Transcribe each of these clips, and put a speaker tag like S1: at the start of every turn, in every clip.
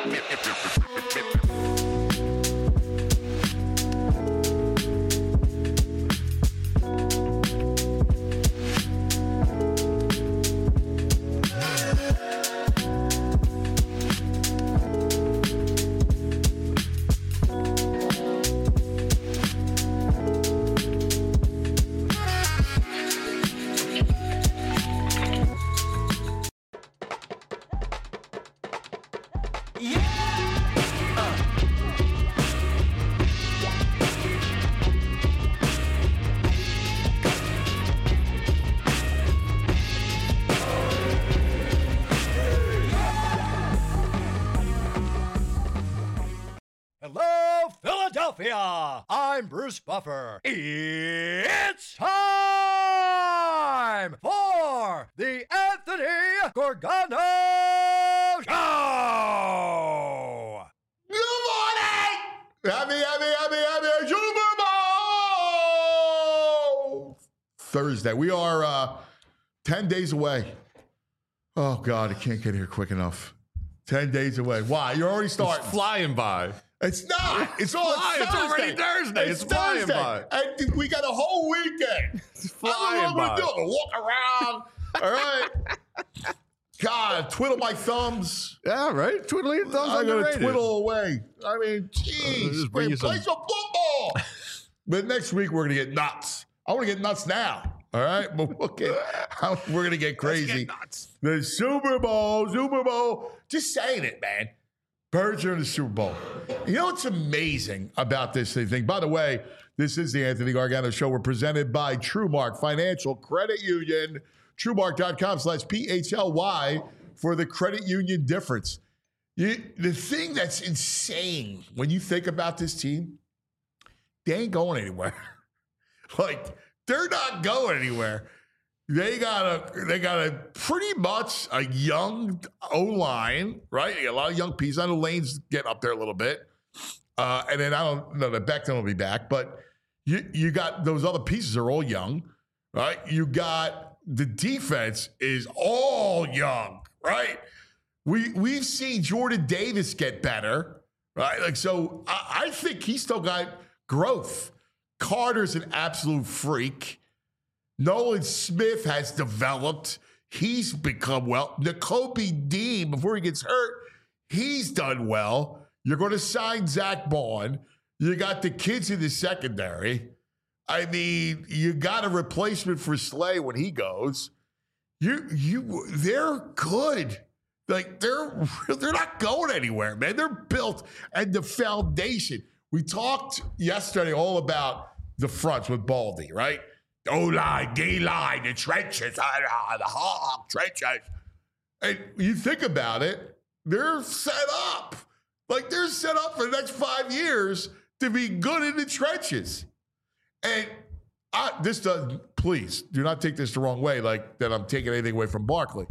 S1: Hello, Philadelphia! I'm Bruce Buffer. It's time for the Anthony Gorgano Show!
S2: Good morning! Happy Super Bowl! Thursday. We are 10 days away. Oh, God, I can't get here quick enough. 10 days away. Why? You're already starting.
S3: It's flying by.
S2: It's not. It's all
S3: flying.
S2: Thursday.
S3: It's already Thursday. It's flying by.
S2: And we got a whole weekend.
S3: It's flying
S2: I don't know what
S3: by.
S2: I'm going to do. Walk around. All right. God, twiddle my thumbs.
S3: Yeah, right. Twiddling your thumbs.
S2: I'm going to
S3: underrated.
S2: twiddle away. I mean, geez.
S3: just bring you
S2: Play
S3: some-
S2: some football. But next week, we're going to get nuts. I want to get nuts now. All right? But we're going to get crazy.
S3: Let's get nuts.
S2: The Super Bowl. Just saying it, man. Birds are in the Super Bowl. You know what's amazing about this thing? By the way, this is the Anthony Gargano Show. We're presented by TrueMark Financial Credit Union. TrueMark.com/PHLY for the credit union difference. The thing that's insane when you think about this team, they ain't going anywhere. Like, they're not going anywhere. They got a pretty much a young O-line, right? A lot of young pieces. I know Lane's getting up there a little bit. And then I don't know that Becton will be back, but you got those other pieces are all young, right? You got the defense is all young, right? We've seen Jordan Davis get better, right? Like, so I think he's still got growth. Carter's an absolute freak. Nolan Smith has developed. He's become well. Nakobe Dean, before he gets hurt, he's done well. You're going to sign Zach Bond. You got the kids in the secondary. I mean, you got a replacement for Slay when he goes. They're good. Like, they're not going anywhere, man. They're built, and the foundation. We talked yesterday all about the fronts with Baldy, right? O-line, D-line, the trenches, the hog trenches. And you think about it, they're set up. Like, they're set up for the next 5 years to be good in the trenches. And please, do not take this the wrong way, like that I'm taking anything away from Barkley.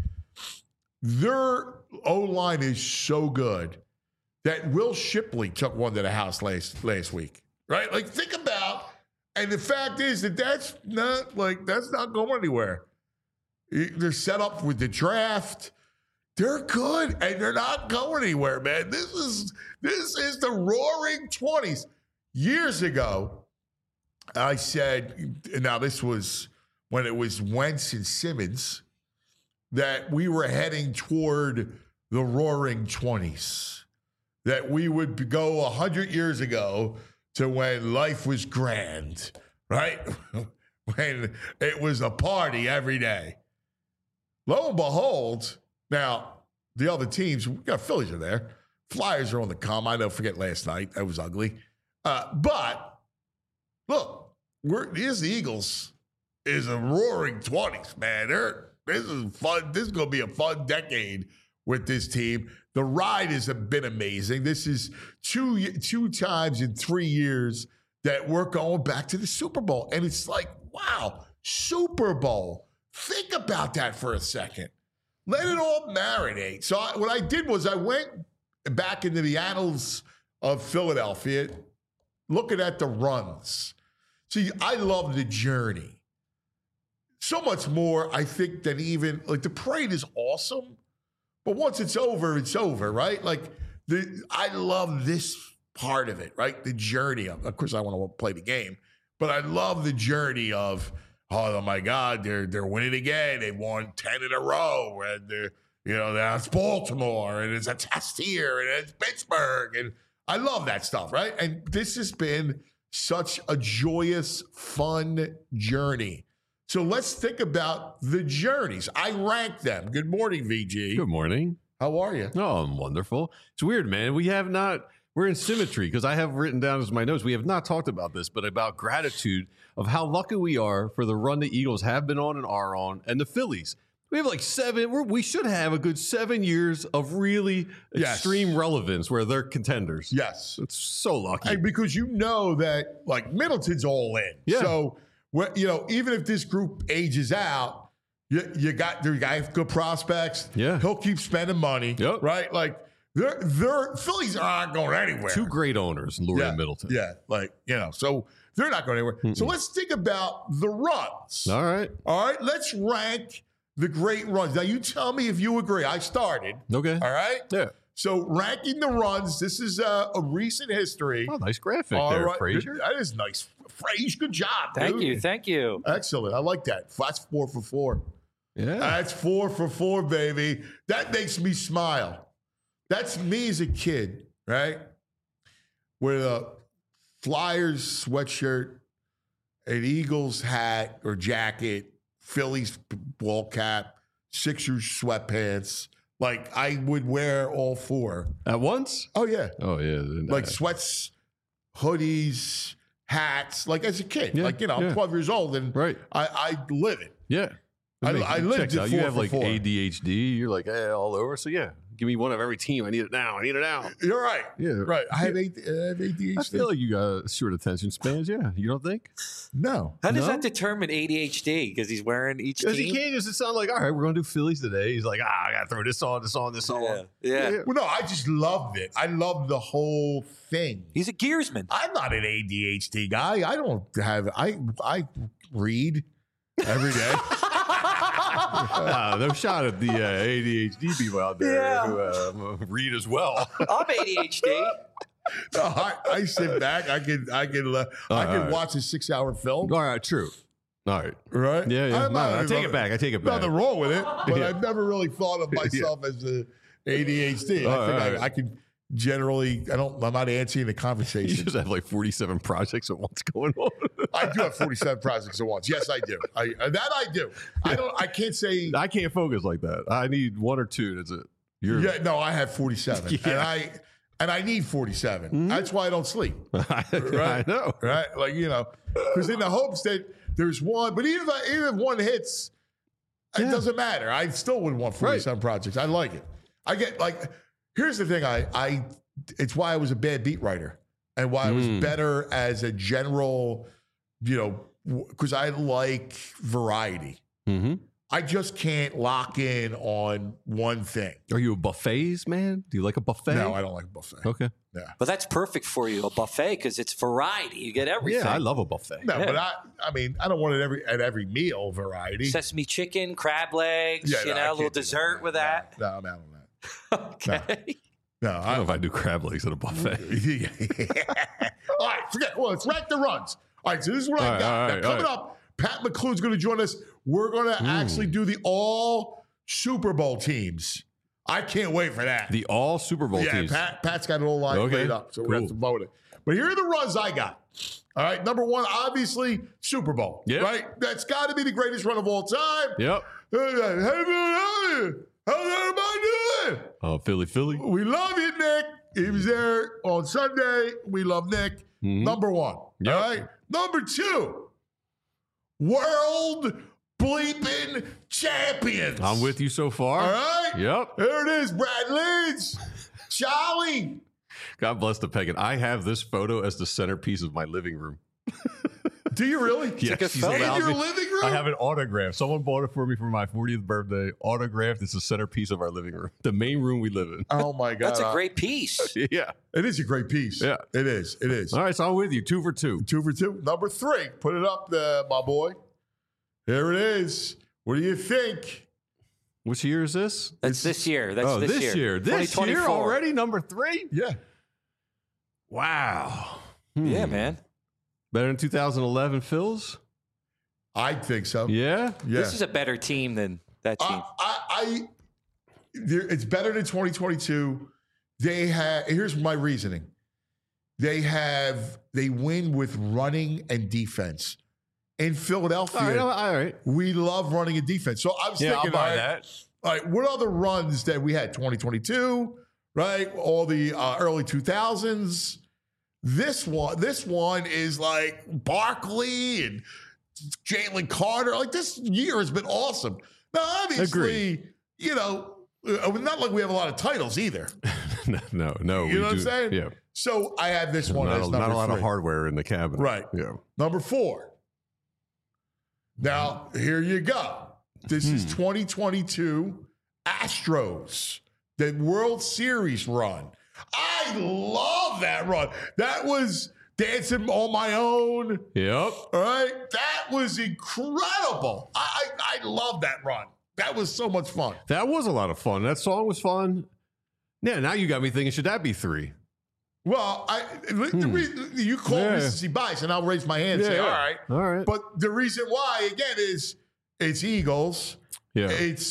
S2: Their O-line is so good that Will Shipley took one to the house last week, right? Like, think about, and the fact is that's not going anywhere. They're set up with the draft. They're good, and they're not going anywhere, man. This is the roaring 20s. Years ago, I said, now this was when it was Wentz and Simmons, that we were heading toward the roaring 20s. That we would go 100 years ago to when life was grand, right? When it was a party every day. Lo and behold, now the other teams, we got Phillies are there. Flyers are on the come. I don't forget last night. That was ugly. But look, here's the Eagles. Is a roaring 20s, man. This is fun. This is going to be a fun decade with this team. The ride has been amazing. This is two times in 3 years that we're going back to the Super Bowl. And it's like, wow, Super Bowl. Think about that for a second. Let it all marinate. So what I did was I went back into the annals of Philadelphia, looking at the runs. See, I love the journey. So much more, I think, than even, like, the parade is awesome. But once it's over, right? Like, I love this part of it, right? The journey of course, I want to play the game, but I love the journey of, oh my God, they're winning again. They won 10 in a row, and that's Baltimore, and it's a test here, and it's Pittsburgh, and I love that stuff, right? And this has been such a joyous, fun journey. So let's think about the journeys. I rank them. Good morning, VG.
S3: Good morning.
S2: How are you?
S3: Oh, I'm wonderful. It's weird, man. We're in symmetry because I have written down as my notes. We have not talked about this, but about gratitude of how lucky we are for the run the Eagles have been on and are on, and the Phillies. We have like 7. We should have a good 7 years of really extreme relevance where they're contenders.
S2: Yes.
S3: It's so lucky.
S2: And because you know that, like, Middleton's all in.
S3: Yeah.
S2: So, even if this group ages out, you got good prospects.
S3: Yeah.
S2: He'll keep spending money.
S3: Yep.
S2: Right? Like, they're Phillies aren't going anywhere.
S3: 2 great owners, Lurie and Middleton.
S2: Yeah. So they're not going anywhere. So let's think about the runs.
S3: All right.
S2: Let's rank the great runs. Now, you tell me if you agree. I started.
S3: Okay.
S2: All right?
S3: Yeah.
S2: So ranking the runs, this is a recent history.
S3: Oh, nice graphic there, Frazier.
S2: That is nice. Frazier, good job.
S4: Thank you.
S2: Excellent. I like that. That's 4 for 4.
S3: Yeah.
S2: That's 4 for 4, baby. That makes me smile. That's me as a kid, right? With a Flyers sweatshirt, an Eagles hat or jacket, Phillies ball cap, Sixers sweatpants. Like, I would wear all 4.
S3: At once?
S2: Oh, yeah.
S3: Oh, yeah.
S2: Like sweats, hoodies, hats, like as a kid.
S3: Yeah,
S2: I'm 12 years old and
S3: Right.
S2: I live it.
S3: Yeah.
S2: I lived
S3: checks
S2: it
S3: out.
S2: 4
S3: You have
S2: for
S3: like
S2: 4.
S3: ADHD. You're like all over. So yeah, give me one of every team. I need it now.
S2: You're right.
S3: Yeah.
S2: Right. I have ADHD.
S3: I feel like you got short attention spans. Yeah. You don't think?
S2: No.
S4: How does
S3: No?
S4: that determine ADHD? Because he's wearing each
S3: Because he
S4: team.
S3: can't just sound like, all right, we're going to do Phillies today. He's like, I got to throw this on.
S4: Yeah.
S2: Well, no, I just loved it. I loved the whole thing.
S4: He's a gearsman.
S2: I'm not an ADHD guy. I don't have, I read every day.
S3: No shot at the ADHD people out there who read as well.
S4: I'm ADHD.
S2: I sit back. I can watch a 6-hour film.
S3: All right, true. All right.
S2: Right?
S3: Yeah. No, I take it back.
S2: Nothing wrong with it, but
S3: Yeah.
S2: I've never really thought of myself as a ADHD. I think I can generally. I'm not answering the
S3: You
S2: conversation.
S3: just have like 47 projects at once going on.
S2: I do have 47 projects at once. Yes, I do. I do. I can't say.
S3: I can't focus like that. I need 1 or 2. That's it.
S2: No, I have 47,
S3: Yeah.
S2: and I need 47.
S3: Mm-hmm.
S2: That's why I don't sleep.
S3: I know.
S2: Right? Like, because in the hopes that there's one, but even if one hits, it doesn't matter. I still would want 47 projects. I like it. I get here's the thing. It's why I was a bad beat writer and why I was better as a general, because I like variety.
S3: Mm-hmm.
S2: I just can't lock in on one thing.
S3: Are you a buffets man? Do you like a buffet?
S2: No, I don't like a buffet.
S3: Okay.
S2: Yeah.
S4: But that's perfect for you, a buffet, because it's variety. You get everything.
S3: Yeah, I love a buffet.
S2: No, but I don't want it at every meal variety.
S4: Sesame chicken, crab legs,
S2: Yeah, no, I
S4: a little
S2: can't do
S4: dessert with that.
S2: No, I'm out on that.
S4: Okay.
S2: No,
S3: I don't know if I do crab legs at a buffet.
S2: All right, forget. Well, let's rank the runs. All right, so this is what I got. Now, coming up, Pat McClune's going to join us. We're going to actually do the all Super Bowl teams. I can't wait for that.
S3: The all Super Bowl teams.
S2: Pat's got it all lined
S3: Okay,
S2: up, so we have to vote it. But here are the runs I got. All right, number 1, obviously, Super Bowl.
S3: Yep.
S2: Right? That's got to be the greatest run of all time.
S3: Yep.
S2: How's everybody doing?
S3: Oh, Philly.
S2: We love you, Nick. He was there on Sunday. We love Nick. Number 1.
S3: Yep.
S2: All right. Number 2, world bleeping champions.
S3: I'm with you so far.
S2: All right.
S3: Yep.
S2: There it is, Brad Leeds. Charlie.
S3: God bless the pagan. I have this photo as the centerpiece of my living room.
S2: Do you really?
S3: Yes,
S4: good
S3: she's
S4: photo.
S2: In
S3: allowed
S2: your
S3: me-
S2: living room?
S3: I have it autographed. Someone bought it for me for my 40th birthday. Autographed. It's the centerpiece of our living room. The main room we live in.
S2: Oh, my God.
S4: That's a great piece.
S3: Yeah.
S2: It is a great piece.
S3: Yeah.
S2: It is. It is.
S3: All right, so I'm with you. 2 for 2.
S2: 2 for 2. Number 3. Put it up there, my boy. Here it is. What do you think?
S3: Which year is this?
S4: That's this year. That's
S3: this year. This year
S4: 2024.
S3: already, number 3?
S2: Yeah.
S3: Wow.
S4: Yeah, man.
S3: Better than 2011 Phils?
S2: I think so.
S3: Yeah?
S2: Yeah.
S4: This is a better team than that team.
S2: It's better than 2022. Here's my reasoning. They win with running and defense. In Philadelphia,
S3: All right.
S2: we love running and defense. So I was thinking,
S3: I'll buy that.
S2: All right, what other runs that we had? 2022, right? All the early 2000s. This one is like Barkley and Jalen Carter. Like, this year has been awesome. Now, obviously, not like we have a lot of titles either.
S3: No.
S2: You know what I'm saying?
S3: Yeah.
S2: So I have this one as number
S3: not a lot
S2: 3.
S3: of hardware in the cabinet.
S2: Right.
S3: Yeah.
S2: Number 4. Now, here you go. This is 2022 Astros, the World Series run. I love that run. That was dancing on my own.
S3: Yep.
S2: All right. That was incredible. I love that run. That was so much fun.
S3: That was a lot of fun. That song was fun. Yeah, now you got me thinking, should that be 3?
S2: Well, you call Mississippi Bias, and I'll raise my hand and say, all right.
S3: All right.
S2: But the reason why, again, is it's Eagles.
S3: Yeah.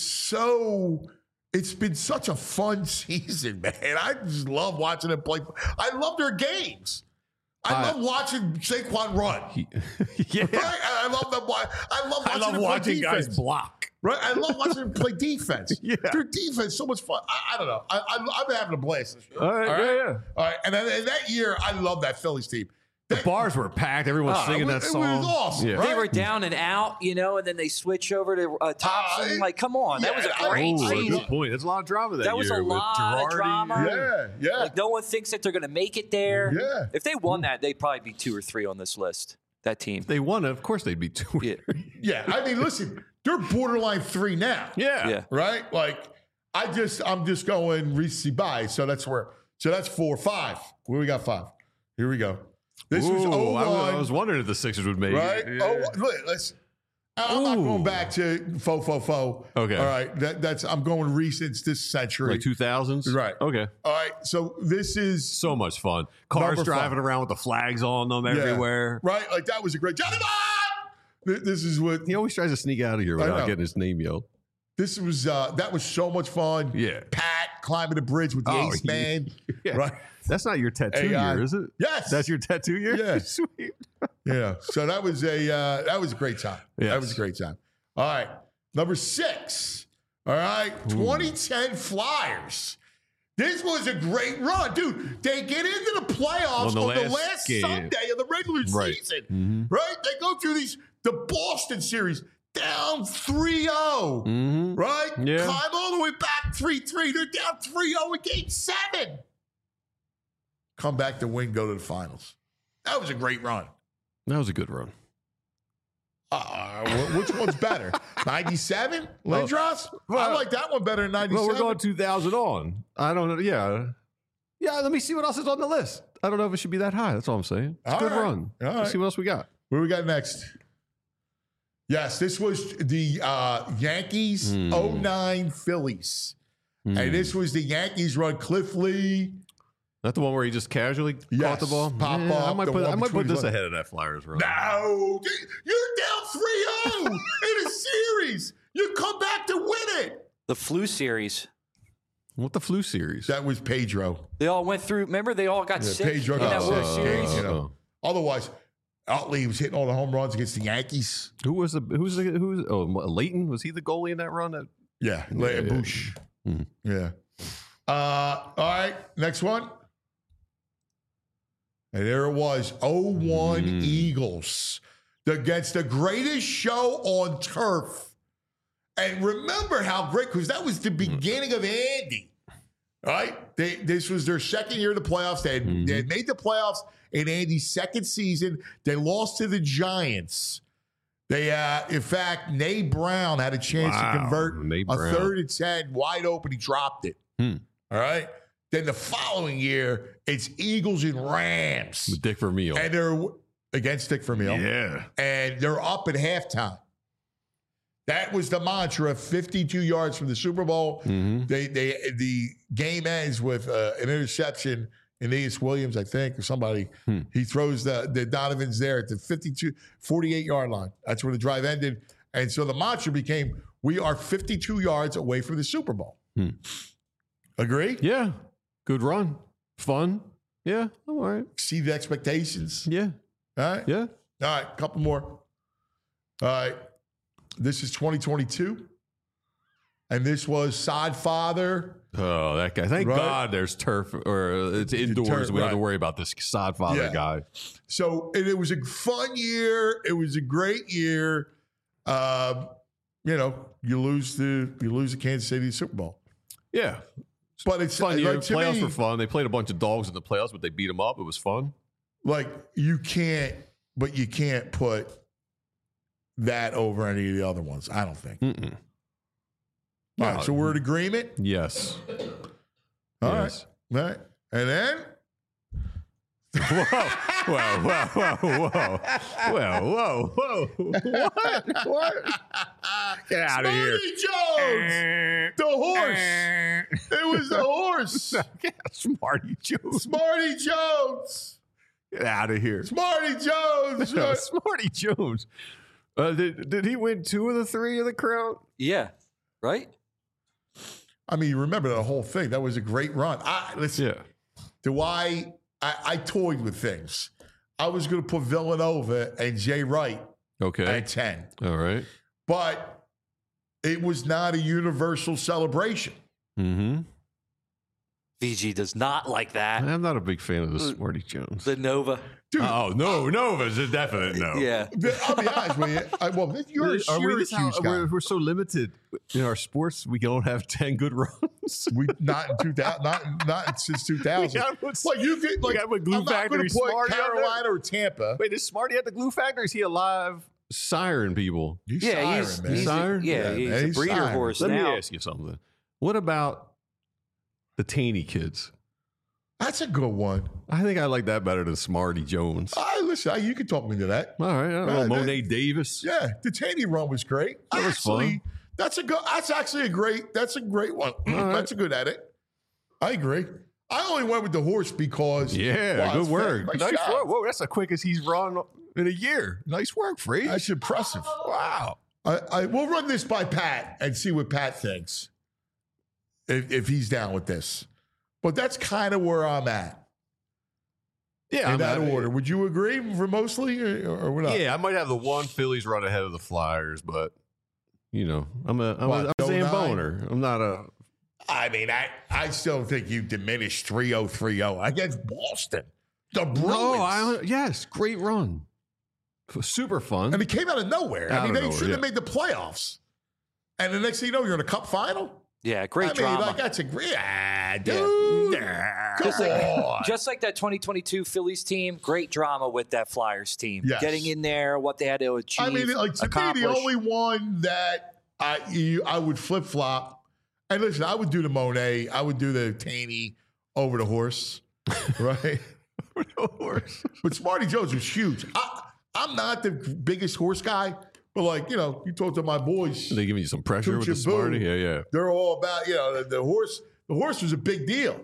S2: It's been such a fun season, man. I just love watching them play. I love their games. I love watching Saquon run.
S3: Yeah.
S2: Right? I love them. I love watching them play defense.
S3: block.
S2: Right? I love watching them play defense.
S3: Yeah.
S2: Their defense so much fun. I don't know. I've been having a blast this year.
S3: All right. Yeah.
S2: All right. And then in that year, I love that Phillies team.
S3: The bars were packed. Everyone's singing that song.
S2: It was awesome.
S3: Yeah.
S2: Right?
S4: They were down and out, and then they switch over to Thompson. Come on. That was a great season.
S3: Good point. There's a lot of drama that year.
S4: That was a lot of drama.
S2: Yeah.
S4: Like, no one thinks that they're going to make it there.
S2: Yeah.
S4: If they won that, they'd probably be 2 or 3 on this list, that team.
S3: They won it. Of course they'd be 2.
S4: Yeah.
S2: Yeah. I mean, listen, they're borderline 3 now.
S3: Yeah.
S2: Right? Like, I'm just going Recency bias. So that's 4, 5. Where we got 5? Here we go. This was 01.
S3: I was wondering if the Sixers would make
S2: Right?
S3: it.
S2: Oh, look, I'm not going back to faux.
S3: Okay.
S2: All right. I'm going recent this century.
S3: Like 2000s?
S2: Right.
S3: Okay.
S2: All right. So this is
S3: So much fun. Cars
S2: Number
S3: driving
S2: 5.
S3: around with the flags on them everywhere.
S2: Right? Like, that was a great Johnny Bond! This is what
S3: He always tries to sneak out of here
S2: I
S3: without
S2: know.
S3: getting his name yelled.
S2: this was. That was so much fun.
S3: Yeah.
S2: Pat climbing the bridge with the
S3: Oh,
S2: ace
S3: yeah.
S2: man.
S3: Yeah.
S2: Right.
S3: That's not your tattoo
S2: AI.
S3: year, is it?
S2: Yes.
S3: That's your tattoo year?
S2: Yeah.
S3: Sweet.
S2: Yeah. So that was a great time.
S3: Yes.
S2: That was a great time. All right. Number 6. All right. 2010 Flyers. This was a great run. Dude, they get into the playoffs
S3: On the last game.
S2: Sunday of the regular
S3: Right.
S2: season. Right? They go through the Boston series down 3-0. Right?
S3: Yeah.
S2: Climb all the way back 3-3. They're down 3-0 in game 7. Come back to win, go to the finals. That was a great run.
S3: That was a good run.
S2: Which one's better? 97? Lindros? I like that one better than 97.
S3: Well, we're going 2000 on. I don't know. Yeah. Yeah, let me see what else is on the list. I don't know if it should be that high. That's all I'm saying. It's a
S2: All
S3: good
S2: right.
S3: run.
S2: All
S3: Let's
S2: right.
S3: see what else we got.
S2: What do we got next? Yes, this was the Yankees 09 Phillies. And this was the Yankees run. Cliff Lee.
S3: Not the one where he just casually caught
S2: Yes,
S3: the ball?
S2: pop
S3: Yeah,
S2: up,
S3: I might
S2: the
S3: put,
S2: one
S3: I might
S2: between
S3: put this
S2: his legs.
S3: ahead of that Flyers run.
S2: No, you're down 3-0 in a series. You come back to win it.
S4: The flu series.
S3: What the flu series?
S2: That was Pedro.
S4: They all went through. Remember, they all got sick
S2: Pedro
S4: in
S2: got
S4: that World
S2: sick.
S4: Series.
S2: You know. Otherwise, Utley was hitting all the home runs against the Yankees.
S3: Who's Leighton? Was he the goalie in that run?
S2: Yeah,
S3: Yeah.
S2: Bush. Yeah. All right, next one. And there it was, 01 Eagles against the greatest show on turf. And remember how great, because that was the beginning of Andy, right? This was their second year of the playoffs. They had made the playoffs in Andy's second season. They lost to the Giants. They, in fact, Nate Brown had a chance to convert
S3: Nate
S2: a
S3: Brown.
S2: 3rd and 10 wide open. He dropped it. All right. Then the following year, it's Eagles and Rams.
S3: With Dick Vermeil.
S2: And they're against Dick Vermeil.
S3: Yeah.
S2: And they're up at halftime. That was the mantra. 52 yards from the Super Bowl. The game ends with an interception. Aeneas Williams, I think, or somebody. He throws the Donovan's there at the 48-yard line. That's where the drive ended. And so the mantra became, we are 52 yards away from the Super Bowl. Agree?
S3: Yeah. Good run. Fun. Yeah. All right.
S2: Exceed the expectations.
S3: Yeah.
S2: All right?
S3: Yeah.
S2: All right, a couple more. All right. This is 2022. And this was Sod Father.
S3: Oh, that guy. Thank
S2: Right.
S3: God there's turf or it's indoors.
S2: Turf,
S3: We don't have to
S2: right.
S3: worry about this sod father
S2: Yeah.
S3: guy.
S2: So it was a fun year. It was a great year. You lose the Kansas City Super Bowl.
S3: Yeah.
S2: But it's
S3: Fun year.
S2: like, to
S3: Playoffs
S2: me,
S3: were fun. They played a bunch of dogs in the playoffs, but they beat them up. It was fun.
S2: like you can't put that over any of the other ones. I don't think.
S3: Mm-mm.
S2: All right, so we're in agreement.
S3: Yes.
S2: All
S3: Yes.
S2: right. All right. And then
S3: Whoa. What? Get out of here.
S2: Smarty Jones, the horse. It was the horse.
S3: Smarty Jones.
S2: Smarty Jones.
S3: Get out of here.
S2: Smarty Jones.
S3: Smarty Jones. Did he win 2 of the 3 of the crown?
S4: Yeah. Right?
S2: I mean, you remember the whole thing. That was a great run. Listen,
S3: Yeah.
S2: I toyed with things. I was going to put Villanova and Jay Wright
S3: Okay.
S2: at 10.
S3: All right.
S2: But it was not a universal celebration.
S3: Mm-hmm.
S4: VG does not like that.
S3: I'm not a big fan of the Smarty Jones.
S4: The Nova.
S2: Dude,
S3: Oh, no. Nova's a definite no.
S4: Yeah.
S2: I'll be honest with you. You're a Syracuse guy.
S3: We're so limited in our sports. We don't have 10 good runs.
S2: We not in 2000, not since 2000.
S3: gotta put-
S2: Like you could, like
S3: gotta put Glue
S2: I'm not going
S3: Factory
S2: to put
S3: Smarty out there.
S2: Carolina or Tampa.
S3: Wait, is Smarty at the Glue Factory? Is he alive? Siren people.
S2: He's
S4: Yeah,
S2: siren, man.
S4: he's
S3: Siren?
S4: yeah,
S2: Yeah,
S4: he's
S2: man,
S4: a
S2: he's
S4: breeder
S2: siren.
S4: horse
S3: Let
S4: now.
S3: me ask you something. What about the Taney kids?
S2: That's a good one.
S3: I think I like that better than Smarty Jones.
S2: Listen, you can talk me to that.
S3: All right. I don't know.
S2: Yeah,
S3: Monet Davis.
S2: Yeah, the Taney run was great.
S3: That was fun.
S2: That's actually a great one.
S3: right.
S2: That's a good edit. I agree. I only went with the horse because
S3: Yeah, good work.
S2: Nice
S3: Nice
S2: job.
S3: work. Whoa, that's the quickest he's run in a year. Nice work, Free.
S2: That's impressive.
S3: Wow.
S2: We'll run this by Pat and see what Pat thinks if he's down with this. But that's kind of where I'm at
S3: Yeah,
S2: in that order. Would you agree for mostly or what?
S3: Yeah, I might have the one Phillies run ahead of the Flyers, but I'm a
S2: What,
S3: Zamboner. I'm not a.
S2: I mean, I still think you diminished 3-0 against Boston. The Bruins.
S3: Yes, great run. Super fun.
S2: And it came out of nowhere.
S3: Out
S2: I mean,
S3: of
S2: they
S3: nowhere,
S2: should have
S3: yeah.
S2: made the playoffs. And the next thing you know, you're in a cup final.
S4: Yeah, great
S2: I mean,
S4: drama.
S2: like that's a great dude.
S4: Just
S2: Come
S4: like,
S2: on.
S4: just like that 2022 Phillies team, great drama with that Flyers team.
S2: Yes.
S4: Getting in there, what they had to achieve.
S2: I mean, like to me,
S4: accomplish.
S2: the only one that I would flip flop. And listen, I would do the Monet. I would do the Taney over the horse, right? But Smarty Jones was huge. I'm not the biggest horse guy, but like you talk to my boys.
S3: They giving you some pressure with the
S2: Choo-choo-boo.
S3: Smarty. Yeah.
S2: They're all about the horse. The horse was a big deal.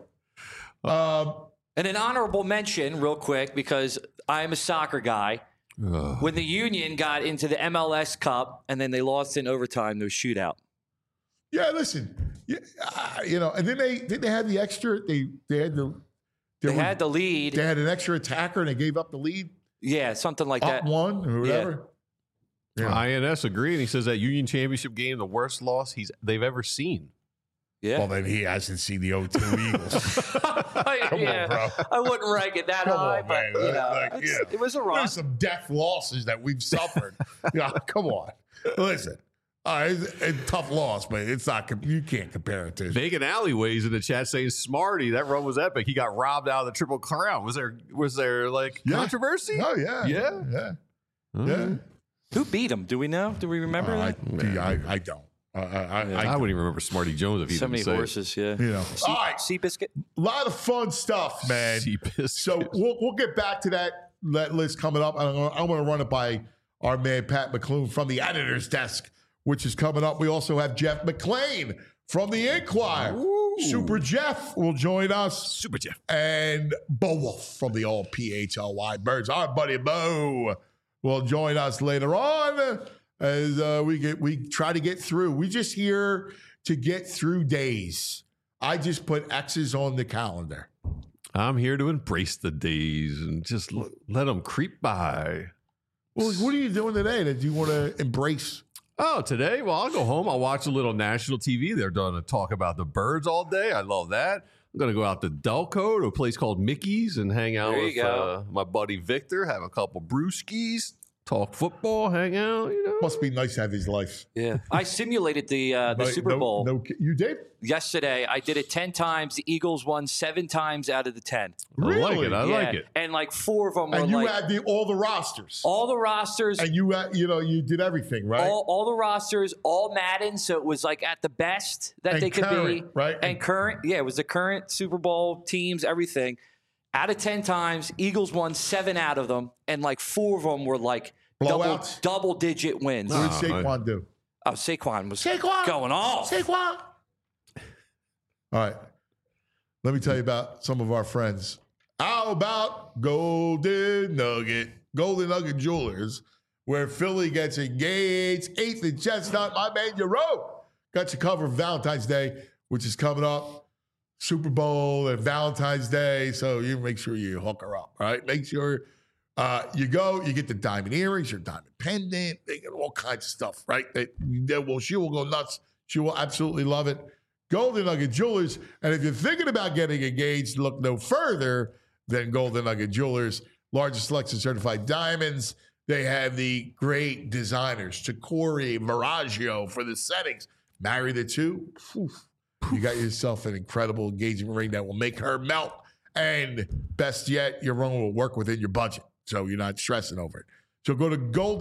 S4: And an honorable mention, real quick, because I'm a soccer guy. When the Union got into the MLS Cup and then they lost in overtime, no shootout.
S2: Yeah, listen, and then they had the extra. They had
S4: the lead.
S2: They had an extra attacker and they gave up the lead.
S4: Yeah, something like
S2: Up
S4: that.
S2: one or whatever. Yeah.
S3: INS agreed. And he says that Union Championship game, the worst loss they've ever seen.
S4: Yeah.
S2: Well, then he hasn't seen the 0-2 Eagles. Come
S4: yeah.
S2: on, bro.
S4: I wouldn't rank it that
S2: Come
S4: high,
S2: on,
S4: but
S2: man.
S4: it was a run.
S2: There's some death losses that we've suffered. Come on. Listen. It's a tough loss, but it's not. You can't compare it to.
S3: Vegan Alleyways in the chat saying Smarty, that run was epic. He got robbed out of the Triple Crown. Was there like controversy?
S2: Oh yeah,
S3: Yeah?
S2: yeah.
S4: Who beat him? Do we know? Do we remember that?
S2: I don't.
S3: I wouldn't even remember Smarty Jones if he
S4: So
S3: didn't
S4: many
S3: say it.
S4: horses, yeah.
S2: All right,
S4: Seabiscuit.
S2: a lot of fun stuff, man.
S3: Seabiscuit.
S2: So we'll get back to that list coming up. I'm going to run it by our man Pat McClune from the editor's desk which is coming up. We also have Jeff McClain from the Inquirer. Ooh. Super Jeff will join us.
S3: Super Jeff.
S2: And Bo Wolf from the All PHLY Birds. Our buddy Bo will join us later on as we try to get through. We just here to get through days. I just put X's on the calendar.
S3: I'm here to embrace the days and just let them creep by.
S2: Well, what are you doing today that you want to embrace?
S3: Oh, today? Well, I'll go home. I'll watch a little national TV. They're going to talk about the birds all day. I love that. I'm going to go out to Delco to a place called Mickey's and hang out with my buddy Victor, have a couple brewskis, talk football, hang out,
S2: Must be nice to have his life.
S4: Yeah. I simulated the Super Bowl.
S2: You did?
S4: Yesterday. I did it 10 times. The Eagles won 7 times out of the 10.
S2: Really?
S3: I like it.
S4: And like 4 of them were
S2: and you had all the rosters.
S4: All the rosters.
S2: And you did everything, right?
S4: All the rosters, all Madden. So it was like at the best that they could be.
S2: Right?
S4: And current. Yeah, it was the current Super Bowl teams, everything. Out of 10 times, Eagles won 7 out of them. And like 4 of them were like double-digit wins.
S2: What did Saquon do?
S4: Oh, Saquon was going off.
S2: Saquon. All right. Let me tell you about some of our friends. How about Golden Nugget Jewelers, where Philly gets engaged. 8th and Chestnut, my man, Euro. Got you covered Valentine's Day, which is coming up. Super Bowl and Valentine's Day. So you make sure you hook her up, right? Make sure you get the diamond earrings, your diamond pendant. They get all kinds of stuff, right? She will go nuts. She will absolutely love it. Golden Nugget Jewelers. And if you're thinking about getting engaged, look no further than Golden Nugget Jewelers. Largest selection of certified diamonds. They have the great designers, Chikori, Miraggio for the settings. Marry the two. You got yourself an incredible engagement ring that will make her melt. And best yet, your ring will work within your budget. So you're not stressing over it. So go to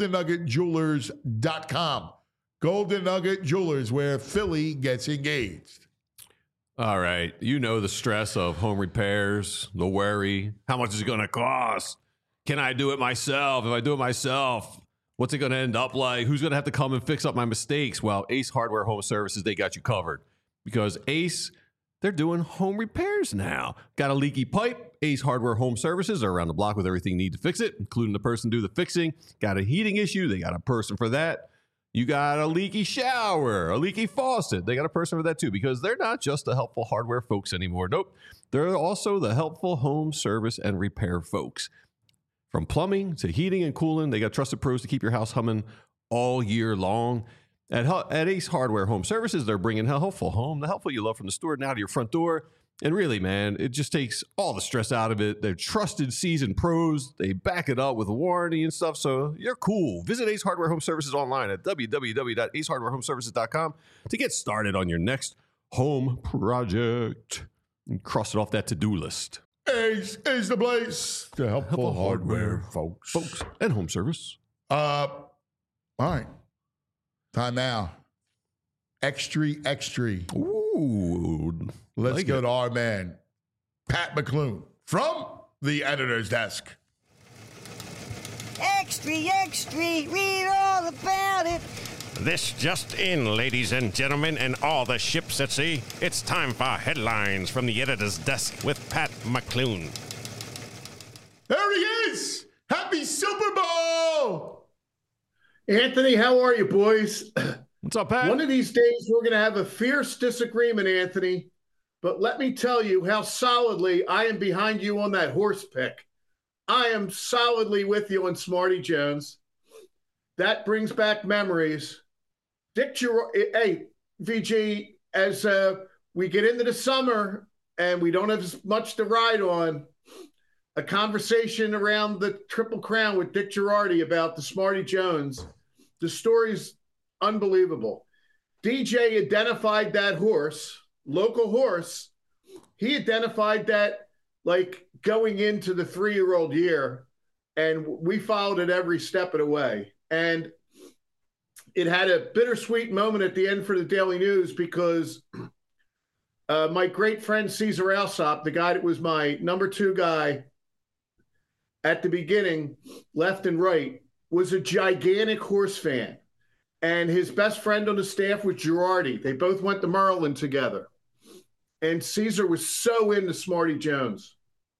S2: goldennuggetjewelers.com. Golden Nugget Jewelers, where Philly gets engaged.
S3: All right. You know the stress of home repairs, the worry. How much is it going to cost? Can I do it myself? If I do it myself, what's it going to end up like? Who's going to have to come and fix up my mistakes? Well, Ace Hardware Home Services, they got you covered. Because Ace, they're doing home repairs now. Got a leaky pipe? Ace Hardware Home Services are around the block with everything you need to fix it, including the person to do the fixing. Got a heating issue? They got a person for that. You got a leaky shower, a leaky faucet. They got a person for that too, because they're not just the helpful hardware folks anymore. Nope. They're also the helpful home service and repair folks. From plumbing to heating and cooling, they got trusted pros to keep your house humming all year long. At Ace Hardware Home Services, they're bringing helpful home, the helpful you love from the store now to your front door. And really, man, it just takes all the stress out of it. They're trusted, seasoned pros. They back it up with a warranty and stuff, so you're cool. Visit Ace Hardware Home Services online at www.acehardwarehomeservices.com to get started on your next home project and cross it off that to-do list.
S2: Ace is the place. The helpful hardware folks.
S3: And home service.
S2: All right. Time now. Extra.
S3: Ooh.
S2: Let's go to our man, Pat McClune, from the editor's desk.
S5: Extra, read all about it.
S6: This just in, ladies and gentlemen, and all the ships at sea. It's time for headlines from the editor's desk with Pat McClune.
S2: There he is! Happy Super Bowl!
S7: Anthony, how are you, boys?
S3: What's up, Pat?
S7: One of these days, we're going to have a fierce disagreement, Anthony. But let me tell you how solidly I am behind you on that horse pick. I am solidly with you on Smarty Jones. That brings back memories. Hey, VG, as we get into the summer and we don't have as much to ride on, a conversation around the Triple Crown with Dick Girardi about the Smarty Jones. The story's unbelievable. DJ identified that horse, local horse. He identified that like going into the 3-year-old year, and we followed it every step of the way. And it had a bittersweet moment at the end for the Daily News because my great friend Cesar Alsop, the guy that was my number 2 guy at the beginning, left and right, was a gigantic horse fan. and his best friend on the staff was Girardi. They both went to Maryland together. And Caesar was so into Smarty Jones.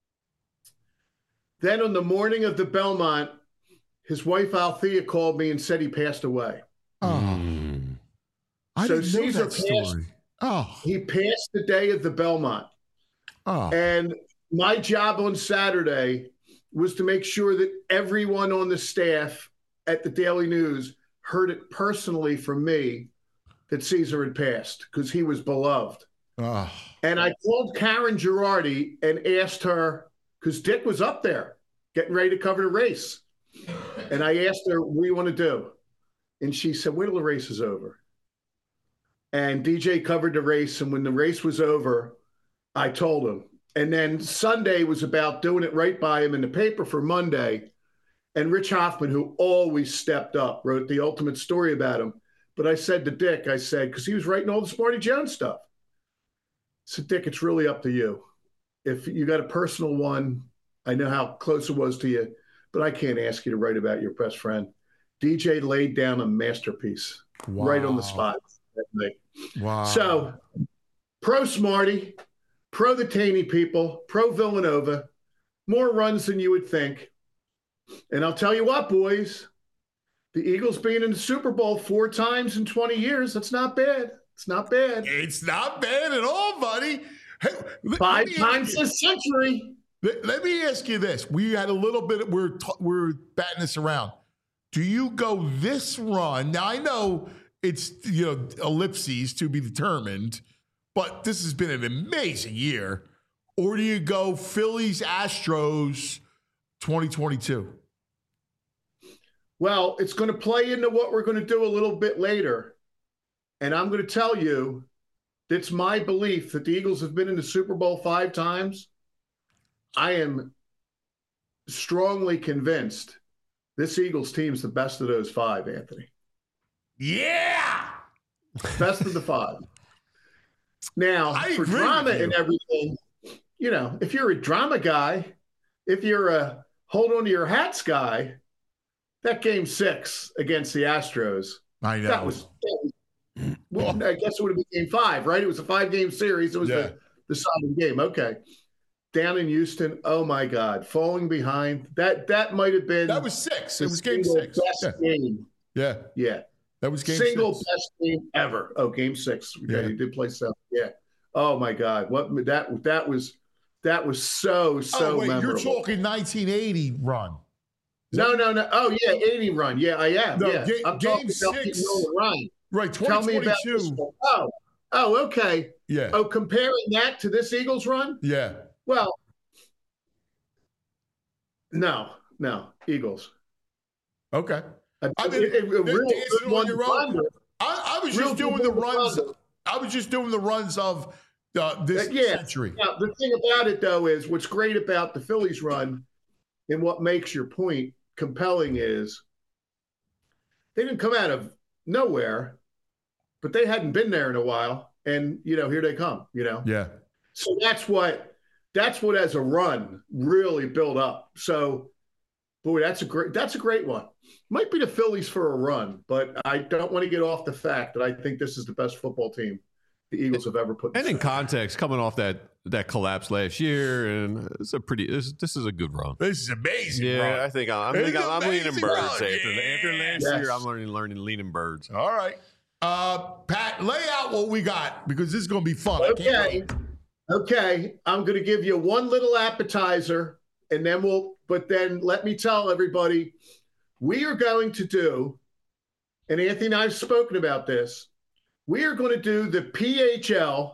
S7: Then on the morning of the Belmont, his wife Althea called me and said he passed away.
S2: Oh. I didn't know
S7: Caesar
S2: that story.
S7: He passed the day of the Belmont.
S2: Oh.
S7: And my job on Saturday was to make sure that everyone on the staff at the Daily News heard it personally from me that Caesar had passed because he was beloved.
S2: Oh.
S7: And I called Karen Girardi and asked her, because Dick was up there getting ready to cover the race. And I asked her, what do you want to do? And she said, wait till the race is over. And DJ covered the race. And when the race was over, I told him. And then Sunday was about doing it right by him in the paper for Monday. And Rich Hoffman, who always stepped up, wrote the ultimate story about him. But I said to Dick, I said, because he was writing all the Smarty Jones stuff. I said, Dick, it's really up to you. If you got a personal one, I know how close it was to you, but I can't ask you to write about your best friend. DJ laid down a masterpiece right on the spot that night.
S2: Wow.
S7: So, pro Smarty, pro the Taney people, pro Villanova, more runs than you would think. And I'll tell you what, boys, the Eagles being in the Super Bowl 4 times in 20 years, that's not bad. It's not bad.
S2: It's not bad at all, buddy. Hey,
S7: 5 times this century.
S2: Let me ask you this. We had a little bit, we're batting this around. Do you go this run? Now, I know it's, ellipses to be determined, but this has been an amazing year. Or do you go Phillies, Astros 2022?
S7: Well, it's going to play into what we're going to do a little bit later. And I'm going to tell you, it's my belief that the Eagles have been in the Super Bowl 5 times. I am strongly convinced this Eagles team's the best of those 5, Anthony.
S2: Yeah!
S7: Best of the 5. Now, for drama and everything, if you're a drama guy, if you're a hold on to your hats guy, that game 6 against the Astros,
S2: I know.
S7: That was I guess it would have been game 5, right? It was a 5-game series. It was the deciding game. Okay. Down in Houston, oh my God, falling behind. That might have been.
S2: That was 6. It was game 6.
S7: Best game.
S2: Yeah.
S7: Yeah.
S2: That was game
S7: Single
S2: 6.
S7: best game ever. Oh, game 6. Okay,
S2: Yeah.
S7: He did play 7. Yeah. Oh my God. That was so
S2: Oh, wait,
S7: memorable.
S2: you're talking 1980 run.
S7: No. Oh yeah, 80 run. Yeah, I am.
S2: No,
S7: yeah. I'm
S2: game
S7: talking about
S2: 6.
S7: the run.
S2: Right,
S7: Tell me about this
S2: 2022.
S7: one. Oh, okay.
S2: Yeah.
S7: Oh, comparing that to this Eagles run?
S2: Yeah.
S7: Well, no, Eagles.
S2: Okay.
S7: I mean, a real good one.
S2: I was just doing the runs. I was just doing the runs of this century.
S7: Now, the thing about it, though, is what's great about the Phillies run and what makes your point compelling is they didn't come out of nowhere, but they hadn't been there in a while. And, here they come,
S2: Yeah.
S7: So that's what as a run really built up. So, boy, that's a great one. Might be the Phillies for a run, but I don't want to get off the fact that I think this is the best football team the Eagles have ever put.
S3: And in context, coming off that collapse last year, and this is a good run.
S2: This is amazing.
S3: Yeah,
S2: run.
S3: I think I'm leaning birds
S2: run.
S3: after last
S7: Yes.
S3: year. I'm leaning birds.
S2: All right, Pat, lay out what we got because this is going to be fun.
S7: Okay. I'm going to give you one little appetizer, and then then let me tell everybody, we are going to do, and Anthony and I have spoken about this. We are going to do the PHL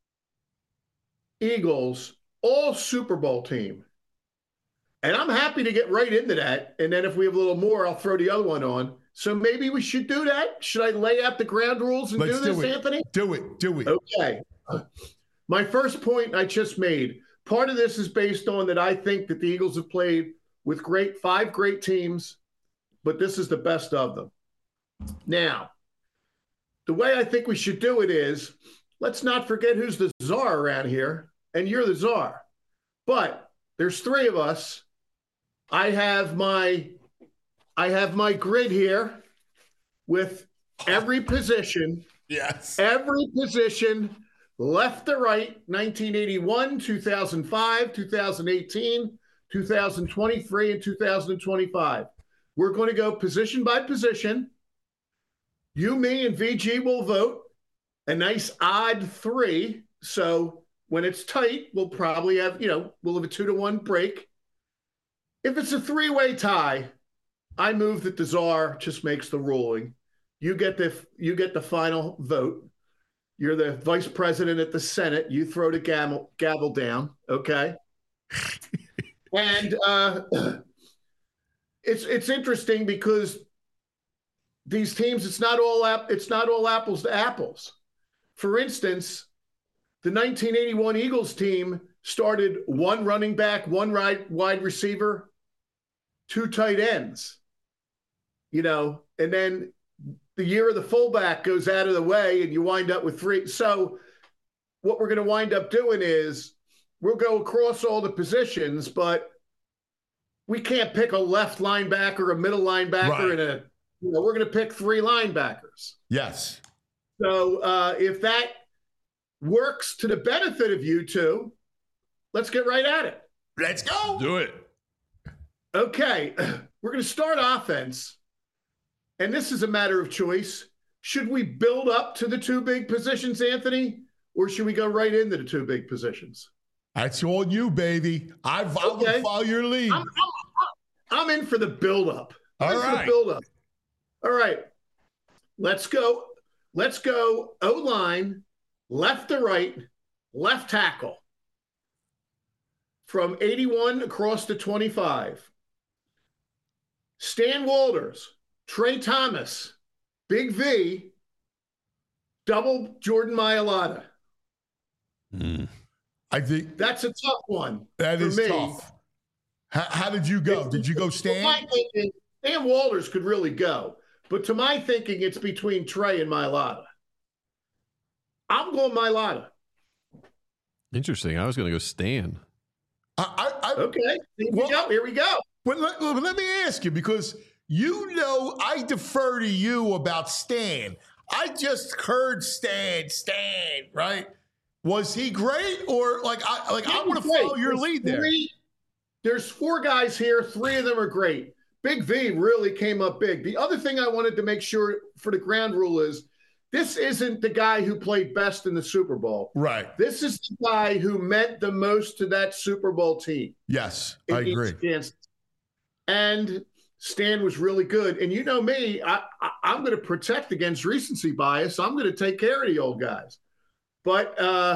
S7: Eagles all Super Bowl team. And I'm happy to get right into that. And then if we have a little more, I'll throw the other one on. So maybe we should do that. Should I lay out the ground rules and do this, Anthony?
S2: Do it.
S7: Okay. My first point I just made, part of this is based on that I think that the Eagles have played with 5 great teams, but this is the best of them. Now, the way I think we should do it is, let's not forget who's the czar around here, and you're the czar. But there's 3 of us. I have my grid here with every position, left to right, 1981, 2005, 2018, 2023, and 2025. We're going to go position by position. You, me, and VG will vote a nice odd 3. So when it's tight, we'll probably have, we'll have a 2-1 break. If it's a 3-way tie, I move that the czar just makes the ruling. You get the final vote. You're the vice president at the Senate. You throw the gavel down, okay? And it's interesting because these teams, it's not all apples to apples. For instance, the 1981 Eagles team started 1 running back, 1 wide receiver, 2 tight ends, and then the year of the fullback goes out of the way and you wind up with 3. So what we're going to wind up doing is we'll go across all the positions, but we can't pick a left linebacker, a middle linebacker, and we're going to pick 3 linebackers.
S2: Yes.
S7: So if that works to the benefit of you two, let's get right at it.
S2: Let's go.
S3: Do it.
S7: Okay. We're going to start offense. And this is a matter of choice. Should we build up to the 2 big positions, Anthony, or should we go right into the 2 big positions?
S2: That's all you, baby. I will follow your lead.
S7: I'm in for the build-up.
S2: All
S7: right. Let's go O-line, left to right, left tackle. From 81 across to 25. Stan Walters, Trey Thomas, Big V, double Jordan Mailata.
S2: I think
S7: that's a tough one.
S2: That is tough. How did you go? Did you go Stan?
S7: My thinking, Stan Walters could really go, but to my thinking, it's between Trey and Mailata. I'm going Mailata.
S3: Interesting. I was going to go Stan.
S7: Okay. Here we go.
S2: But let me ask you, because I defer to you about Stan. I just heard Stan, right? Was he great, or I want to follow your lead there?
S7: There's 4 guys here. 3 of them are great. Big V really came up big. The other thing I wanted to make sure for the ground rule is this isn't the guy who played best in the Super Bowl.
S2: Right.
S7: This is the guy who meant the most to that Super Bowl team.
S2: Yes, I agree.
S7: And Stan was really good. And you know me, I'm going to protect against recency bias. I'm going to take care of the old guys. But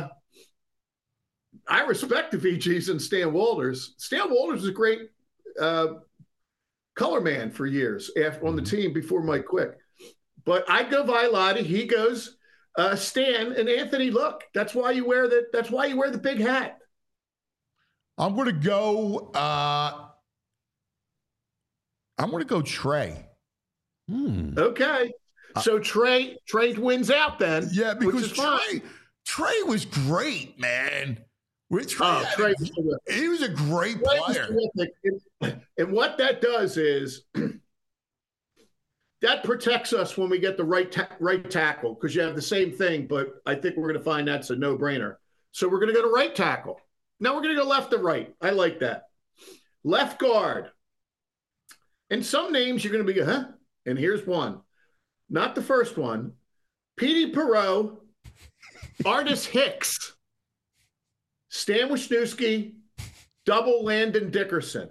S7: I respect the VGs and Stan Walters. Stan Walters was a great color man for years on the team before Mike Quick. But I go Mailata. He goes Stan. And Anthony, look, that's why you wear the big hat.
S2: I'm going to go. I'm going to go Trey.
S7: Okay. So Trey wins out then.
S2: Yeah, because Trey was great, man.
S7: Trey
S2: he was a great player.
S7: And what that does is that protects us when we get the right tackle, because you have the same thing, but I think we're going to find that's a no-brainer. So we're going to go to right tackle. Now we're going to go left to right. I like that. Left guard. And some names you're going to be, huh? And here's one. Not the first one. Petey Perot, Artis Hicks, Stan Wisniewski, double Landon Dickerson.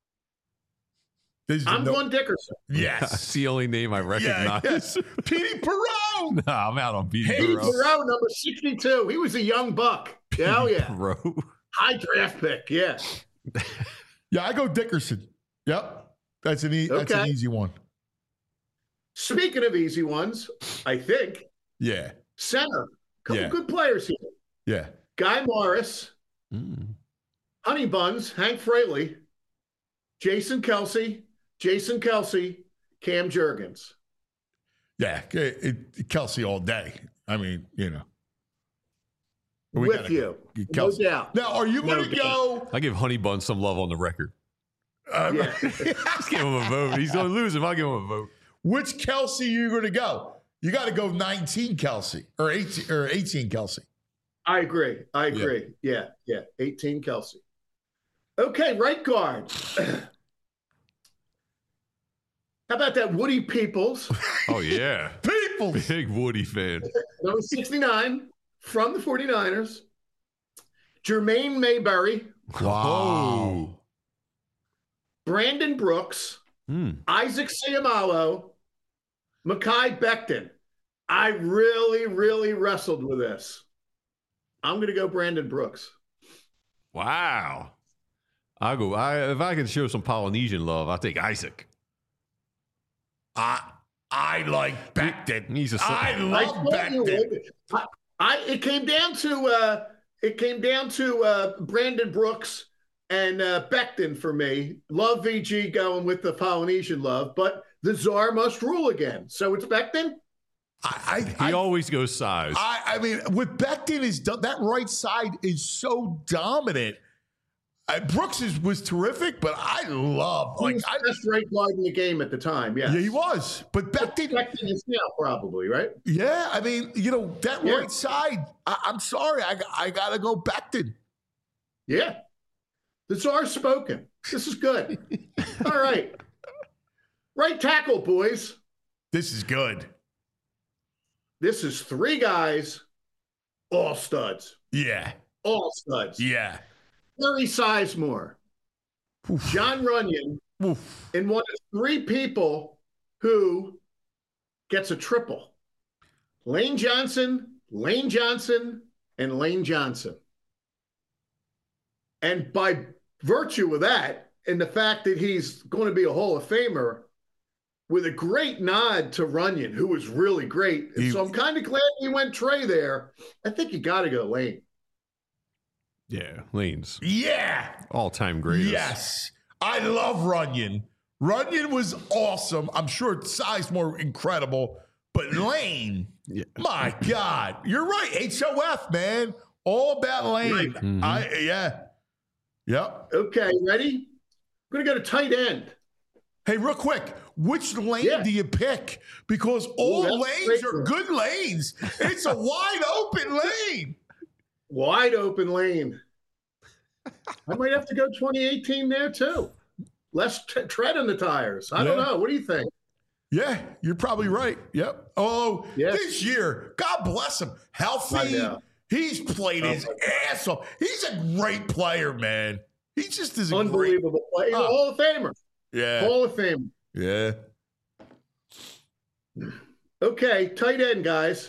S7: I'm going Dickerson.
S2: Yes.
S3: That's the only name I recognize.
S2: Yes. Petey Perot.
S3: No, I'm out on Petey
S7: Perot, number 62. He was a young buck. Hell yeah.
S3: Perot.
S7: High draft pick, yeah.
S2: Yeah, I go Dickerson. Yep. That's an easy one.
S7: Speaking of easy ones, I think.
S2: Yeah.
S7: Center. Couple good players here.
S2: Yeah.
S7: Guy Morris. Honey Buns. Hank Fraley. Jason Kelsey. Cam Jurgens.
S2: Yeah. Kelsey all day. I mean,
S7: With you. No doubt.
S2: Now, are you going to go?
S3: I give Honey Bun some love on the record.
S7: Yeah.
S3: Just give him a vote. He's going to lose him. I'll give him a vote.
S2: Which Kelsey are you going to go? You got to go 19 Kelsey or 18 Kelsey.
S7: I agree. Yeah. 18 Kelsey. Okay, right guard. How about that Woody Peoples?
S3: Oh, yeah.
S2: Peoples.
S3: Big Woody fan.
S7: Number 69 from the 49ers. Jermaine Mayberry.
S2: Wow.
S7: Brandon Brooks. Isaac Seumalo. Mekhi Becton. I really, really wrestled with this. I'm going to go Brandon Brooks.
S3: Wow. If I can show some Polynesian love, I'll take Isaac.
S2: I like Becton. I love Becton.
S7: It came down to Brandon Brooks and Becton for me. Love VG going with the Polynesian love, but the czar must rule again. So it's Becton.
S3: He always goes size.
S2: I mean, with Becton that right side is so dominant. Brooks was terrific, but I love
S7: he was the best right guard in the game at the time. Yeah,
S2: he was. But Becton
S7: is now probably right.
S2: Yeah, I mean, that right side. I'm sorry, I gotta go Becton.
S7: Yeah, the czar's spoken. This is good. All right, right tackle, boys.
S2: This is good.
S7: This is three guys, all studs.
S2: Yeah,
S7: all studs.
S2: Yeah.
S7: Larry Sizemore, John Runyon, and one of three people who gets a triple. Lane Johnson, and Lane Johnson. And by virtue of that, and the fact that he's going to be a Hall of Famer, with a great nod to Runyon, who was really great. And so I'm kind of glad we went Trey there. I think you got to go Lane.
S3: Yeah, Lane's.
S2: Yeah.
S3: All-time greatest.
S2: Yes. I love Runyon. Runyon was awesome. I'm sure Sizemore incredible. But Lane, my God. You're right. HOF, man. All about Lane.
S7: Right.
S2: Mm-hmm. Yep.
S7: Okay, ready? I'm going to go to tight end.
S2: Hey, real quick, which lane do you pick? Because all lanes are good lanes. It's a wide open lane.
S7: Wide open lane. I might have to go 2018 there too. Less tread on the tires. I don't know. What do you think?
S2: Yeah, you're probably right. Yep. Oh, this year, God bless him. Healthy. He's played his ass off. He's a great player, man. He just is
S7: unbelievable player. He's a Hall of Famer.
S2: Yeah.
S7: Hall of Fame.
S2: Yeah.
S7: Okay, tight end, guys.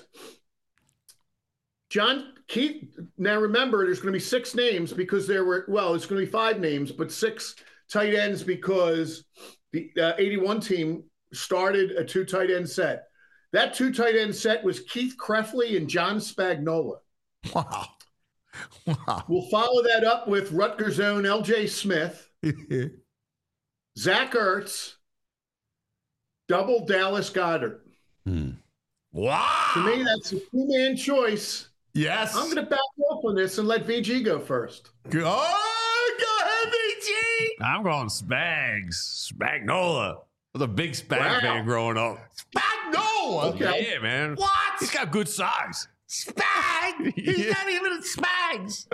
S7: John Keith. Now remember, there's going to be 6 names because it's going to be 5 names, but 6 tight ends because the 81 team started a 2 tight end set. That 2 tight end set was Keith Krefley and John Spagnola.
S2: Wow.
S7: We'll follow that up with Rutgers' own L.J. Smith, Zach Ertz, double Dallas Goedert.
S2: Wow.
S7: To me, that's a 2-man choice.
S2: Yes.
S7: I'm going to back off on this and let VG go first.
S2: Oh, go ahead, VG.
S3: I'm going Spags. Spagnola. I was a big Spag fan growing up.
S2: Spagnola?
S7: Okay.
S3: Yeah, man.
S2: What?
S3: He's got good size.
S2: Spag? He's not even a Spags.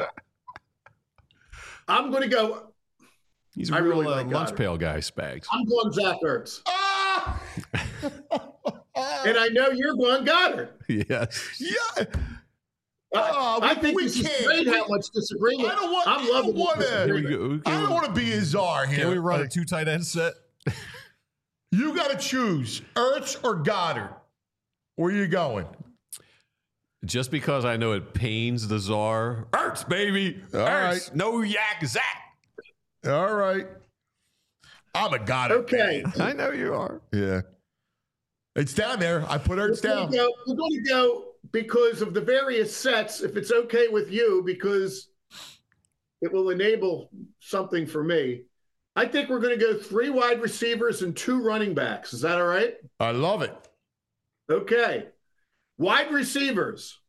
S7: I'm going to go.
S3: He's a real lunch pail guy, Spags.
S7: I'm going Zach Ertz.
S2: Ah!
S7: And I know you're going Goddard.
S3: Yes.
S2: Yeah.
S7: I think this is great how much disagreement. I'm loving this.
S2: I don't want to be a czar here.
S3: Can we run a 2 tight end set?
S2: You got to choose Ertz or Goddard. Where are you going?
S3: Just because I know it pains the czar. Ertz, baby.
S2: All
S3: Ertz.
S2: right.
S3: No yak Zach.
S2: All right. I'm a Goddard.
S7: Okay.
S2: Man.
S3: I know you are.
S2: Yeah. It's down there. I put Ertz down.
S7: We're going to go because of the various sets, if it's okay with you, because it will enable something for me. I think we're going to go 3 wide receivers and 2 running backs. Is that all right?
S2: I love it.
S7: Okay. Wide receivers.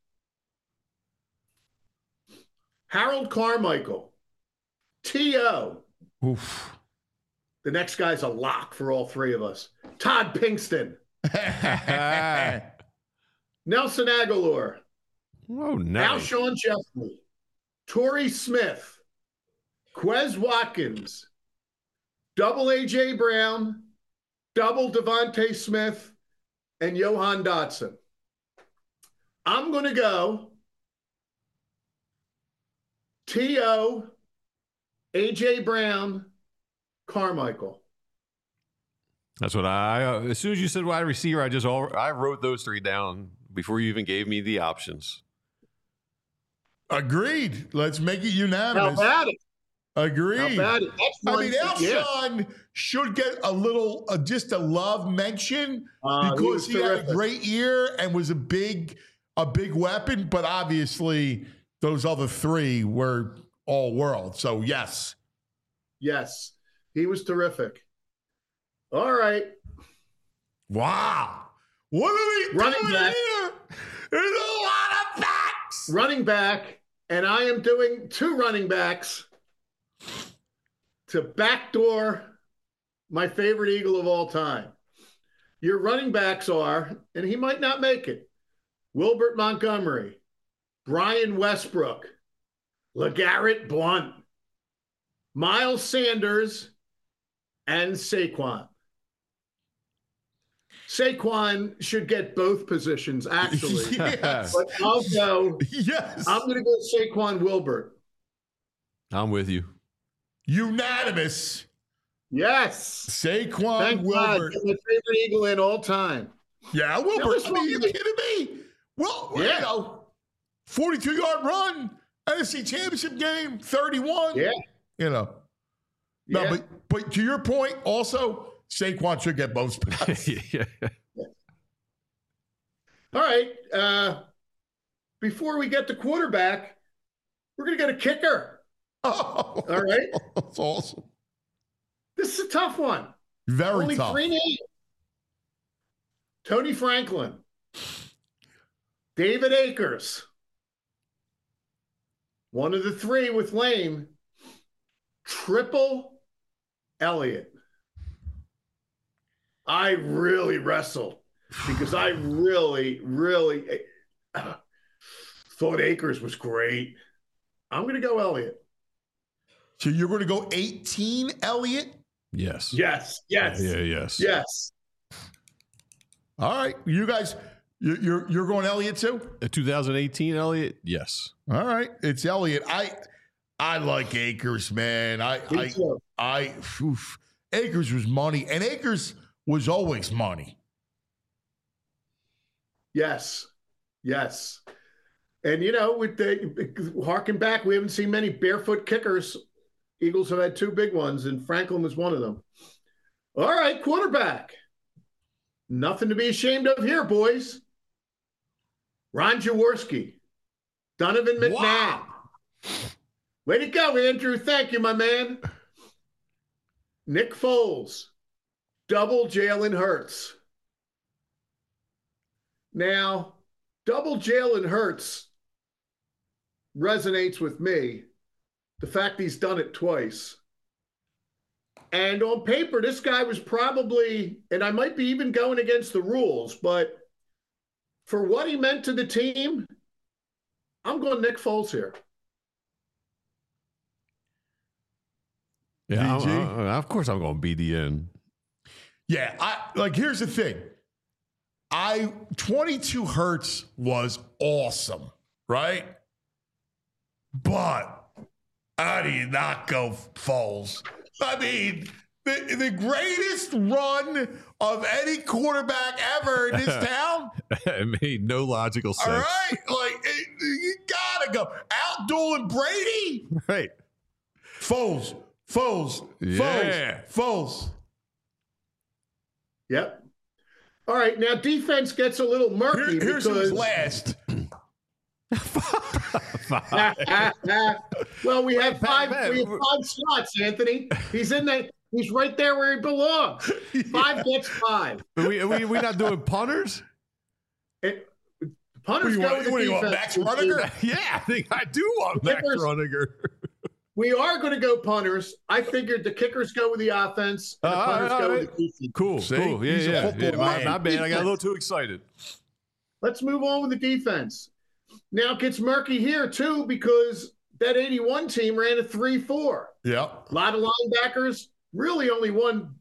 S7: Harold Carmichael. T.O.
S2: Oof.
S7: The next guy's a lock for all 3 of us. Todd Pinkston. Nelson Aguilar,
S6: Oh, nice.
S7: Alshon Jeffrey, Torrey Smith, Quez Watkins, double A.J. Brown, double Devontae Smith, and Johan Dotson. I'm going to go T.O., A.J. Brown, Carmichael.
S3: That's what as soon as you said wide receiver, I wrote those three down before you even gave me the options.
S2: Agreed. Let's make it unanimous.
S7: How about it?
S2: Agreed.
S7: How about it? That's
S2: I
S7: one,
S2: mean, Alshon should get a little, just a love mention because he had a great year and was a big weapon. But obviously, those other three were all world. So yes,
S7: he was terrific. All right.
S2: Wow. What are we
S7: Running
S2: doing
S7: back.
S2: here? There's a lot of backs.
S7: Running back, and I am doing two running backs to backdoor my favorite Eagle of all time. Your running backs are, and he might not make it, Wilbert Montgomery, Brian Westbrook, LeGarrette Blount, Miles Sanders, and Saquon. Saquon should get both positions, actually.
S2: Yes.
S7: But I'll go.
S2: Yes.
S7: I'm going to go Saquon Wilbert.
S3: I'm with you.
S2: Unanimous.
S7: Yes.
S2: Saquon
S7: Thank
S2: Wilbert.
S7: God. My favorite Eagle in all time.
S2: Yeah, Wilbert. I mean, you kidding me? Well,
S7: Yeah.
S2: you know, 42-yard run, NFC Championship game, 31.
S7: Yeah.
S2: You know. No,
S7: Yeah.
S2: but to your point, also, Saquon should get both spots.
S3: Yeah.
S7: All right. Before we get to quarterback, we're going to get a kicker.
S2: Oh,
S7: All right.
S2: that's awesome.
S7: This is a tough one.
S2: Very
S7: Only
S2: tough.
S7: 3 names. Tony Franklin, David Akers, one of the three with Lane, Triple Elliott. I really wrestled because I really thought Akers was great. I'm going to go Elliott.
S2: So you're going to go 18, Elliott?
S3: Yes.
S7: Yes.
S3: Yes.
S7: Yes.
S2: All right. You guys, you're going Elliott too?
S3: 2018 Elliott? Yes.
S2: All right. It's Elliott. I like Akers, man. Akers was money, and Akers was always money.
S7: Yes. And, you know, with the harken back, we haven't seen many barefoot kickers. Eagles have had 2 big ones, and Franklin was one of them. All right, quarterback. Nothing to be ashamed of here, boys. Ron Jaworski, Donovan McNabb.
S2: Wow.
S7: Way to go, Andrew. Thank you, my man. Nick Foles, double Jalen Hurts. Now, double Jalen Hurts resonates with me. The fact he's done it twice. And on paper, this guy was probably, and I might be even going against the rules, but for what he meant to the team, I'm going Nick Foles here.
S3: Yeah, of course I'm going BDN.
S2: Yeah, here's the thing. 22 Hurts was awesome, right? But how do you not go Foles? I mean, the greatest run of any quarterback ever in this town.
S3: It made no logical sense.
S2: All right, you gotta go outdueling Brady.
S3: Right.
S2: Foles.
S3: Yeah.
S2: Foles.
S7: Yep. All right, now defense gets a little murky
S2: Here's
S7: because
S2: who's last.
S7: well, we have five.
S3: man.
S7: We have 5 slots, Anthony. He's in there. He's right there where he belongs. 5 gets 5.
S3: Are we not doing punters?
S7: Punters go with the
S2: What do you want,
S7: defense.
S2: Max Runniger?
S3: Yeah, I think I do want Max
S7: Kickers.
S3: Runniger.
S7: We are going to go punters. I figured the kickers go with the offense and the punters go with the defense.
S3: Cool.
S2: See?
S3: Cool.
S2: He's a
S3: Yeah.
S2: football
S3: My
S2: man.
S3: bad. I got a little too excited.
S7: Let's move on with the defense. Now it gets murky here, too, because that 81 team ran a 3-4.
S2: Yep.
S7: A lot of linebackers, really only one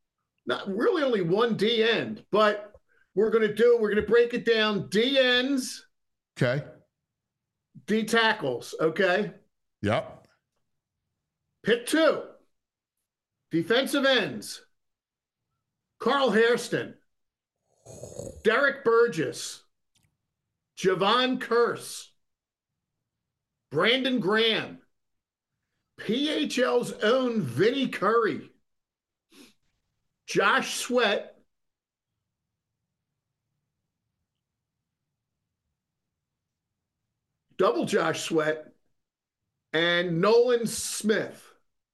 S7: D end. But we're going to break it down. D ends.
S2: Okay.
S7: D tackles. Okay.
S2: Yep.
S7: Pick 2. Defensive ends. Carl Hairston. Derek Burgess. Javon Curse. Brandon Graham. PHL's own Vinny Curry. Josh Sweat. Double Josh Sweat. And Nolan Smith.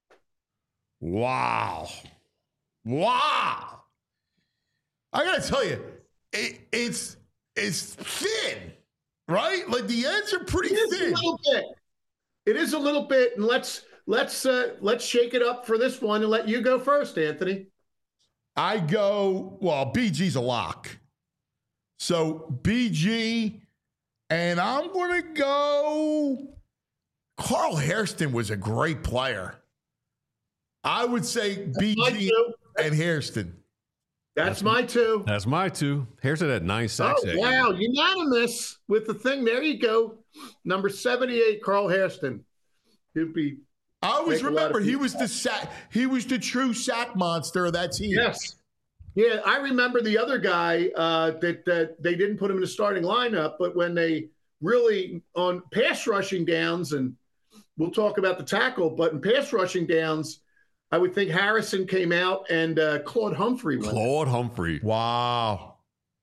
S2: Wow. Wow. I got to tell you, it's thin, right? Like the ends are pretty thin.
S7: It is a little bit. And let's shake it up for this one and let you go first, Anthony.
S2: I go, well, BG's a lock. So BG, and I'm going to go, Carl Hairston was a great player. I would say BG and Hairston.
S7: That's my 2.
S3: That's my 2. Hairston had 9 sacks.
S7: Oh, wow. Unanimous with the thing. There you go. Number 78, Carl Hairston. He'd be.
S2: I always remember he was the true sack monster of that team.
S7: Yes. Yeah, I remember the other guy that they didn't put him in the starting lineup, but when they really on pass rushing downs, and we'll talk about the tackle, but in pass rushing downs, I would think Harrison came out and Claude Humphrey went.
S3: Claude Humphrey.
S2: Wow.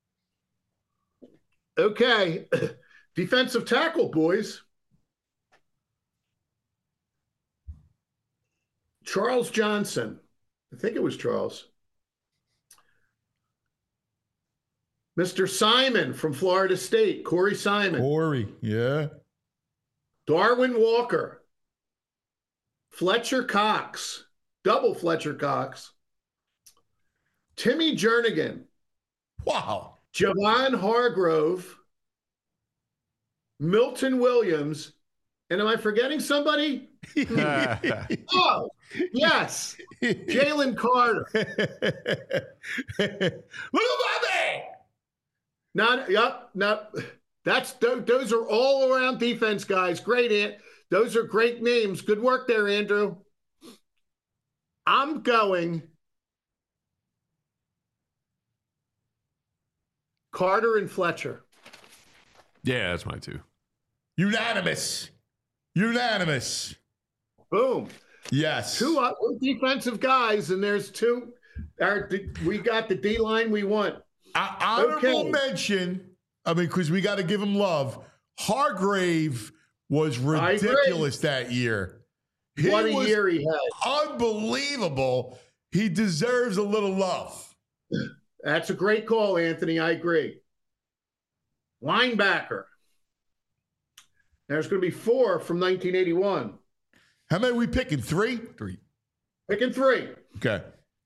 S7: Okay. Defensive tackle, boys. Charles Johnson. I think it was Charles. Mr. Simon from Florida State, Corey Simon.
S2: Corey, yeah.
S7: Darwin Walker. Fletcher Cox. Double Fletcher Cox. Timmy Jernigan.
S2: Wow.
S7: Javon Hargrove. Milton Williams. And am I forgetting somebody? Oh, yes. Jalen Carter.
S2: Little Bobby.
S7: Those are all around defense guys. Great, those are great names. Good work there, Andrew. I'm going Carter and Fletcher.
S3: Yeah, that's my 2.
S2: Unanimous.
S7: Boom.
S2: Yes.
S7: 2 defensive guys, and there's 2. We got the D line we want.
S2: Honorable mention, because we got to give him love. Hargrave was ridiculous that year.
S7: What a year he had.
S2: Unbelievable. He deserves a little love.
S7: That's a great call, Anthony. I agree. Linebacker. There's going to be 4 from 1981.
S2: How many are we picking? 3?
S3: 3.
S7: Picking 3.
S2: Okay.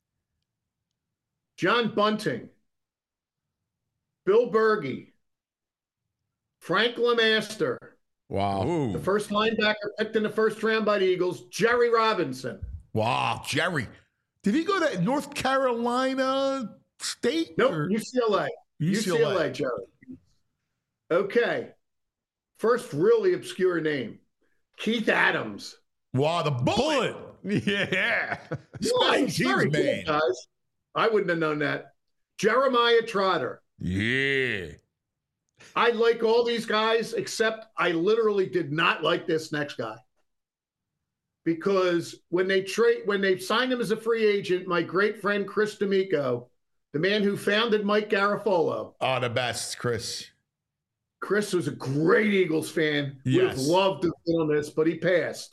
S7: John Bunting. Bill Berge. Frank LeMaster.
S2: Wow.
S3: Ooh.
S7: The first linebacker picked in the first round by the Eagles, Jerry Robinson.
S2: Wow, Jerry. Did he go to North Carolina State?
S7: Nope, UCLA. UCLA, Jerry. Okay. First really obscure name, Keith Adams.
S2: Wow, the bullet.
S3: Yeah.
S2: Special teams, man.
S7: Cool, guys. I wouldn't have known that. Jeremiah Trotter.
S2: Yeah.
S7: I like all these guys, except I literally did not like this next guy. Because when they signed him as a free agent, my great friend Chris D'Amico, the man who founded Mike Garafolo.
S2: Oh, the best, Chris.
S7: Chris was a great Eagles fan.
S2: Yes.
S7: Would have loved to be on this, but he passed.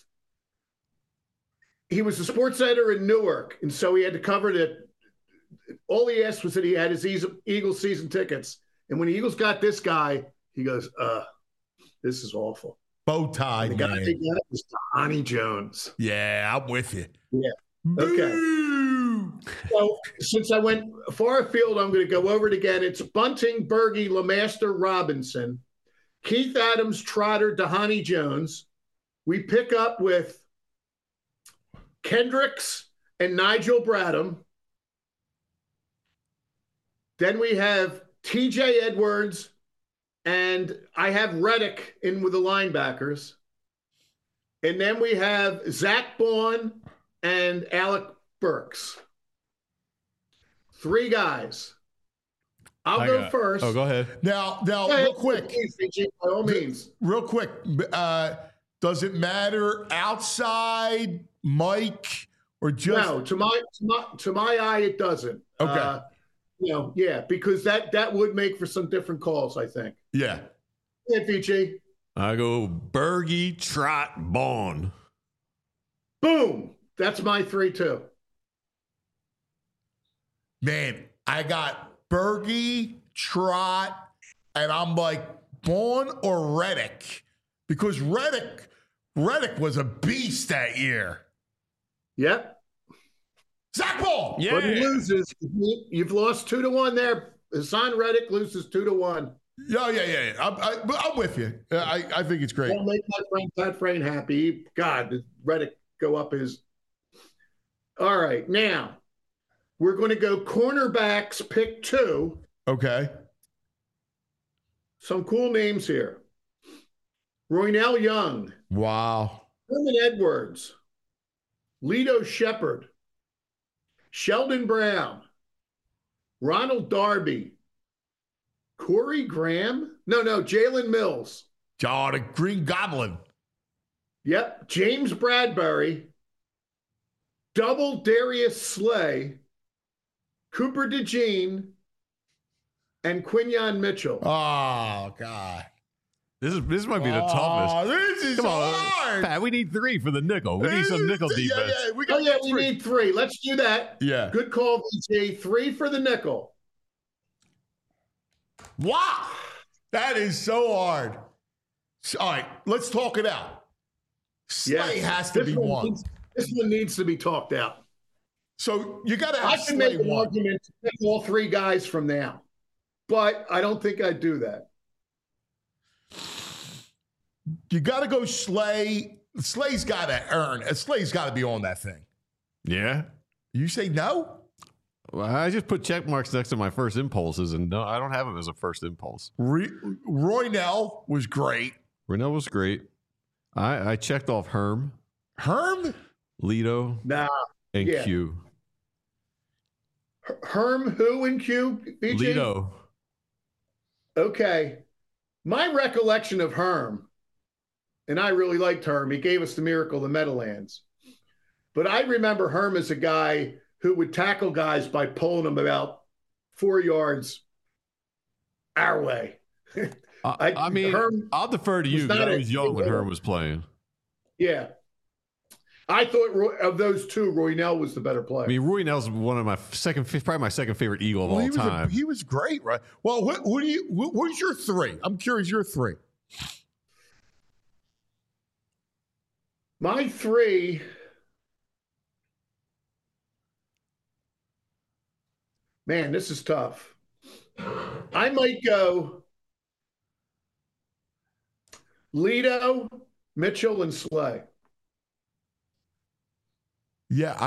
S7: He was a sports editor in Newark, and so he had to cover it. All he asked was that he had his Eagles season tickets. And when the Eagles got this guy, he goes, this is awful.
S2: Bow tie,
S7: the guy
S2: man.
S7: they got was Donnie Jones.
S2: Yeah, I'm with you.
S7: Yeah.
S2: Boo!
S7: Okay. So since I went far afield, I'm going to go over it again. It's Bunting, Berge, LeMaster, Robinson, Keith Adams, Trotter, Dhani Jones. We pick up with Kendricks and Nigel Bradham. Then we have TJ Edwards, and I have Reddick in with the linebackers. And then we have Zach Baun and Alec Burks. 3 guys. I'll go first.
S3: Oh, go ahead.
S2: Now, real quick.
S7: By all means.
S2: Real quick. Does it matter outside, Mike, or just?
S7: No, to my eye, it doesn't.
S2: Okay.
S7: Because that would make for some different calls, I think.
S2: Yeah.
S7: Yeah, VG.
S3: I go Berge, Trot, Baun.
S7: Boom. That's my 3 too.
S2: Man, I got Berge, Trot, and I'm like Baun or Reddick, because Reddick was a beast that year.
S7: Yep.
S2: Zach Baun.
S3: Yeah.
S7: But he loses. You've lost 2-1 there. Hassan Reddick loses 2-1.
S2: Yeah. I'm with you. I think it's great.
S7: I'll make my friend Pat Frayne happy. God, did Reddick go up his. All right. Now, we're going to go cornerbacks, pick 2.
S2: Okay.
S7: Some cool names here. Roynell Young.
S2: Wow.
S7: Herman Edwards. Lito Shepard. Sheldon Brown. Ronald Darby. Corey Graham? No, Jalen Mills.
S2: Oh, the Green Goblin.
S7: Yep. James Bradbury. Double Darius Slay. Cooper DeJean. And Quinyon Mitchell.
S2: Oh, God.
S3: This might be the toughest.
S2: This is
S3: Come on,
S2: hard.
S3: Pat, we need 3 for the nickel. We need some nickel defense.
S2: Yeah,
S7: We need 3. Let's do that.
S2: Yeah.
S7: Good call, VJ. 3 for the nickel.
S2: Wow. That is so hard. All right, let's talk it out. Slay has to be one.
S7: This one needs to be talked out.
S2: So you got to have
S7: I can
S2: Slay
S7: make an
S2: one.
S7: argument to pick all 3 guys from now, but I don't think I'd do that.
S2: You got to go Slay. Slay's got to earn. Slay's got to be on that thing.
S3: Yeah.
S2: You say no?
S3: Well, I just put check marks next to my first impulses, and no, I don't have him as a first impulse.
S2: Roynell was great.
S3: Renell was great. I checked off Herm, Lito, and
S7: yeah.
S3: Q.
S7: Herm, who and Q? BG?
S3: Lito.
S7: Okay. My recollection of Herm, and I really liked Herm. He gave us the miracle of the Meadowlands. But I remember Herm as a guy who would tackle guys by pulling them about 4 yards our way.
S3: I mean,
S7: Herm
S3: I'll defer to you because I was young when Herm was playing.
S7: Yeah. I thought of those 2, Roynell was the better player.
S3: I mean, Roynell's one of my probably my second favorite Eagle of all time.
S2: He was great, right? Well, who's your 3? I'm curious, your 3.
S7: My 3. Man, this is tough. I might go Lito, Mitchell, and Slay.
S2: Yeah,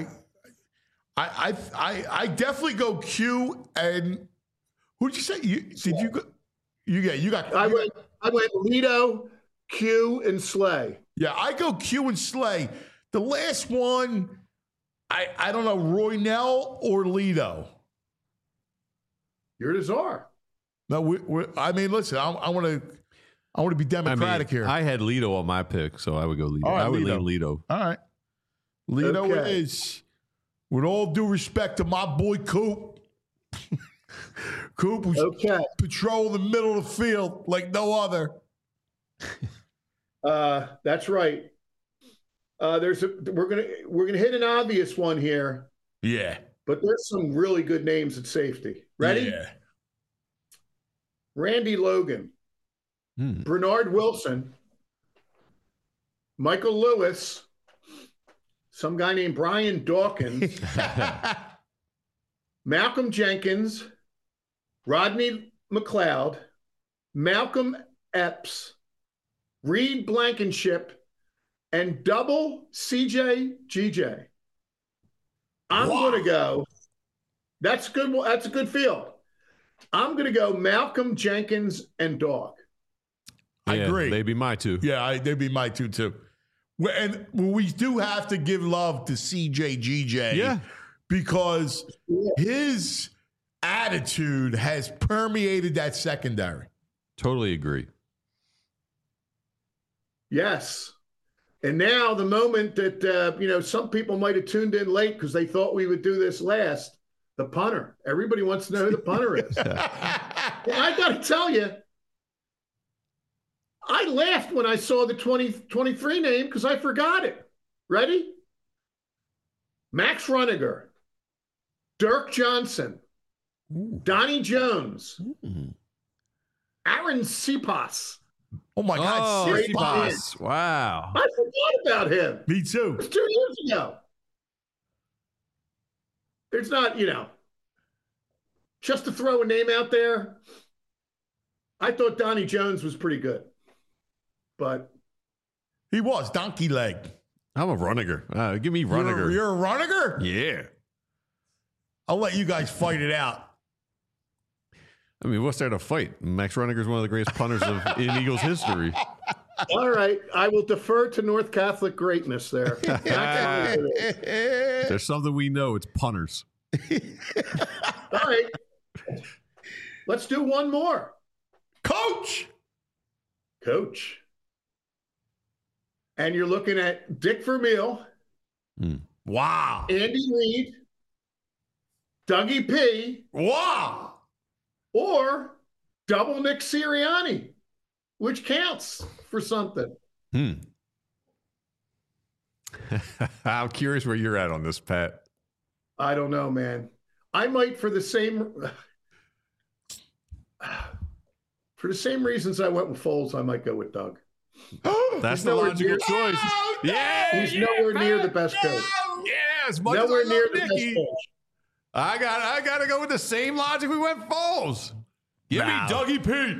S2: I definitely go Q and who did you say? You got
S7: I went Lito, Q, and Slay.
S2: Yeah, I go Q and Slay. The last one, I don't know, Roynell or Lito.
S7: You're the czar.
S2: No, I mean, listen, I want to be democratic here.
S3: I had Lito on my pick, so I would go Lito.
S2: All right,
S3: I would
S2: Lito.
S3: lean Lito.
S2: All right. Lito
S7: Okay.
S2: is, with all due respect to my boy Coop. Coop was patrolling the middle of the field like no other.
S7: That's right. We're gonna hit an obvious one here,
S2: Yeah.
S7: but there's some really good names at safety. Ready?
S2: Yeah.
S7: Randy Logan, Bernard Wilson, Michael Lewis, some guy named Brian Dawkins, Malcolm Jenkins, Rodney McLeod, Malcolm Epps, Reed Blankenship, and double CJ GJ. I'm going to go. That's good. That's a good field. I'm going to go Malcolm Jenkins and Dog.
S2: I agree.
S3: They'd be my two.
S2: Yeah, they'd be my two too. And we do have to give love to CJ GJ.
S3: Yeah.
S2: Because his attitude has permeated that secondary.
S3: Totally agree.
S7: Yes. And now the moment that, some people might have tuned in late because they thought we would do this last, the punter. Everybody wants to know who the punter is. Well, I got to tell you, I laughed when I saw the 2023 name because I forgot it. Ready? Max Runniger, Dirk Johnson, Donnie Jones, Aaron Sipas.
S2: Oh, my God.
S3: Sipas. Wow.
S7: I forgot about him.
S2: Me too.
S7: It was 2 years ago. There's not, just to throw a name out there, I thought Donnie Jones was pretty good. But
S2: he was donkey leg.
S3: I'm a Runniger. Give me Runniger.
S2: You're a Runniger?
S3: Yeah.
S2: I'll let you guys fight it out.
S3: I mean, what's there to fight? Max Runniger is one of the greatest punters in Eagles history.
S7: All right. I will defer to North Catholic greatness there.
S3: There's something we know. It's punters.
S7: All right. Let's do one more.
S2: Coach. And you're looking at Dick Vermeil. Wow. Andy Reid. Dougie P. Wow.
S7: Or double Nick Sirianni, which counts for something.
S3: I'm curious where you're at on this, Pat.
S7: I don't know, man. I might, for the same reasons I went with Foles, I might go with Doug.
S3: That's the logical choice. Yeah,
S7: he's nowhere near the best coach.
S3: Yes,
S7: nowhere near the best coach.
S3: I got to go with the same logic we went Foles. Give me Dougie P.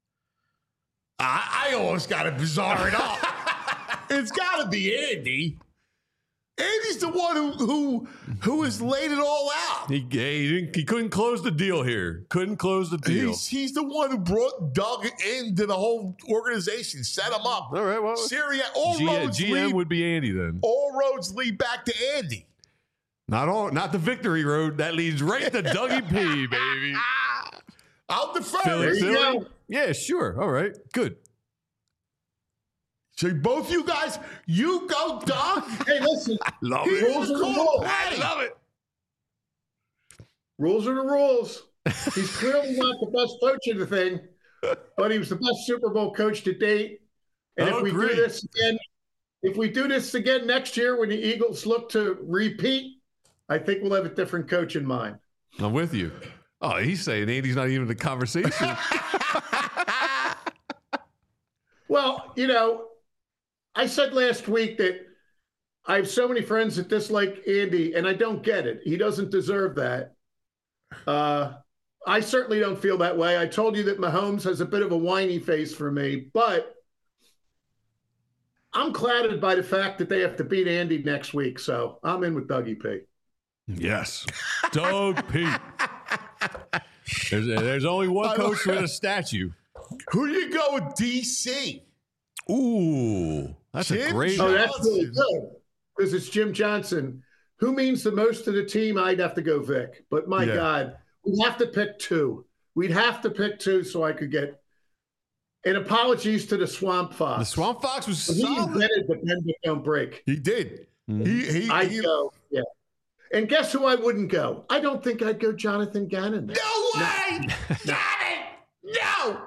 S2: I almost got to bizarre it up. It's got to be Andy. Andy's the one who has laid it all out.
S3: He couldn't close the deal here. Couldn't close the deal.
S2: He's the one who brought Doug into the whole organization, set him up.
S3: All right, well, GM would be Andy then.
S2: All roads lead back to Andy.
S3: Not the victory road. That leads right to Dougie P, baby.
S2: I'll defer.
S7: There you go.
S3: Yeah, sure. All right, good.
S2: So both you guys, you go, Doug.
S7: Hey, listen.
S3: I love it.
S7: Rules are the rules.
S3: I love it.
S7: Rules are the rules. He's clearly not the best coach of the thing, but he was the best Super Bowl coach to date. And if we do this again next year when the Eagles look to repeat, I think we'll have a different coach in mind.
S3: I'm with you. Oh, he's saying Andy's not even in the conversation.
S7: Well, I said last week that I have so many friends that dislike Andy, and I don't get it. He doesn't deserve that. I certainly don't feel that way. I told you that Mahomes has a bit of a whiny face for me, but I'm clouded by the fact that they have to beat Andy next week, so I'm in with Dougie P.
S3: Yes. Doug P. There's only one coach with a statue.
S2: Who do you go with, DC?
S3: Ooh, that's
S2: Jim
S3: a great.
S2: Johnson.
S7: Oh, that's really good because it's Jim Johnson. Who means the most to the team? I'd have to go Vic. But my God, we'd have to pick two. We'd have to pick two so I could get. And apologies to the Swamp Fox.
S3: The Swamp Fox was
S7: He
S3: solid.
S7: invented the bend but don't break.
S2: He did.
S7: I'd go, yeah. And guess who I wouldn't go? I don't think I'd go Jonathan Gannon. There.
S2: No way! Got it! No!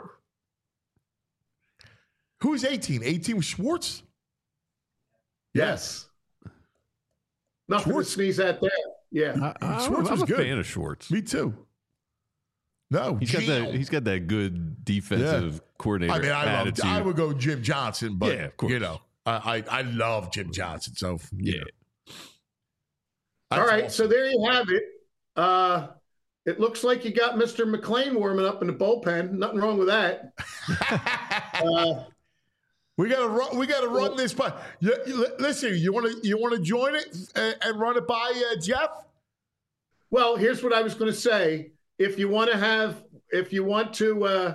S2: Who's 18? 18 was Schwartz?
S7: Yes. Nothing to sneeze at there. Yeah.
S2: Schwartz was
S3: I'm a
S2: good.
S3: fan of Schwartz.
S2: Me too. No,
S3: He's got that good defensive coordinator.
S2: I mean,
S3: attitude.
S2: I would go Jim Johnson, but
S3: Yeah, of course.
S2: I love Jim Johnson. So
S3: Yeah.
S7: All right, so there you have it. It looks like you got Mr. McClain warming up in the bullpen. Nothing wrong with that.
S2: We gotta run this by. Listen, you want to join it and run it by Jeff?
S7: Well, here's what I was going to say. If you want to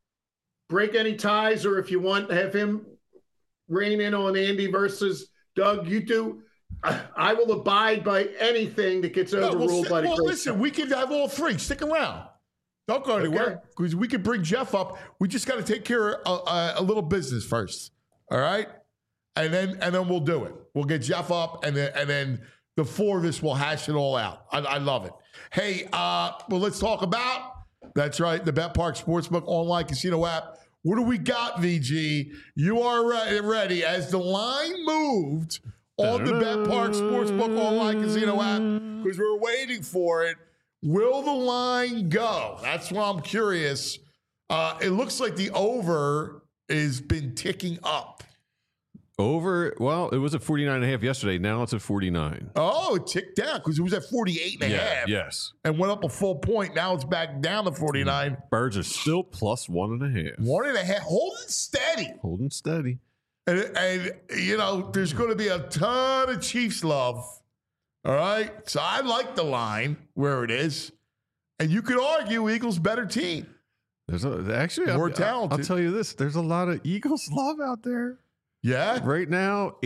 S7: break any ties, or if you want to have him rein in on Andy versus Doug, you do. I will abide by anything that gets overruled by the great
S2: listen, we can have all three. Stick around. Don't go anywhere because we can bring Jeff up. We just got to take care of a little business first. All right, and then we'll do it. We'll get Jeff up, and then the four of us will hash it all out. I love it. Hey, well, let's talk about. That's right, the BetParx Sportsbook online casino app. What do we got, VG? You are ready as the line moved on the BetParx Sportsbook online casino app because we're waiting for it. Will the line go? That's what I'm curious. It looks like the over has been ticking up.
S3: Over, well, it was at 49.5 yesterday. Now it's at 49.
S2: Oh, it ticked down because it was at 48.5.
S3: Yes.
S2: And went up a full point. Now it's back down to 49.
S3: Birds are still plus 1.5.
S2: 1.5. Holding steady.
S3: Holding steady.
S2: And you know, there's going to be a ton of Chiefs love. All right. So I like the line where it is. And you could argue Eagles better team.
S3: There's
S2: more talented.
S3: I'll tell you this. There's a lot of Eagles love out there.
S2: Yeah.
S3: Right now,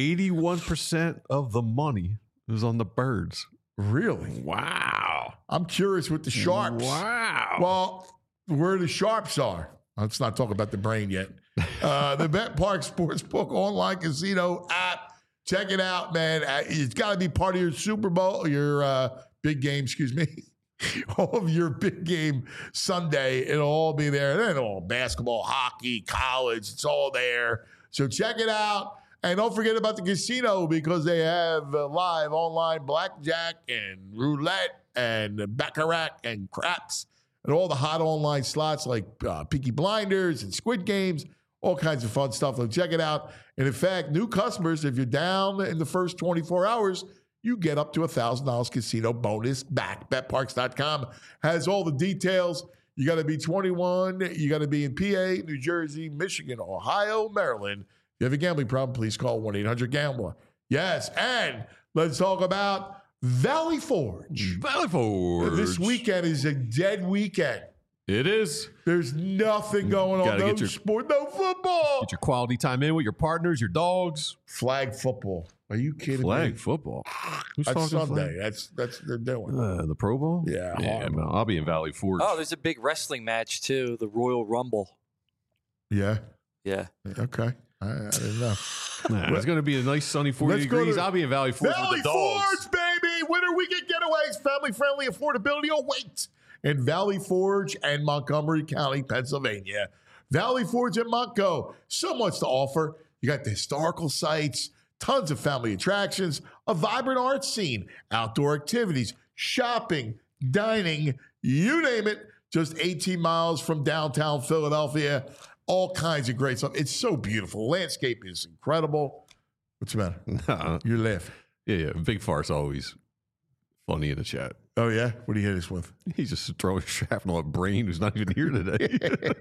S3: 81% of the money is on the Birds.
S2: Really?
S3: Wow.
S2: I'm curious with the Sharps.
S3: Wow.
S2: Well, where the Sharps are. Let's not talk about the brain yet. The BetParx Sportsbook online casino app. Check it out, man. It's got to be part of your Super Bowl, your big game, excuse me. All of your big game Sunday. It'll all be there. And then all basketball, hockey, college, it's all there. So check it out. And don't forget about the casino because they have live online blackjack and roulette and baccarat and craps and all the hot online slots like Peaky Blinders and Squid Games, all kinds of fun stuff. So check it out. And in fact, new customers, if you're down in the first 24 hours, you get up to $1,000 casino bonus back. BetParx.com has all the details. You got to be 21. You got to be in PA, New Jersey, Michigan, Ohio, Maryland. If you have a gambling problem, please call 1-800-GAMBLER. Yes, and let's talk about Valley Forge.
S3: Valley Forge.
S2: This weekend is a dead weekend.
S3: It is.
S2: There's nothing going on. No sport, no football.
S3: Get your quality time in with your partners, your dogs.
S2: Flag football. Are you kidding me?
S3: Flag football. Who's
S2: That's
S3: talking
S2: Sunday.
S3: flag?
S2: That's they're doing.
S3: The Pro Bowl?
S2: Yeah.
S3: Man, I'll be in Valley Forge.
S4: Oh, there's a big wrestling match too, the Royal Rumble.
S2: Yeah.
S4: Yeah.
S2: Okay. I didn't know.
S3: Nah, it's going to be a nice sunny 40 degrees. I'll be in Valley Forge with the dogs.
S2: Valley Forge, baby! Winter weekend getaways, family-friendly affordability awaits in Valley Forge and Montgomery County, Pennsylvania. Valley Forge and Montco, so much to offer. You got the historical sites, tons of family attractions, a vibrant art scene, outdoor activities, shopping, dining, you name it. Just 18 miles from downtown Philadelphia. All kinds of great stuff. It's so beautiful. The landscape is incredible. What's the matter? You're laughing.
S3: Yeah. Big Farce always funny in the chat.
S2: Oh, yeah? What do you hit us with?
S3: He's just throwing shrapnel at Brain, who's not even here today.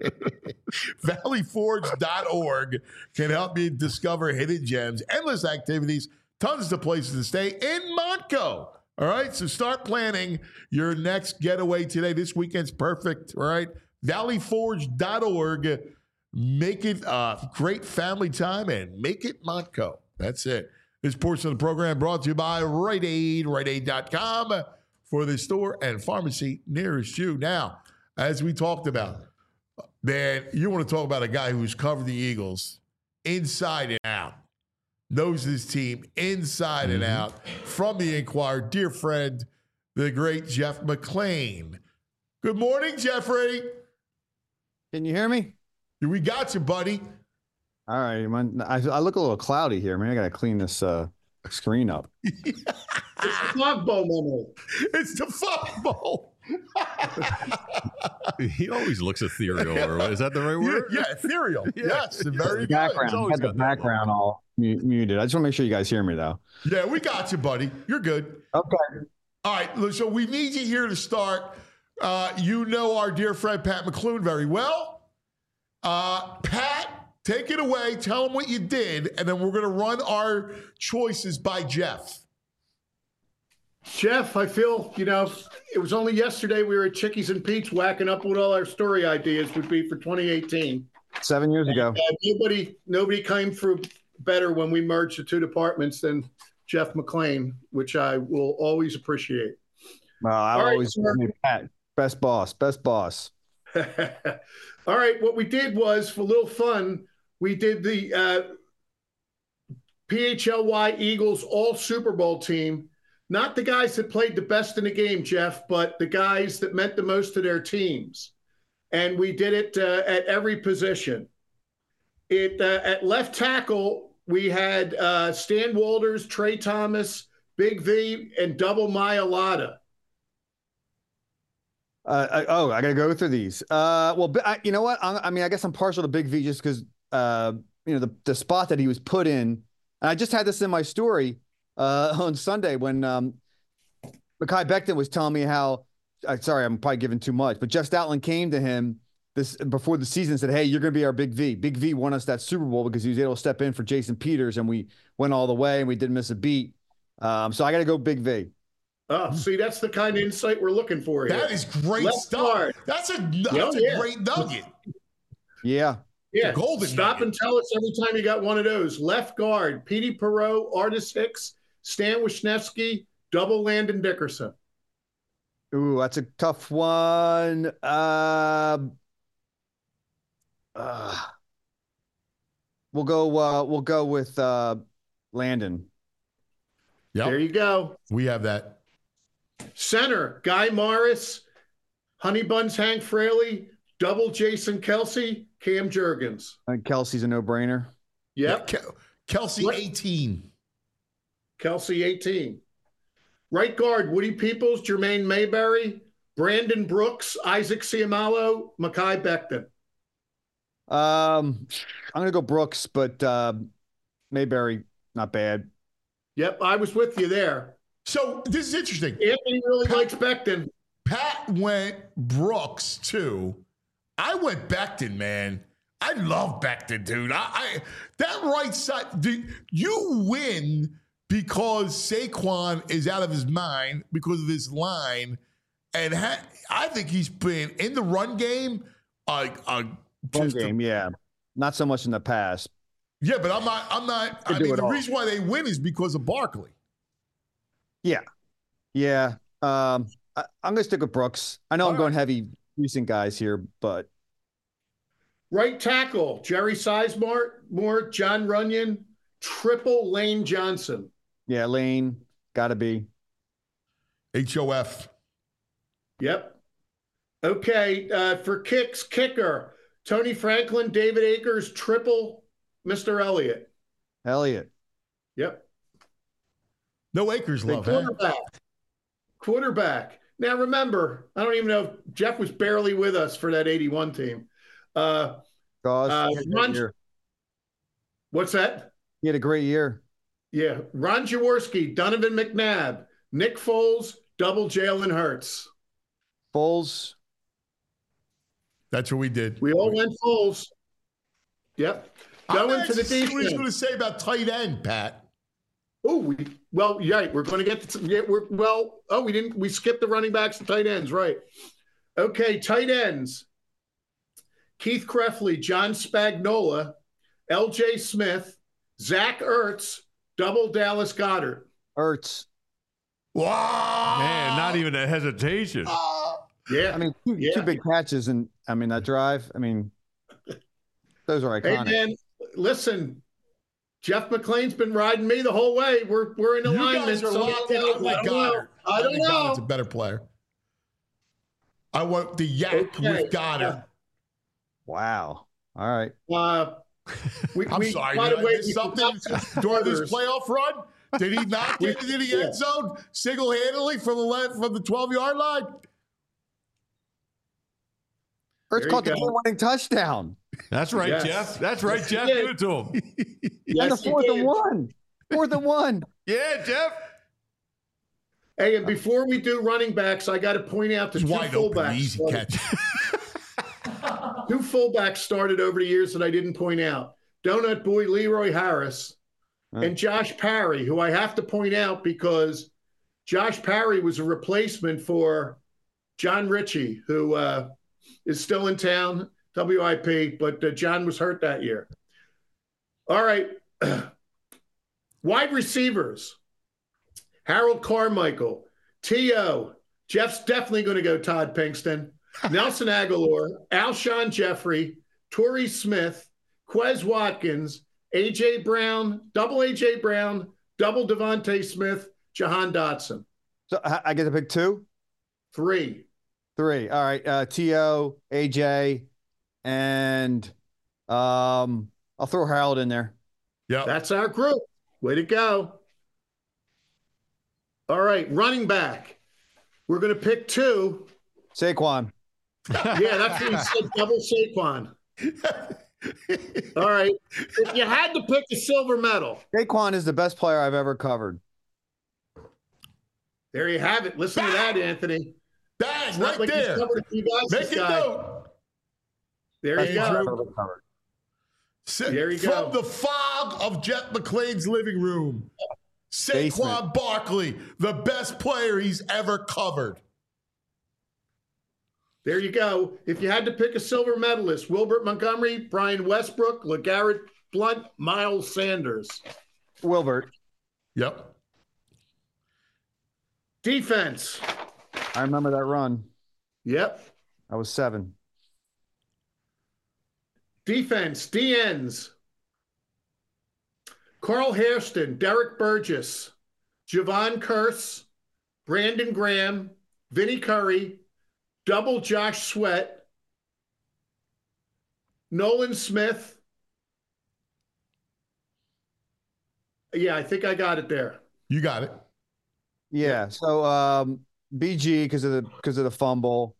S2: ValleyForge.org can help you discover hidden gems, endless activities, tons of places to stay in Montco. All right? So start planning your next getaway today. This weekend's perfect. All right? ValleyForge.org. Make it a great family time and make it Montco. That's it. This portion of the program brought to you by Rite Aid, RiteAid.com for the store and pharmacy nearest you. Now, as we talked about, man, you want to talk about a guy who's covered the Eagles inside and out, knows his team inside and out. From the Inquirer, dear friend, the great Jeff McClain. Good morning, Jeffrey.
S8: Can you hear me?
S2: We got you, buddy.
S8: All right, man. I look a little cloudy here, man. I got to clean this screen up.
S7: It's the fog bowl moment.
S2: It's the fog bowl.
S3: He always looks ethereal. Or is that the right word?
S2: Yeah, ethereal. Yes, very good.
S8: Background. I had the background all muted. I just want to make sure you guys hear me, though.
S2: Yeah, we got you, buddy. You're good.
S8: Okay.
S2: All right, so we need you here to start. You know our dear friend Pat McClune very well. Pat, take it away. Tell him what you did, and then we're going to run our choices by Jeff.
S7: Jeff, I feel, it was only yesterday we were at Chickies and Pete's whacking up what all our story ideas would be for 2018.
S8: 7 years ago.
S7: Nobody came through better when we merged the two departments than Jeff McClain, which I will always appreciate.
S8: Well, I always Pat, best boss.
S7: All right, what we did was, for a little fun, we did the PHLY Eagles all Super Bowl team. Not the guys that played the best in the game, Jeff, but the guys that meant the most to their teams. And we did it at every position. At left tackle, we had Stan Walters, Trey Thomas, Big V, and Double Mailata.
S8: I got to go through these. You know what? I guess I'm partial to Big V just because, the spot that he was put in. And I just had this in my story on Sunday when Mekhi Becton was telling me how, sorry, I'm probably giving too much, but Jeff Stoutland came to him before the season and said, hey, you're going to be our Big V. Big V won us that Super Bowl because he was able to step in for Jason Peters, and we went all the way, and we didn't miss a beat. So I got to go Big V.
S7: Oh, see, that's the kind of insight we're looking for here.
S2: That is great stuff. Guard. That's a great nugget.
S8: Yeah.
S7: Yeah.
S2: Golden
S7: Stop
S2: nugget.
S7: and tell us every time you got one of those. Left guard, Petey Perot, Artis Hicks, Stan Wisniewski, double Landon Dickerson.
S8: Ooh, that's a tough one. We'll go with Landon.
S2: Yep.
S7: There you go.
S2: We have that.
S7: Center, Guy Morris, Honey Buns Hank Fraley, double Jason Kelsey, Cam Jurgens.
S8: I think Kelsey's a no-brainer.
S7: Yep.
S2: Yeah, Kelsey, 18.
S7: Kelsey, 18. Right guard, Woody Peoples, Jermaine Mayberry, Brandon Brooks, Isaac Siamalo, Mekhi Becton.
S8: I'm going to go Brooks, but Mayberry, not bad.
S7: Yep, I was with you there.
S2: So this is interesting.
S7: Anthony really likes Becton.
S2: Pat went Brooks, too. I went Becton, man. I love Becton, dude. I that right side, you win because Saquon is out of his mind because of his line. And I think he's been in the run game.
S8: Yeah. Not so much in the past.
S2: Yeah, but I'm not. I mean, the reason why they win is because of Barkley.
S8: Yeah. Yeah. I'm going to stick with Brooks. I know I'm going heavy recent guys here, but.
S7: Right tackle, Jerry Sizemore, John Runyon, triple Lane Johnson.
S8: Yeah, Lane, got to be.
S2: HOF.
S7: Yep. Okay, for kicks, kicker, Tony Franklin, David Akers, triple Mr. Elliott.
S8: Yep.
S2: No Akers love,
S7: Quarterback. Now, remember, I don't even know if Jeff was barely with us for that 81 team.
S8: What's
S7: that?
S8: He had a great year.
S7: Yeah. Ron Jaworski, Donovan McNabb, Nick Foles, double Jalen Hurts.
S8: Foles.
S2: That's what we did.
S7: We all went Foles. Yep. Going to the defense.
S2: What he's going to say about tight end, Pat.
S7: Oh, we're going to get to, we skipped the running backs and tight ends, right? Okay, tight ends. Keith Krefley, John Spagnola, L.J. Smith, Zach Ertz, double Dallas Goedert.
S8: Ertz.
S2: Wow.
S3: Man, not even a hesitation.
S7: Yeah.
S8: I mean, two big catches, and I mean, that drive, I mean, those are iconic.
S7: Hey, man, listen, Jeff McClain's been riding me the whole way. We're in alignment.
S2: You guys are locked in. I like Goddard.
S7: I don't know.
S2: Goddard's a better player. I want the yak with Goddard.
S8: Wow. All right.
S2: I'm sorry. Did I miss something during this playoff run? Did he not get into the end zone single-handedly from the 12-yard line?
S8: Ertz caught the game-winning touchdown.
S3: That's right, Jeff. That's right, Jeff. Give it to him.
S8: And the 4th and 1. 4th and 1.
S3: Yeah, Jeff.
S7: Hey, and before we do running backs, I got to point out the
S2: It's
S7: two
S2: wide open,
S7: fullbacks.
S2: easy catch.
S7: Two fullbacks started over the years that I didn't point out. Donut Boy Leroy Harris and Josh Parry, who I have to point out because Josh Parry was a replacement for John Ritchie, who is still in town, WIP, but John was hurt that year. All right. Wide receivers. Harold Carmichael, T.O. Jeff's definitely going to go Todd Pinkston. Nelson Aguilar, Alshon Jeffrey, Torrey Smith, Quez Watkins, A.J. Brown, double Devontae Smith, Jahan Dotson.
S8: So I get to pick two?
S7: Three.
S8: All right. T.O., A.J., and I'll throw Harold in there.
S2: Yeah.
S7: That's our group. Way to go. All right, running back. We're going to pick two.
S8: Saquon.
S7: Yeah, that's what he said, double Saquon. All right. If you had to pick a silver medal.
S8: Saquon is the best player I've ever covered.
S7: There you have it. Listen to that, Anthony.
S2: Bang,
S7: It's not
S2: right
S7: like he's
S2: there.
S7: covered a few guys,
S2: Make
S7: this
S2: it
S7: guy.
S2: note.
S7: There you go. There you
S2: From
S7: go.
S2: the fog of Jeff McClain's living room, Saquon Barkley, the best player he's ever covered.
S7: There you go. If you had to pick a silver medalist, Wilbert Montgomery, Brian Westbrook, LeGarrette Blunt, Miles Sanders.
S8: Wilbert.
S2: Yep.
S7: Defense.
S8: I remember that run.
S7: Yep.
S8: I was 7.
S7: Defense, DNs. Carl Hairston, Derek Burgess, Javon Curse, Brandon Graham, Vinnie Curry, double Josh Sweat, Nolan Smith. Yeah, I think I got it there.
S2: You got it.
S8: Yeah. So BG because of the fumble.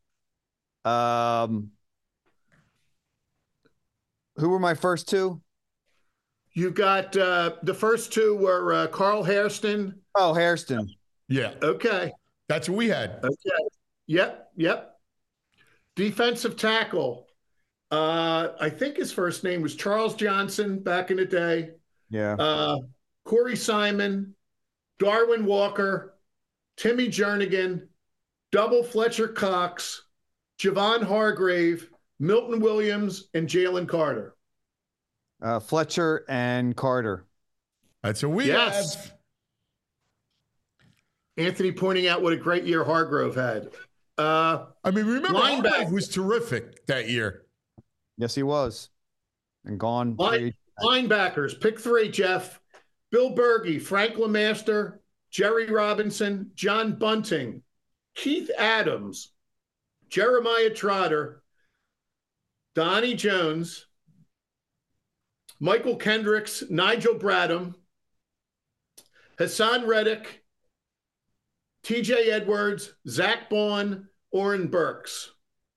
S8: Who were my first two?
S7: You got the first two were Carl Hairston.
S8: Oh, Hairston.
S2: Yeah.
S7: Okay.
S2: That's what we had.
S7: Okay. Yep. Defensive tackle. I think his first name was Charles Johnson back in the day.
S8: Yeah.
S7: Corey Simon, Darwin Walker, Timmy Jernigan, double Fletcher Cox, Javon Hargrave, Milton Williams, and Jalen Carter.
S8: Fletcher and Carter.
S2: That's what we have.
S7: Anthony pointing out what a great year Hargrove had.
S2: I mean, remember,
S7: linebacker.
S2: Hargrave was terrific that year.
S8: Yes, he was. And gone.
S7: Linebackers, pick three, Jeff. Bill Berge, Frank LeMaster, Jerry Robinson, John Bunting, Keith Adams, Jeremiah Trotter, Donnie Jones, Michael Kendricks, Nigel Bradham, Hassan Reddick, TJ Edwards, Zach Baun, Oren Burks.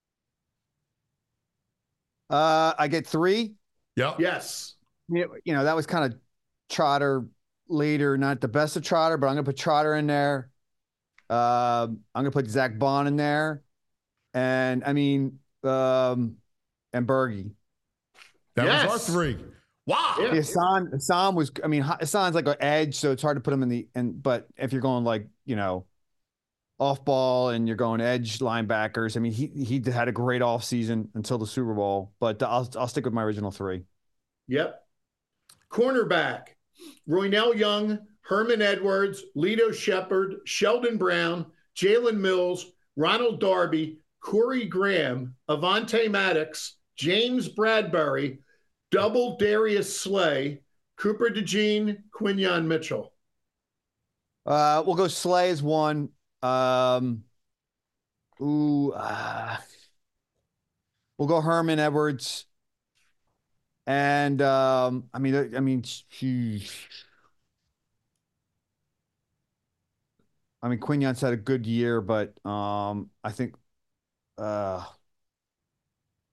S8: I get 3.
S2: Yep.
S7: Yes.
S8: You know, that was kind of Trotter later, not the best of Trotter, but I'm going to put Trotter in there. I'm going to put Zach Baun in there. And I mean, and Berge.
S2: That
S7: Yes.
S2: was our 3. Wow.
S7: Yeah.
S8: Hassan was, I mean, Hassan's like an edge, so it's hard to put him but if you're going like, you know, off ball and you're going edge linebackers, I mean, he had a great off season until the Super Bowl, but I'll stick with my original 3.
S7: Yep. Cornerback, Roynell Young, Herman Edwards, Lito Shepard, Sheldon Brown, Jalen Mills, Ronald Darby, Corey Graham, Avante Maddox, James Bradbury, double Darius Slay, Cooper DeJean, Quinyon Mitchell.
S8: We'll go Slay as 1. We'll go Herman Edwards. And I mean, Quinyon's had a good year, but I think let's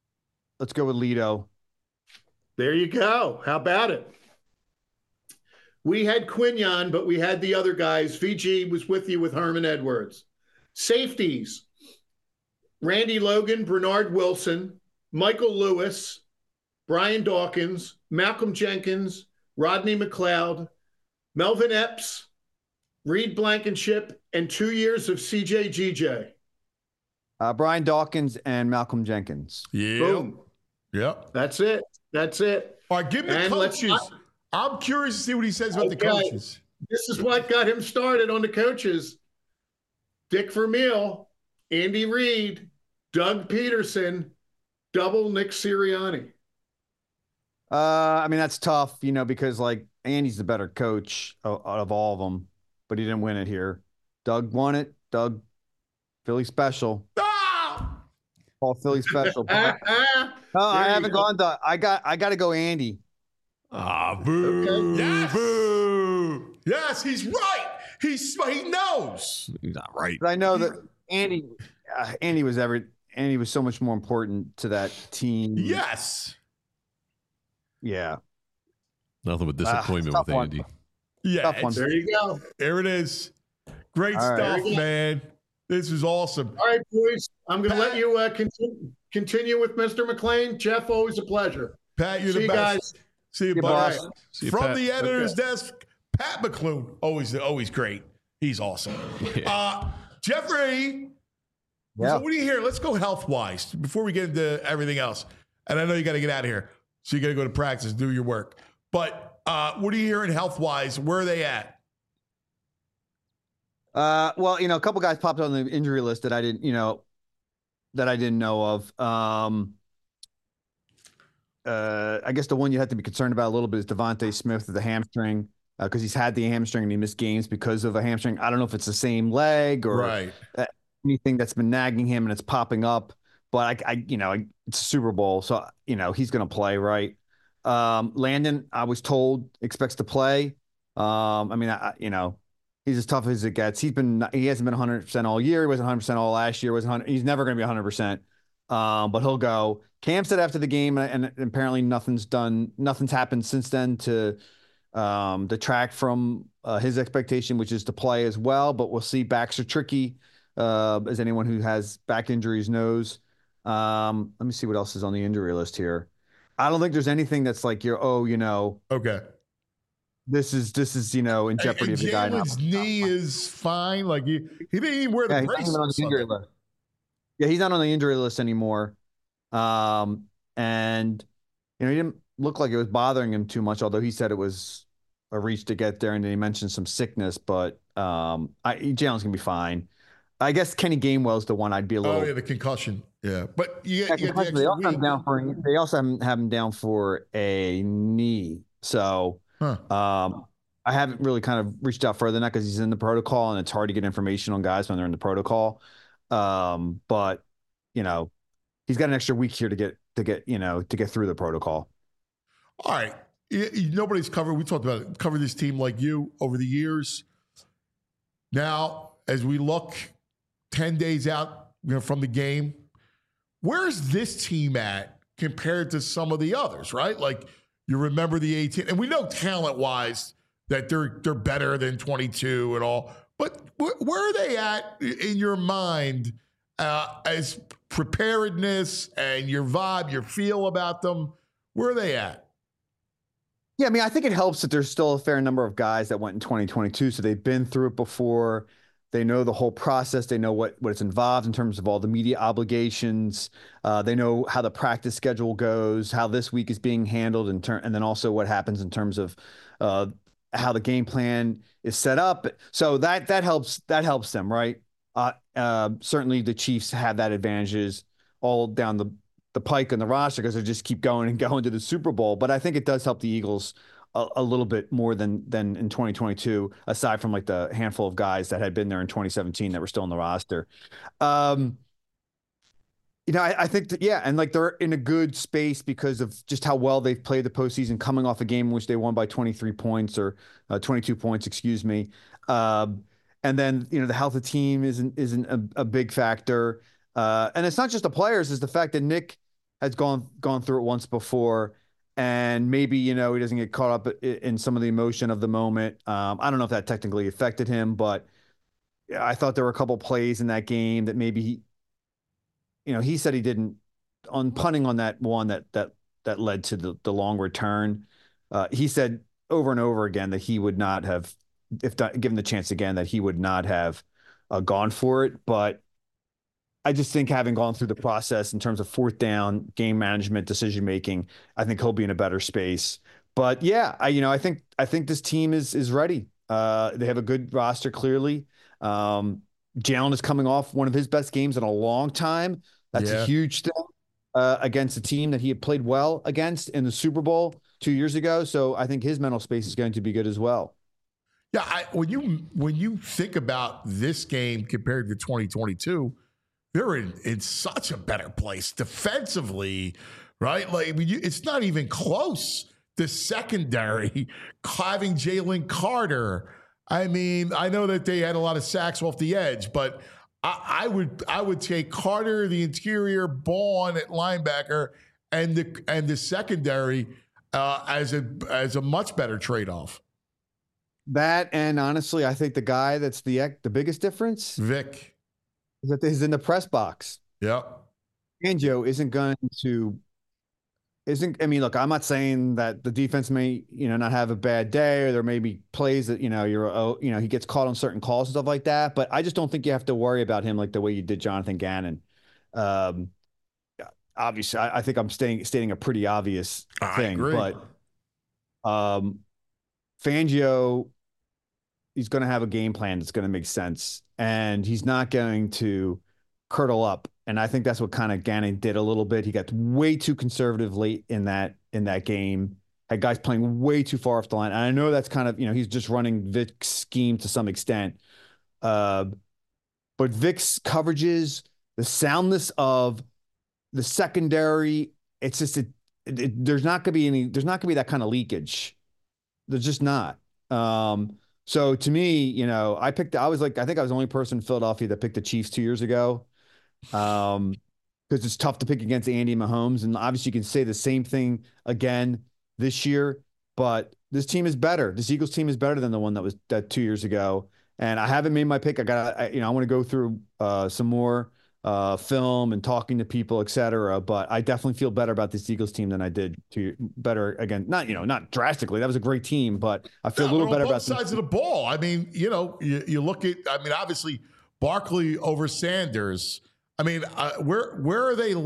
S8: go with Lito.
S7: There you go. How about it? We had Quinion, but we had the other guys. VG was with you with Herman Edwards. Safeties, Randy Logan, Bernard Wilson, Michael Lewis, Brian Dawkins, Malcolm Jenkins, Rodney McLeod, Melvin Epps, Reed Blankenship, and 2 years of CJ GJ.
S8: Brian Dawkins and Malcolm Jenkins.
S2: Yeah.
S7: Boom.
S2: Yep.
S7: That's it. That's it.
S2: All right, give me the
S7: And
S2: coaches. I'm curious to see what he says about the coaches.
S7: This is what got him started on the coaches. Dick Vermeil, Andy Reid, Doug Peterson, double Nick Sirianni.
S8: I mean, that's tough, because like Andy's the better coach out of all of them, but he didn't win it here. Doug won it. Doug, Philly special.
S2: Ah!
S8: All Philly special. No, I haven't gone. I got to go Andy.
S2: Ah, boo.
S7: Okay.
S2: Yes.
S3: Boo.
S2: Yes, he's right. He knows.
S3: He's not right.
S8: But I know that Andy was so much more important to that team.
S2: Yes.
S8: Yeah.
S3: Nothing but disappointment
S8: tough
S3: with
S8: one.
S3: Andy.
S2: Yeah.
S8: Tough one.
S7: There you go.
S2: There it is. Great
S8: All right.
S2: stuff, man. This is awesome.
S7: All right, boys. I'm going to let you continue with Mr. McLean. Jeff, always a pleasure.
S2: Pat, you're
S7: See
S2: the
S7: you
S2: best.
S7: guys.
S2: See you,
S8: boss.
S2: buddy.
S3: See you,
S2: From
S3: Pat.
S2: the editor's desk, Pat McClune. Always great. He's awesome. Jeffrey,
S8: Yeah.
S2: so what do you hear? Let's go health-wise before we get into everything else. And I know you got to get out of here. So you got to go to practice, do your work. But what are you hearing health-wise? Where are they at?
S8: Well, a couple guys popped on the injury list that I didn't know of. I guess the one you have to be concerned about a little bit is Devontae Smith with the hamstring, because he's had the hamstring and he missed games because of a hamstring. I don't know if it's the same leg or anything that's been nagging him and it's popping up. But it's a Super Bowl, so he's going to play, right? Landon, I was told, expects to play. He's as tough as it gets. He hasn't been 100% all year. He wasn't 100% all last year. He's never going to be 100%. But he'll go. Cam said after the game, and apparently nothing's happened since then to detract from his expectation, which is to play as well. But we'll see. Backs are tricky, as anyone who has back injuries knows. Let me see what else is on the injury list here. I don't think there's anything that's like
S2: Okay.
S8: This is in jeopardy of the guy now.
S2: Jalen's knee is fine. Like he didn't even wear the brace.
S8: He's not on the injury list. Yeah, he's not on the injury list anymore. And he didn't look like it was bothering him too much, although he said it was a reach to get there, and then he mentioned some sickness. But Jalen's gonna be fine. I guess Kenny Gainwell's the one I'd be a little.
S2: Oh yeah, the concussion. Yeah, but you get the
S8: they
S2: extra
S8: also have
S2: week.
S8: him down for. They also have him down for a knee. So I haven't really kind of reached out further than that because he's in the protocol, and it's hard to get information on guys when they're in the protocol. But he's got an extra week here to get through the protocol.
S2: All right. Nobody's covered. We talked about it. Covered this team like you over the years. Now, as we look 10 days out from the game, where's this team at compared to some of the others, right? Like you remember the 18, and we know talent-wise that they're better than 22 and all. But where are they at in your mind as preparedness and your vibe, your feel about them? Where are they at?
S8: Yeah, I mean, I think it helps that there's still a fair number of guys that went in 2022, so they've been through it before. They know the whole process. They know what's involved in terms of all the media obligations. They know how the practice schedule goes, how this week is being handled, and then also what happens in terms of how the game plan is set up. So that helps them, right? Certainly the Chiefs have that advantages all down the pike on the roster because they just keep going and going to the Super Bowl. But I think it does help the Eagles a little bit more than in 2022, aside from like the handful of guys that had been there in 2017 that were still on the roster. I think that, yeah, and like they're in a good space because of just how well they've played the postseason, coming off a game in which they won by 23 points or 22 points, excuse me. And then, the health of the team isn't a big factor. And it's not just the players, it's the fact that Nick has gone through it once before. and maybe, he doesn't get caught up in some of the emotion of the moment. I don't know if that technically affected him, but I thought there were a couple plays in that game that maybe he said he didn't, on punting on that one that led to the long return. He said over and over again that he would not have, if given the chance again, that he would not have gone for it. But I just think, having gone through the process in terms of fourth down, game management, decision making, I think he'll be in a better space. But yeah, I think this team is ready. They have a good roster, clearly. Jalen is coming off one of his best games in a long time. That's a huge thing against a team that he had played well against in the Super Bowl 2 years ago. So I think his mental space is going to be good as well.
S2: Yeah, when you think about this game compared to 2022, they're in such a better place defensively, right? Like, it's not even close. The secondary, having Jalen Carter. I mean, I know that they had a lot of sacks off the edge, but I would take Carter, the interior, Bourne at linebacker, and the secondary as a much better trade-off.
S8: That, and honestly, I think the guy that's the biggest difference,
S2: Vic,
S8: is that he's in the press box.
S2: Yeah.
S8: Fangio I mean, look, I'm not saying that the defense may, not have a bad day, or there may be plays that, he gets caught on certain calls and stuff like that. But I just don't think you have to worry about him like the way you did Jonathan Gannon. Obviously, I think I'm stating a pretty obvious thing, but Fangio, he's going to have a game plan that's going to make sense, and he's not going to curdle up. And I think that's what kind of Gannon did a little bit. He got way too conservative late in that game, had guys playing way too far off the line. And I know that's kind of, he's just running Vic's scheme to some extent. But Vic's coverages, the soundness of the secondary, it's just, there's not going to be that kind of leakage. There's just not. So to me, I think I was the only person in Philadelphia that picked the Chiefs 2 years ago. Because it's tough to pick against Andy Mahomes, and obviously you can say the same thing again this year, but this team is better. This Eagles team is better than the one that 2 years ago. And I haven't made my pick. I want to go through some more film and talking to people, et cetera. But I definitely feel better about this Eagles team than I did better again. Not drastically. That was a great team, but I feel a little better about
S2: both sides of the ball. I mean, you look at. I mean, obviously Barkley over Sanders. I mean, where are they?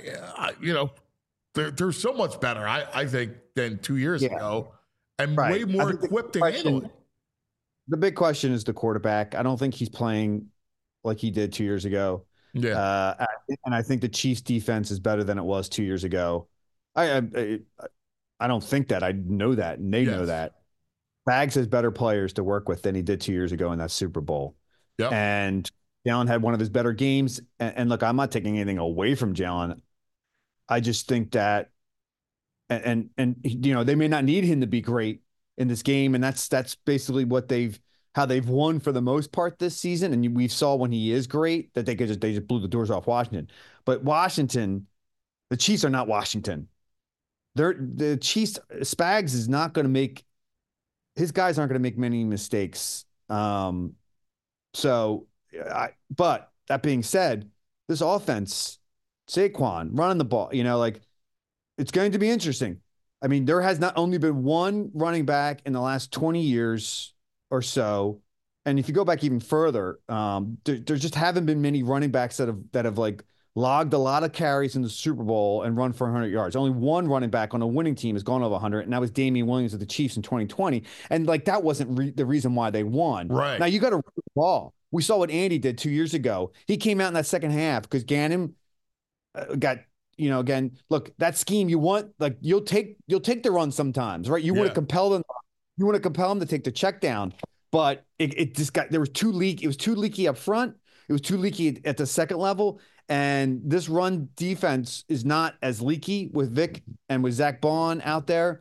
S2: They're so much better, I think, than 2 years ago, and way more equipped to handle it.
S8: The big question is the quarterback. I don't think he's playing like he did 2 years ago.
S2: Yeah,
S8: and I think the Chiefs' defense is better than it was 2 years ago. I don't think that. I know that, and they know that. Bags has better players to work with than he did 2 years ago in that Super Bowl.
S2: Yep.
S8: And Jalen had one of his better games. And look, I'm not taking anything away from Jalen. I just think that, and they may not need him to be great in this game, and that's basically how they've won for the most part this season. And we saw when he is great that they just blew the doors off Washington. But Washington, the Chiefs are not Washington. The Chiefs, Spags is not going to make, his guys aren't going to make many mistakes. But that being said, this offense, Saquon running the ball, it's going to be interesting. I mean, there has not only been one running back in the last 20 years or so, and if you go back even further, there just haven't been many running backs that have logged a lot of carries in the Super Bowl and run for 100 yards. Only one running back on a winning team has gone over 100, and that was Damian Williams of the Chiefs in 2020. And that wasn't the reason why they won.
S2: Right.
S8: Now you got to run the ball. We saw what Andy did 2 years ago. He came out in that second half because Gannon got, again, look, that scheme you want, you'll take the run sometimes, right? You want to compel them. You want to compel them to take the check down, but it just got, it was too leaky up front. It was too leaky at the second level. And this run defense is not as leaky with Vic and with Zach Bond out there.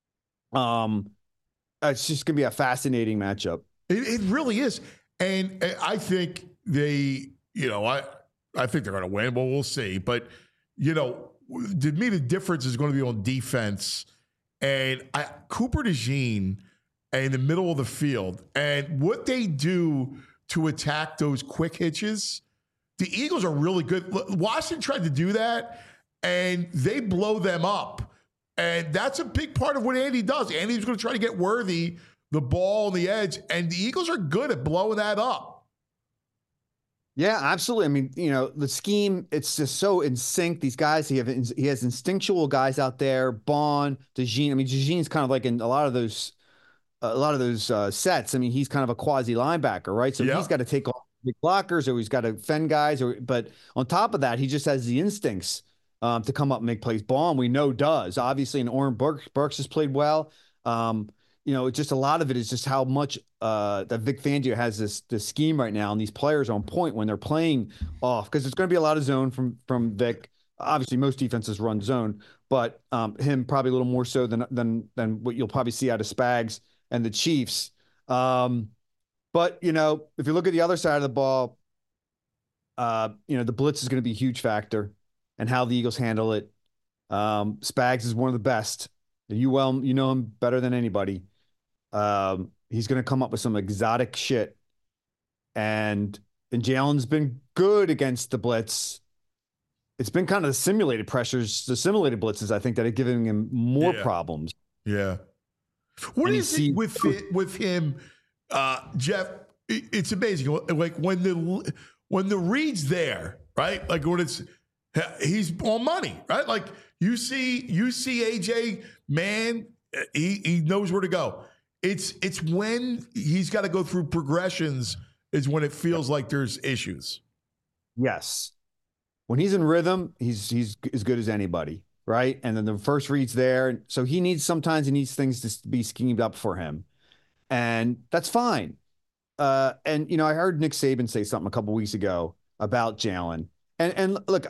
S8: It's just going to be a fascinating matchup.
S2: It really is. And I think I think they're going to win. Well, we'll see. But, to me, the difference is going to be on defense and Cooper DeJean in the middle of the field, and what they do to attack those quick hitches, the Eagles are really good. Washington tried to do that, and they blow them up. And that's a big part of what Andy does. Andy's going to try to get Worthy the ball on the edge, and the Eagles are good at blowing that up.
S8: Yeah, absolutely. I mean, the scheme, it's just so in sync. These guys, he has instinctual guys out there. Bond, DeJean. I mean, DeJean's kind of like in a lot of those sets. I mean, he's kind of a quasi linebacker, right? So he's got to take off big blockers, or he's got to fend guys, but on top of that, he just has the instincts to come up and make plays. Bond, we know, does, obviously, and Oren Burks has played well. It's just a lot of it is just how much that Vic Fangio has this scheme right now, and these players on point when they're playing off, because it's going to be a lot of zone from Vic. Obviously, most defenses run zone, but him probably a little more so than what you'll probably see out of Spags and the Chiefs. But if you look at the other side of the ball, the blitz is going to be a huge factor, and how the Eagles handle it. Spags is one of the best. You know him better than anybody. He's going to come up with some exotic shit, and Jalen's been good against the blitz. It's been kind of the simulated blitzes, I think, that are giving him more problems.
S2: Yeah. What is it with him, Jeff? It's amazing. Like when the read's there, right? Like when he's on money, right? Like you see AJ, man, he knows where to go. It's when he's got to go through progressions is when it feels like there's issues.
S8: Yes. When he's in rhythm, he's as good as anybody, right? And then the first read's there. So sometimes he needs things to be schemed up for him. And that's fine. I heard Nick Saban say something a couple weeks ago about Jalen. And look,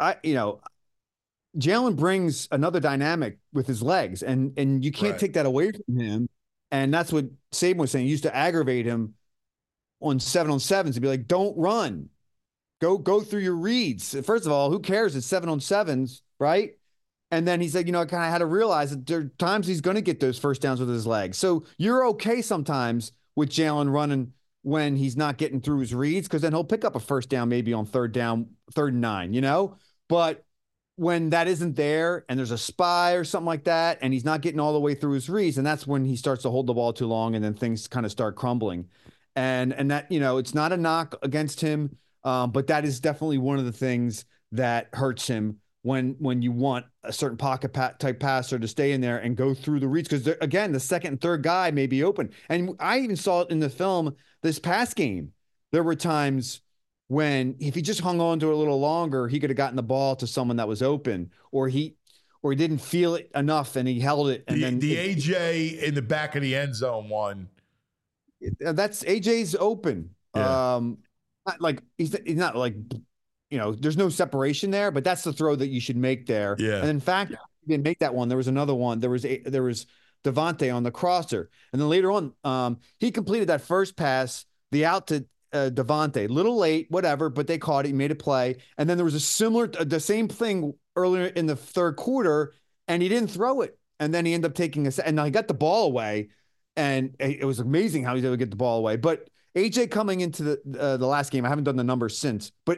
S8: Jalen brings another dynamic with his legs, and you can't take that away from him. And that's what Saban was saying. He used to aggravate him on 7-on-7s to be like, don't run. Go through your reads. First of all, who cares? It's 7-on-7s, right? And then he said, I kind of had to realize that there are times he's going to get those first downs with his legs. So you're okay sometimes with Jalen running when he's not getting through his reads, because then he'll pick up a first down maybe on third and 9, But when that isn't there and there's a spy or something like that, and he's not getting all the way through his reads, and that's when he starts to hold the ball too long, and then things kind of start crumbling. And that, it's not a knock against him. But that is definitely one of the things that hurts him when you want a certain pocket type passer to stay in there and go through the reads. Because, again, the second and third guy may be open. And I even saw it in the film this past game. There were times when if he just hung on to it a little longer, he could have gotten the ball to someone that was open, or he didn't feel it enough and he held it. And then AJ
S2: in the back of the end zone one.
S8: That's AJ's open.
S2: Yeah.
S8: Not like he's not like, there's no separation there, but that's the throw that you should make there.
S2: Yeah.
S8: And in fact, he didn't make that one. There was another one. There was Devontae on the crosser. And then later on, he completed that first pass, the out to Devontae, little late, whatever, but they caught it. He made a play. And then there was the same thing earlier in the third quarter, and he didn't throw it. And then he ended up taking and now he got the ball away, and it was amazing how he was able to get the ball away. But AJ coming into the last game, I haven't done the numbers since, but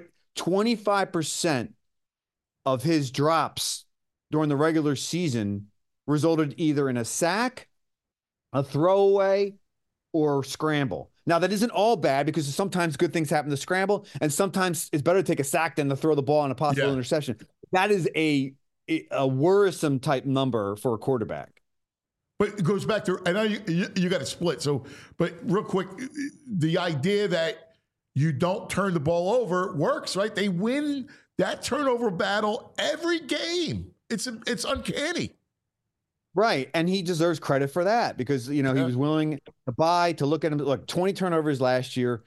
S8: 25% of his drops during the regular season resulted either in a sack, a throwaway, or scramble. Now, that isn't all bad, because sometimes good things happen to scramble, and sometimes it's better to take a sack than to throw the ball on a possible interception. That is a worrisome type number for a quarterback.
S2: But it goes back to, I know you got to split. So, but real quick, the idea that you don't turn the ball over works, right? They win that turnover battle every game. It's uncanny.
S8: Right. And he deserves credit for that, because, he was willing to look at him. Look, 20 turnovers last year,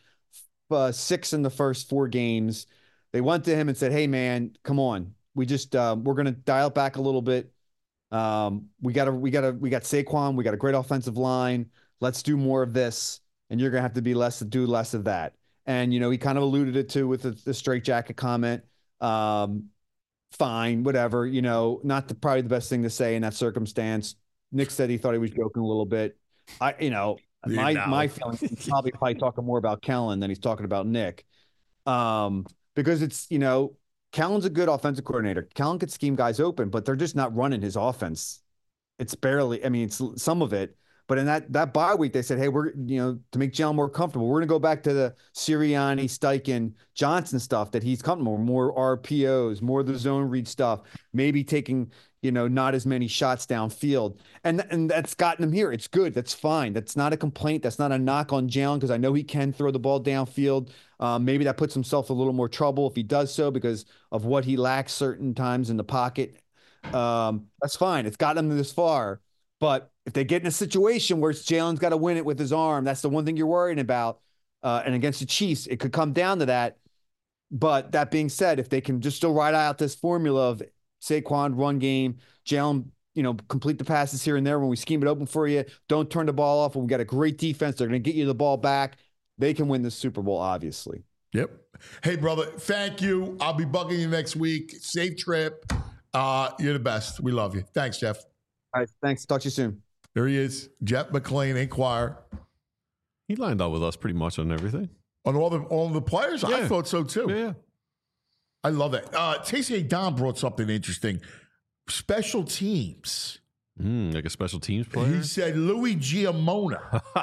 S8: 6 in the first 4 games. They went to him and said, hey, man, come on. We just, we're going to dial it back a little bit. We got Saquon. We got a great offensive line. Let's do more of this. And you're going to have to do less of that. And, he kind of alluded it to with the straitjacket comment. Fine, whatever, not probably the best thing to say in that circumstance. Nick said he thought he was joking a little bit. My feeling, he's probably talking more about Kellen than he's talking about Nick. Because it's, Kellen's a good offensive coordinator. Kellen could scheme guys open, but they're just not running his offense. It's barely, it's some of it. But in that bye week, they said, hey, we're, to make Jalen more comfortable, we're going to go back to the Sirianni, Steichen, Johnson stuff that he's comfortable with, more RPOs, more of the zone read stuff, maybe taking, not as many shots downfield. And that's gotten him here. It's good. That's fine. That's not a complaint. That's not a knock on Jalen because I know he can throw the ball downfield. Maybe that puts himself a little more trouble if he does so because of what he lacks certain times in the pocket. That's fine. It's gotten him this far. But if they get in a situation where Jalen's got to win it with his arm, that's the one thing you're worrying about. And against the Chiefs, it could come down to that. But that being said, if they can just still ride out this formula of Saquon run game, Jalen, complete the passes here and there when we scheme it open for you, don't turn the ball off. When we got a great defense, they're going to get you the ball back. They can win the Super Bowl, obviously.
S2: Yep. Hey, brother, thank you. I'll be bugging you next week. Safe trip. You're the best. We love you. Thanks, Jeff.
S8: All right. Thanks. Talk to you soon.
S2: There he is, Jeff McLean, Inquirer.
S3: He lined up with us pretty much on everything.
S2: On all the players? Yeah. I thought so, too.
S3: Yeah.
S2: I love that. Stacey Don brought something interesting. Special teams.
S3: Like a special teams player?
S2: He said Louis Giamona.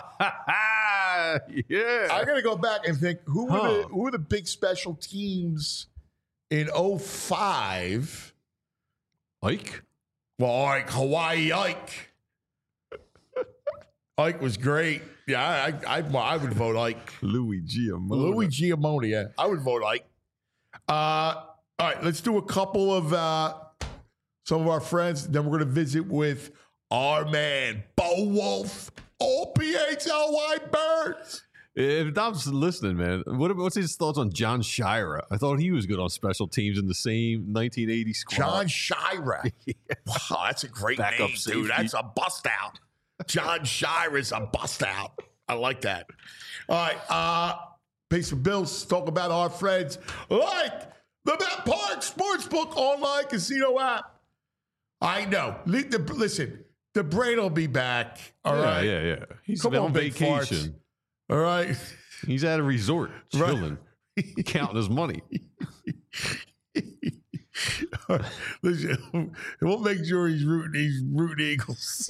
S3: Yeah.
S2: I got to go back and think, who were the big special teams in 2005?
S3: Ike?
S2: Well, Hawaii Ike. Ike was great. Yeah, I would vote Ike.
S3: Louis Giamona.
S2: Yeah. I would vote Ike. All right, let's do a couple of some of our friends. Then we're going to visit with our man, Bo Wolf, OPHLY Birds.
S3: If Dom's listening, man, what's his thoughts on John Shira? I thought he was good on special teams in the same 1980 squad.
S2: John Shira. Yeah. Wow, that's a great name, dude. That's a bust out. John Shira's a bust out. I like that. All right, pay some bills. Talk about our friends like the Bet Park Sportsbook online casino app. I know. Listen, the brain will be back. All right.
S3: Yeah. He's on vacation.
S2: All right.
S3: He's at a resort, chilling, counting his money.
S2: Right. Listen, we'll make sure he's rooting Eagles.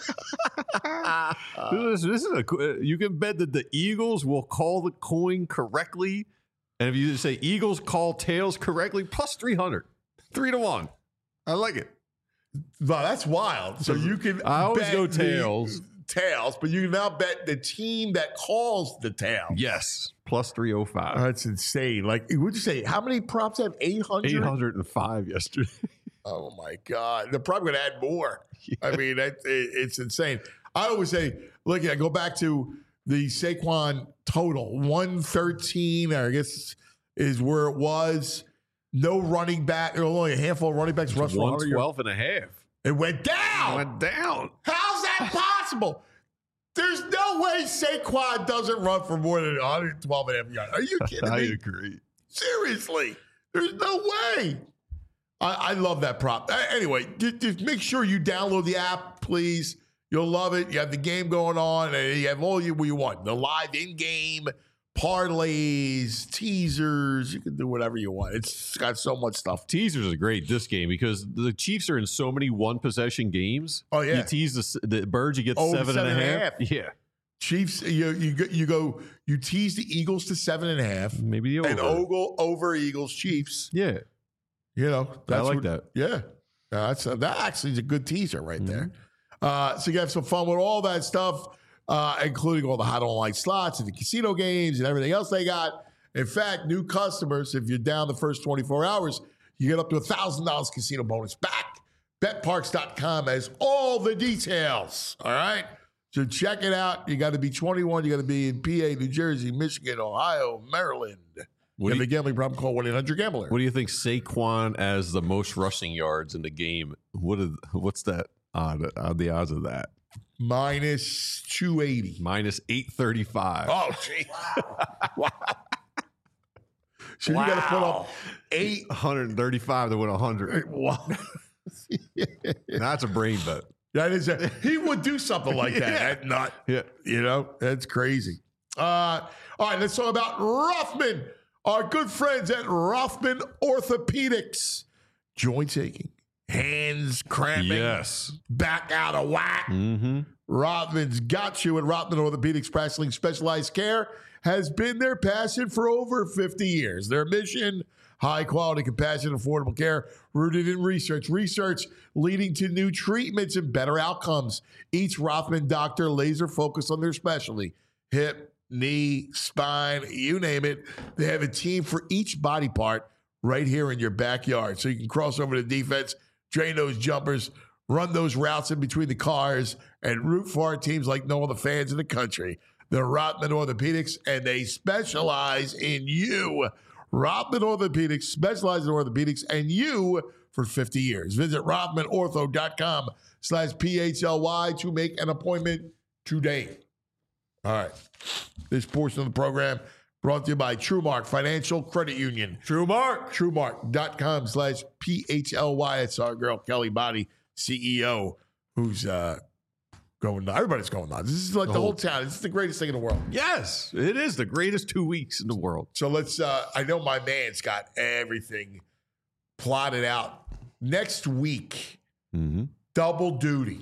S3: This is you can bet that the Eagles will call the coin correctly. And if you say Eagles call tails correctly, plus 300, 3-1. I like it.
S2: Wow, that's wild. So you can
S3: I always go tails.
S2: Tails, but you can now bet the team that calls the tail.
S3: Yes, plus 305.
S2: That's insane. Like, would you say how many props have 800?
S3: 805 yesterday.
S2: Oh my God! They're probably going to add more. Yeah. I mean, it's insane. I always say, look, I go back to the Saquon total 113. I guess is where it was. No running back. There were only a handful of running backs.
S3: Rush 112 and a half.
S2: It went down. How's that possible? There's no way Saquon doesn't run for more than 112 and a half yards. Are you kidding me?
S3: I agree.
S2: Seriously. There's no way. I love that prop. Anyway, just make sure you download the app, please. You'll love it. You have the game going on, and you have all you want. The live in-game parlays, teasers. You can do whatever you want. It's got so much stuff.
S3: Teasers are great this game because the Chiefs are in so many one-possession games.
S2: Oh, yeah.
S3: You tease the Birds, you get 7.5. Yeah.
S2: Chiefs, you tease the Eagles to 7.5.
S3: Maybe the over.
S2: And over Eagles, Chiefs.
S3: Yeah.
S2: I
S3: like that.
S2: Yeah. That actually is a good teaser right there. So you have some fun with all that stuff. Including all the hot online slots and the casino games and everything else they got. In fact, new customers, if you're down the first 24 hours, you get up to $1,000 casino bonus back. BetParks.com has all the details. All right? So check it out. You got to be 21. You got to be in PA, New Jersey, Michigan, Ohio, Maryland. You have a gambling problem, call 1-800-GAMBLER.
S3: What do you think Saquon as the most rushing yards in the game? What's that? The odds of that?
S2: Minus 280.
S3: Minus 835.
S2: Oh, gee. Wow. So you got to put up
S3: 835 to win 100.
S2: Wow.
S3: That's a brain bet.
S2: That is he would do something like that.
S3: Yeah.
S2: That's crazy. All right, let's talk about Rothman. Our good friends at Rothman Orthopedics. Joints aching, hands cramping,
S3: Yes.
S2: back out of whack. Rothman's got you, and Rothman Orthopedics Practicing Specialized Care has been their passion for over 50 years. Their mission, high quality, compassionate, affordable care rooted in research leading to new treatments and better outcomes. Each Rothman doctor laser focused on their specialty: hip, knee, spine, you name it. They have a team for each body part right here in your backyard. So you can cross over to defense, drain those jumpers, run those routes in between the cars, and root for our teams like no other fans in the country. They're Rothman Orthopedics, and they specialize in you. Rothman Orthopedics specializes in orthopedics and you for 50 years. Visit RothmanOrtho.com/PHLY to make an appointment today. All right. This portion of the program brought to you by TrueMark Financial Credit Union. TrueMark.com/PHLY. It's our girl, Kelly Body, CEO, who's going on. Everybody's going on. This is like the whole town. This is the greatest thing in the world.
S3: Yes, it is the greatest 2 weeks in the world.
S2: So let's, I know my man's got everything plotted out. Next week, double duty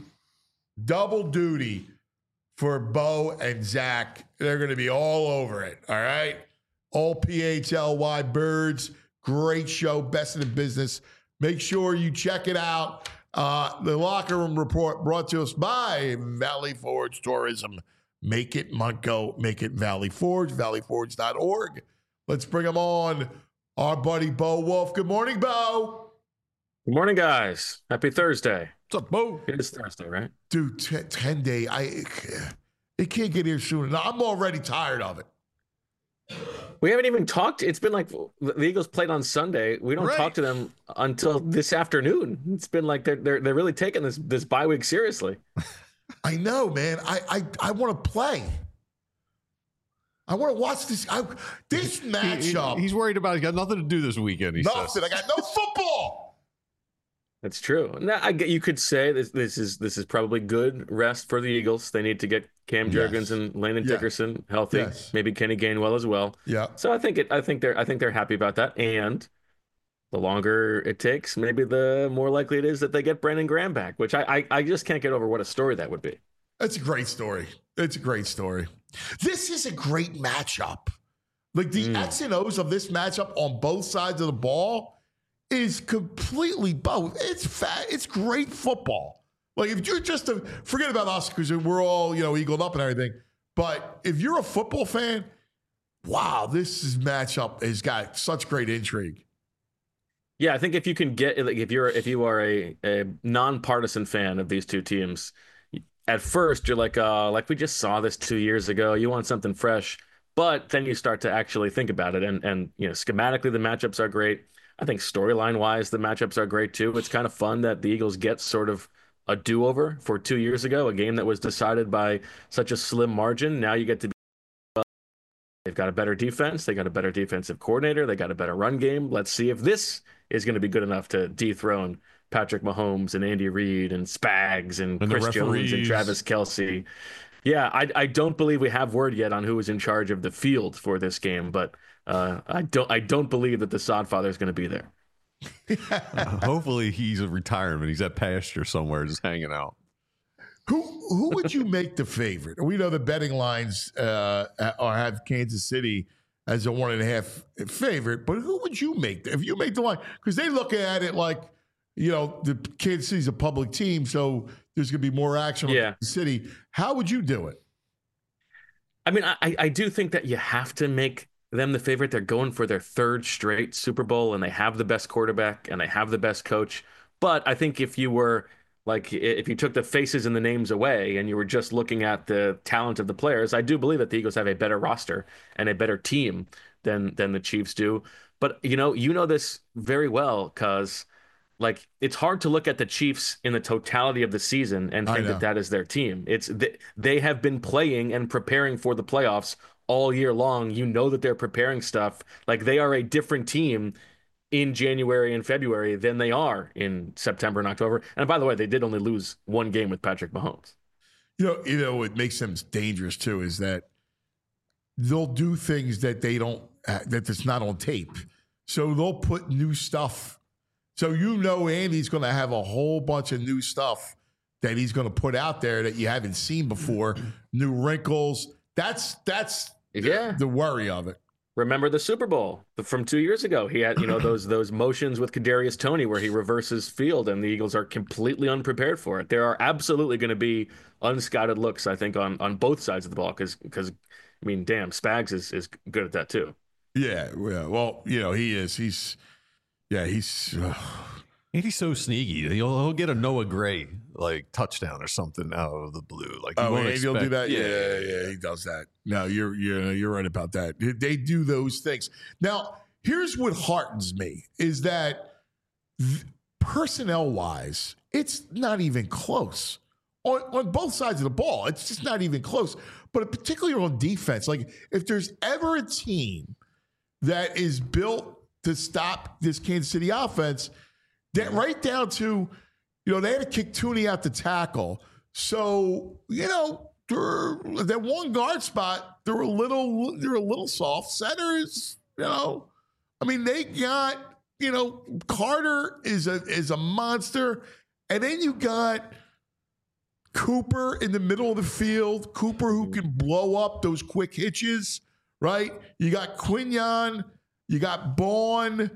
S2: for Bo and Zach. They're going to be all over it. All right. All PHLY birds. Great show. Best in the business. Make sure you check it out. The Locker Room Report brought to us by Valley Forge Tourism. Make it Montgo. Make it Valley Forge. ValleyForge.org. Let's bring them on. Our buddy Bo Wolf. Good morning, Bo.
S9: Good morning, guys. Happy Thursday.
S3: What's up, Bo?
S9: It is Thursday, right?
S2: Dude, 10 day. It can't get here soon enough. I'm already tired of it.
S9: We haven't even talked. It's been like the Eagles played on Sunday. We don't talk to them until this afternoon. It's been like they're really taking this bye week seriously.
S2: I know, man. I want to play. I want to watch this. This matchup.
S3: He's worried about. He's got nothing to do this weekend.
S2: Nothing. I got no football.
S9: That's true. Now, you could say this is probably good rest for the Eagles. They need to get Cam Jurgens and Landon Dickerson healthy.
S2: Yes.
S9: Maybe Kenny Gainwell as well.
S2: Yeah.
S9: So I think they're happy about that. And the longer it takes, maybe the more likely it is that they get Brandon Graham back. Which I just can't get over what a story that would be.
S2: That's a great story. It's a great story. This is a great matchup. Like the X and O's of this matchup on both sides of the ball is completely both. It's great football. Like if you're just forget about us because we're all eagled up and everything. But if you're a football fan, wow, this matchup has got such great intrigue.
S9: Yeah, I think if you can get if you are a nonpartisan fan of these two teams, at first you're like we just saw this 2 years ago. You want something fresh, but then you start to actually think about it, and schematically the matchups are great. I think storyline-wise, the matchups are great, too. It's kind of fun that the Eagles get sort of a do-over for 2 years ago, a game that was decided by such a slim margin. Now you get to be they've got a better defense. They got a better defensive coordinator. They got a better run game. Let's see if this is going to be good enough to dethrone Patrick Mahomes and Andy Reid and Spags and Chris Jones and Travis Kelce. Yeah, I don't believe we have word yet on who is in charge of the field for this game, but I don't believe that the Sodfather is going to be there.
S3: Hopefully he's a retirement. He's at pasture somewhere just hanging out.
S2: Who would you make the favorite? We know the betting lines have Kansas City as a 1.5 favorite, but who would you make if you make the line? Because they look at it like the Kansas City's a public team, so there's going to be more action on Kansas City. How would you do it?
S9: I mean, I do think that you have to make them the favorite. They're going for their third straight Super Bowl, and they have the best quarterback and they have the best coach. But I think if you took the faces and the names away and you were just looking at the talent of the players, I do believe that the Eagles have a better roster and a better team than the Chiefs do. But you know this very well, because it's hard to look at the Chiefs in the totality of the season and think that is their team. They have been playing and preparing for the playoffs all year long. You know that they're preparing stuff. Like, they are a different team in January and February than they are in September and October. And by the way, they did only lose one game with Patrick Mahomes.
S2: You know, what makes them dangerous too is that they'll do things that they don't, that's not on tape. So they'll put new stuff. So you know Andy's going to have a whole bunch of new stuff that he's going to put out there that you haven't seen before. New wrinkles. That's the worry of it.
S9: Remember the Super Bowl from 2 years ago? He had, those motions with Kadarius Toney where he reverses field, and the Eagles are completely unprepared for it. There are absolutely going to be unscouted looks, I think, on both sides of the ball because I mean, damn, Spags is good at that too.
S2: Yeah. Well, he is. He's.
S3: Andy's so sneaky. He'll get a Noah Gray like touchdown or something out of the blue. Like
S2: he'll do that. Yeah, he does that. No, you're right about that. They do those things. Now, here's what heartens me is that personnel wise, it's not even close on both sides of the ball. It's just not even close. But particularly on defense, like if there's ever a team that is built to stop this Kansas City offense, that right down to, they had to kick Tooney out to tackle. So, that one guard spot, they're a little soft. Centers, I mean, they got, Carter is a monster. And then you got Cooper in the middle of the field, Cooper who can blow up those quick hitches, right? You got Quinyon, you got Bourne.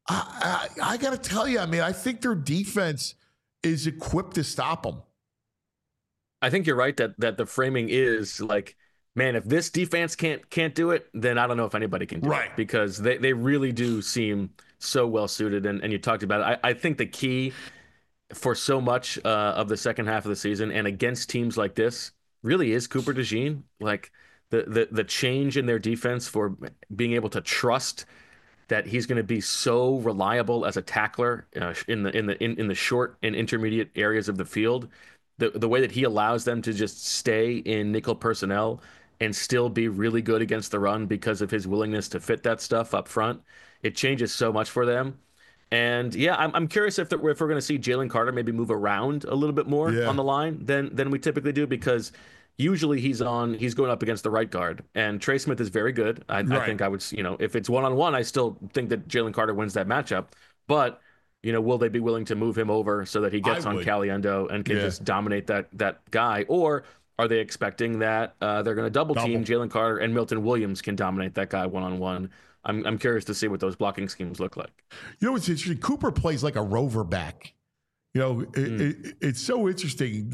S2: I got to tell you, I mean, I think their defense is equipped to stop them.
S9: I think you're right that the framing is like, man, if this defense can't do it, then I don't know if anybody can do it. Because they really do seem so well suited. And you talked about it. I think the key for so much of the second half of the season and against teams like this really is Cooper DeJean. Like the change in their defense for being able to trust that he's going to be so reliable as a tackler in the short and intermediate areas of the field. The way that he allows them to just stay in nickel personnel and still be really good against the run because of his willingness to fit that stuff up front, it changes so much for them. And yeah, I'm curious if we're going to see Jalen Carter maybe move around a little bit more on the line than we typically do, because usually he's going up against the right guard, and Trey Smith is very good. I think I would, if it's one-on-one, I still think that Jalen Carter wins that matchup. But, will they be willing to move him over so that he gets on Caliendo and can just dominate that guy? Or are they expecting that they're going to double team Jalen Carter and Milton Williams can dominate that guy one-on-one? I'm curious to see what those blocking schemes look like.
S2: What's interesting? Cooper plays like a rover back. It's so interesting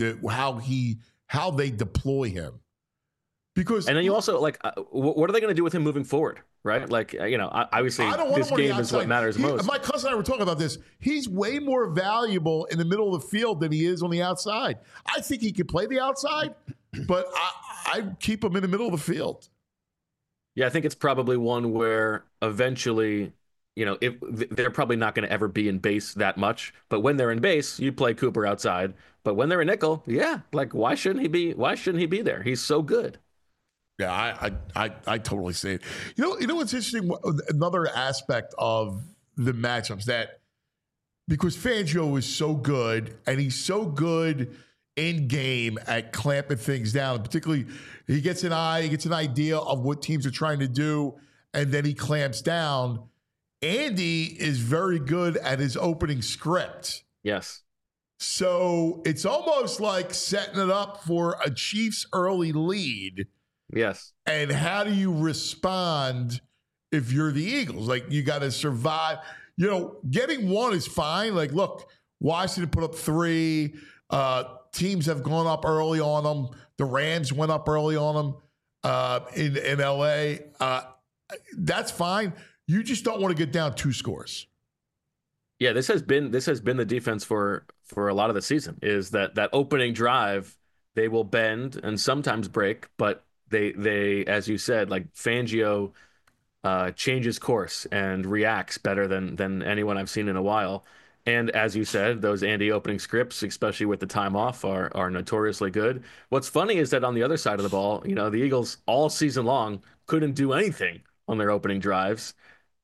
S2: how they deploy him. And
S9: then you also what are they going to do with him moving forward, right? Like, obviously this game is what matters most.
S2: My cousin and I were talking about this. He's way more valuable in the middle of the field than he is on the outside. I think he could play the outside, but I keep him in the middle of the field.
S9: Yeah, I think it's probably one where eventually, if they're probably not going to ever be in base that much. But when they're in base, you play Cooper outside. But when they're in nickel, why shouldn't he be? Why shouldn't he be there? He's so good.
S2: Yeah, I totally see it. You know what's interesting? Another aspect of the matchups that because Fangio is so good and he's so good in game at clamping things down, particularly he gets an idea of what teams are trying to do, and then he clamps down. Andy is very good at his opening script.
S9: Yes.
S2: So it's almost like setting it up for a Chiefs early lead.
S9: Yes.
S2: And how do you respond if you're the Eagles? Like, you got to survive. Getting one is fine. Like, look, Washington put up 3. Teams have gone up early on them. The Rams went up early on them in L.A. That's fine. You just don't want to get down 2 scores.
S9: Yeah, this has been the defense for a lot of the season, is that opening drive, they will bend and sometimes break, but they as you said, like Fangio changes course and reacts better than anyone I've seen in a while. And as you said, those Andy opening scripts, especially with the time off, are notoriously good. What's funny is that on the other side of the ball, the Eagles all season long couldn't do anything on their opening drives.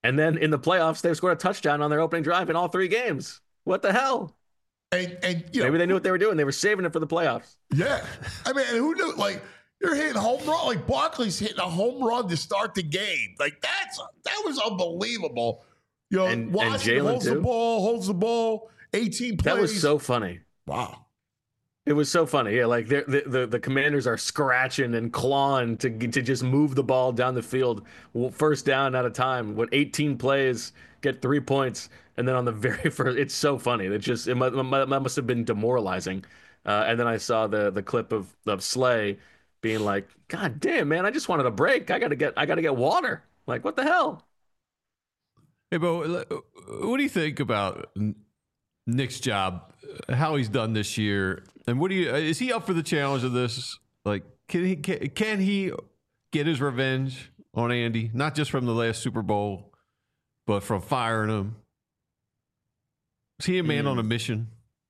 S9: And then in the playoffs, they scored a touchdown on their opening drive in all 3 games. What the hell?
S2: And
S9: maybe they knew what they were doing. They were saving it for the playoffs.
S2: Yeah. I mean, who knew? Like, you're hitting home run. Like, Barkley's hitting a home run to start the game. Like, that was unbelievable. You know,
S9: and
S2: Washington holds the ball, 18 plays.
S9: That was so funny.
S2: Wow.
S9: It was so funny. Yeah, like the Commanders are scratching and clawing to just move the ball down the field, first down at a time. With 18 plays, get 3 points, and then on the very first, it's so funny. It must have been demoralizing. And then I saw the clip of Slay being like, "God damn, man, I just wanted a break. I gotta get water. Like, what the hell?"
S3: Hey, Bo, what do you think about Nick's job, how he's done this year, and is he up for the challenge of this? Like, can he get his revenge on Andy, not just from the last Super Bowl, but from firing him? Is he a man on a mission?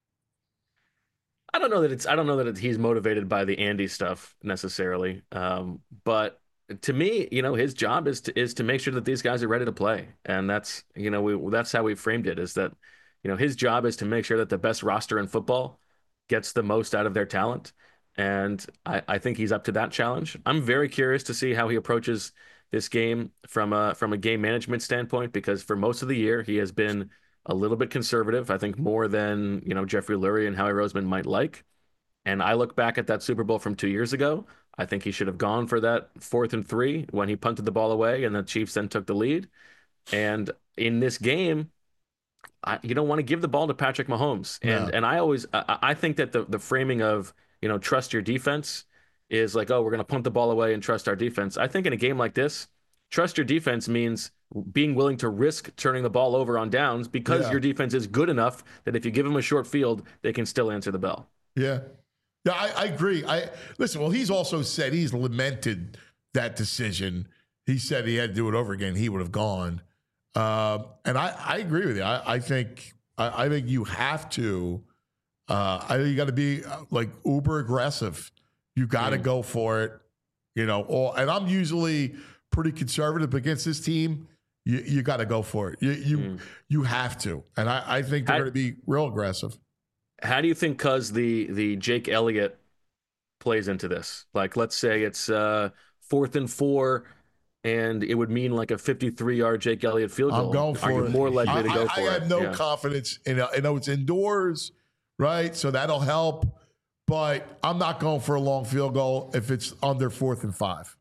S9: I don't know that he's motivated by the Andy stuff necessarily, but to me, his job is to make sure that these guys are ready to play, and that's that's how we framed it. Is that his job is to make sure that the best roster in football gets the most out of their talent, and I think he's up to that challenge. I'm very curious to see how he approaches this game from a game management standpoint, because for most of the year he has been a little bit conservative. I think more than Jeffrey Lurie and Howie Roseman might like. And I look back at that Super Bowl from 2 years ago. I think he should have gone for that 4th and 3 when he punted the ball away and the Chiefs then took the lead. And in this game, you don't want to give the ball to Patrick Mahomes. And I think that the framing of, trust your defense is like, oh, we're going to punt the ball away and trust our defense. I think in a game like this, trust your defense means being willing to risk turning the ball over on downs because your defense is good enough that if you give them a short field, they can still answer the bell.
S2: Yeah. Yeah, I agree. Listen, well, he's also said he's lamented that decision. He said he had to do it over again. He would have gone. And I agree with you. I think you have to. I think you got to be like uber aggressive. You got to go for it. And I'm pretty conservative against this team. You got to go for it. You have to. And I think they're going to be real aggressive.
S9: How do you think the Jake Elliott plays into this? Like, let's say it's 4th and 4, and it would mean like a 53-yard Jake Elliott field goal.
S2: I'm going for it.
S9: Are you more likely to go for it?
S2: I have no confidence in it. I know it's indoors, right? So that'll help. But I'm not going for a long field goal if it's under 4th and 5.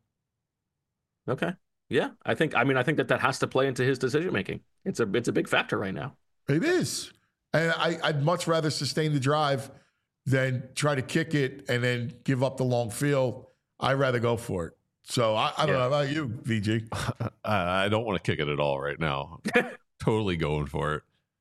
S9: Okay. Yeah. I think that has to play into his decision making. It's a big factor right now.
S2: It is. And I'd much rather sustain the drive than try to kick it and then give up the long field. I'd rather go for it. So I don't know about you, VG.
S3: I don't want to kick it at all right now. Totally going for it.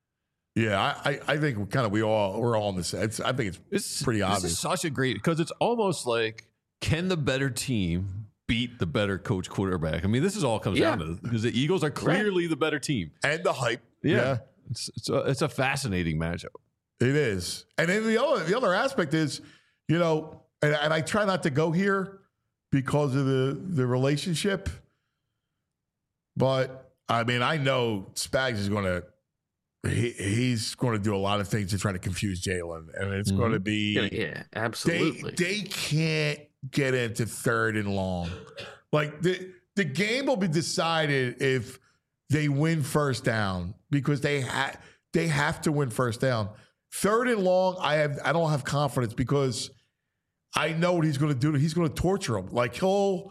S2: Yeah, I think we're all on the same. I think it's pretty obvious.
S3: This is such a great, because it's almost like, can the better team beat the better coach quarterback? I mean, this is all comes down to this, because the Eagles are clearly the better team.
S2: And the hype.
S3: Yeah. It's a fascinating matchup.
S2: It is. And then the other aspect is, and I try not to go here because of the relationship. But, I mean, I know Spags is going to, he's going to do a lot of things to try to confuse Jalen. And it's going to be.
S9: Yeah, absolutely.
S2: They can't get into 3rd and long. Like, the game will be decided if they win first down, because they have to win first down. 3rd and long, I don't have confidence, because I know what he's going to do. He's going to torture him. Like and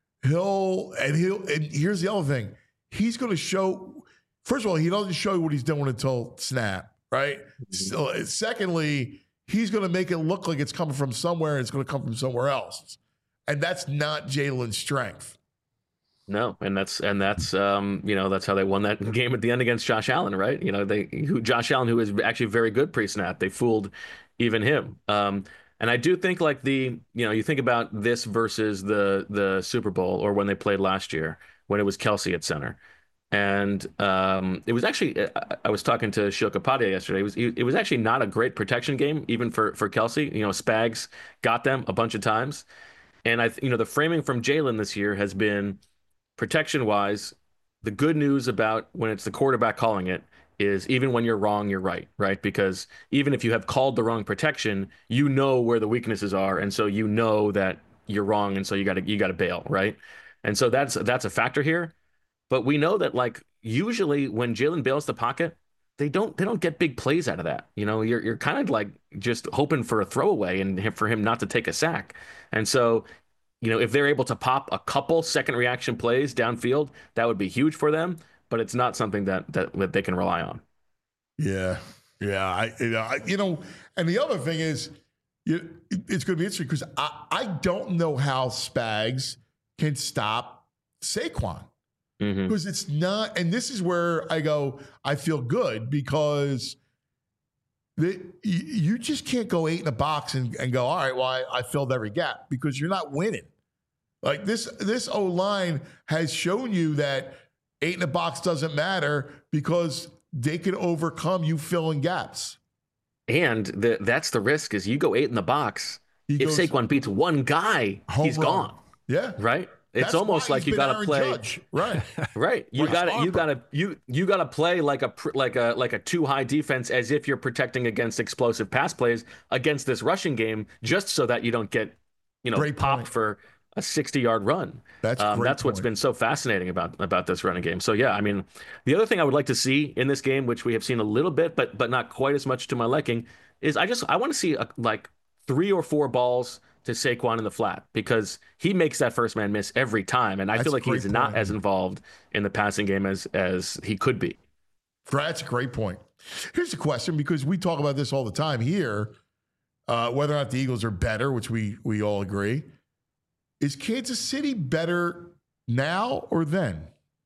S2: here's the other thing. He's going to show, first of all, he doesn't show you what he's doing until snap, right? So, secondly, he's going to make it look like it's coming from somewhere and it's going to come from somewhere else. And that's not Jalen's strength.
S9: No, and that's that's how they won that game at the end against Josh Allen, right? Josh Allen, who is actually very good pre-snap, they fooled even him. And I do think like you think about this versus the Super Bowl, or when they played last year when it was Kelsey at center, and it was actually I was talking to Shil Kapadia yesterday. It was actually not a great protection game even for Kelsey. Spags got them a bunch of times, and the framing from Jalen this year has been, protection-wise, the good news about when it's the quarterback calling it is even when you're wrong, you're right, right? Because even if you have called the wrong protection, you know where the weaknesses are, and so you know that you're wrong, and so you gotta bail, right? And so that's a factor here. But we know that like usually when Jalen bails the pocket, they don't get big plays out of that. You know, you're kind of like just hoping for a throwaway and for him not to take a sack. And so, you know, if they're able to pop a couple second reaction plays downfield, that would be huge for them. But it's not something that they can rely on.
S2: Yeah, you know, and the other thing is, it's going to be interesting because I don't know how Spags can stop Saquon because it's not, and this is where I go, I feel good because you just can't go 8 in a box and go, all right, well, I filled every gap because you're not winning. Like this O-line has shown you that 8 in a box doesn't matter because they can overcome you filling gaps.
S9: And that's the risk is you go 8 in the box. If Saquon beats one guy, he's gone.
S2: Yeah.
S9: Right. It's almost like you got to play.
S2: Right.
S9: Right. You got to play like a too high defense as if you're protecting against explosive pass plays against this rushing game, just so that you don't get, popped for a 60-yard run. That's what's been so fascinating about this running game. So yeah, I mean, the other thing I would like to see in this game, which we have seen a little bit, but not quite as much to my liking, is I want to see like 3 or 4 balls to Saquon in the flat because he makes that first man miss every time, and I feel like he's not as involved in the passing game as he could be.
S2: That's a great point. Here's the question, because we talk about this all the time here, whether or not the Eagles are better, which we all agree. Is Kansas City better now or then?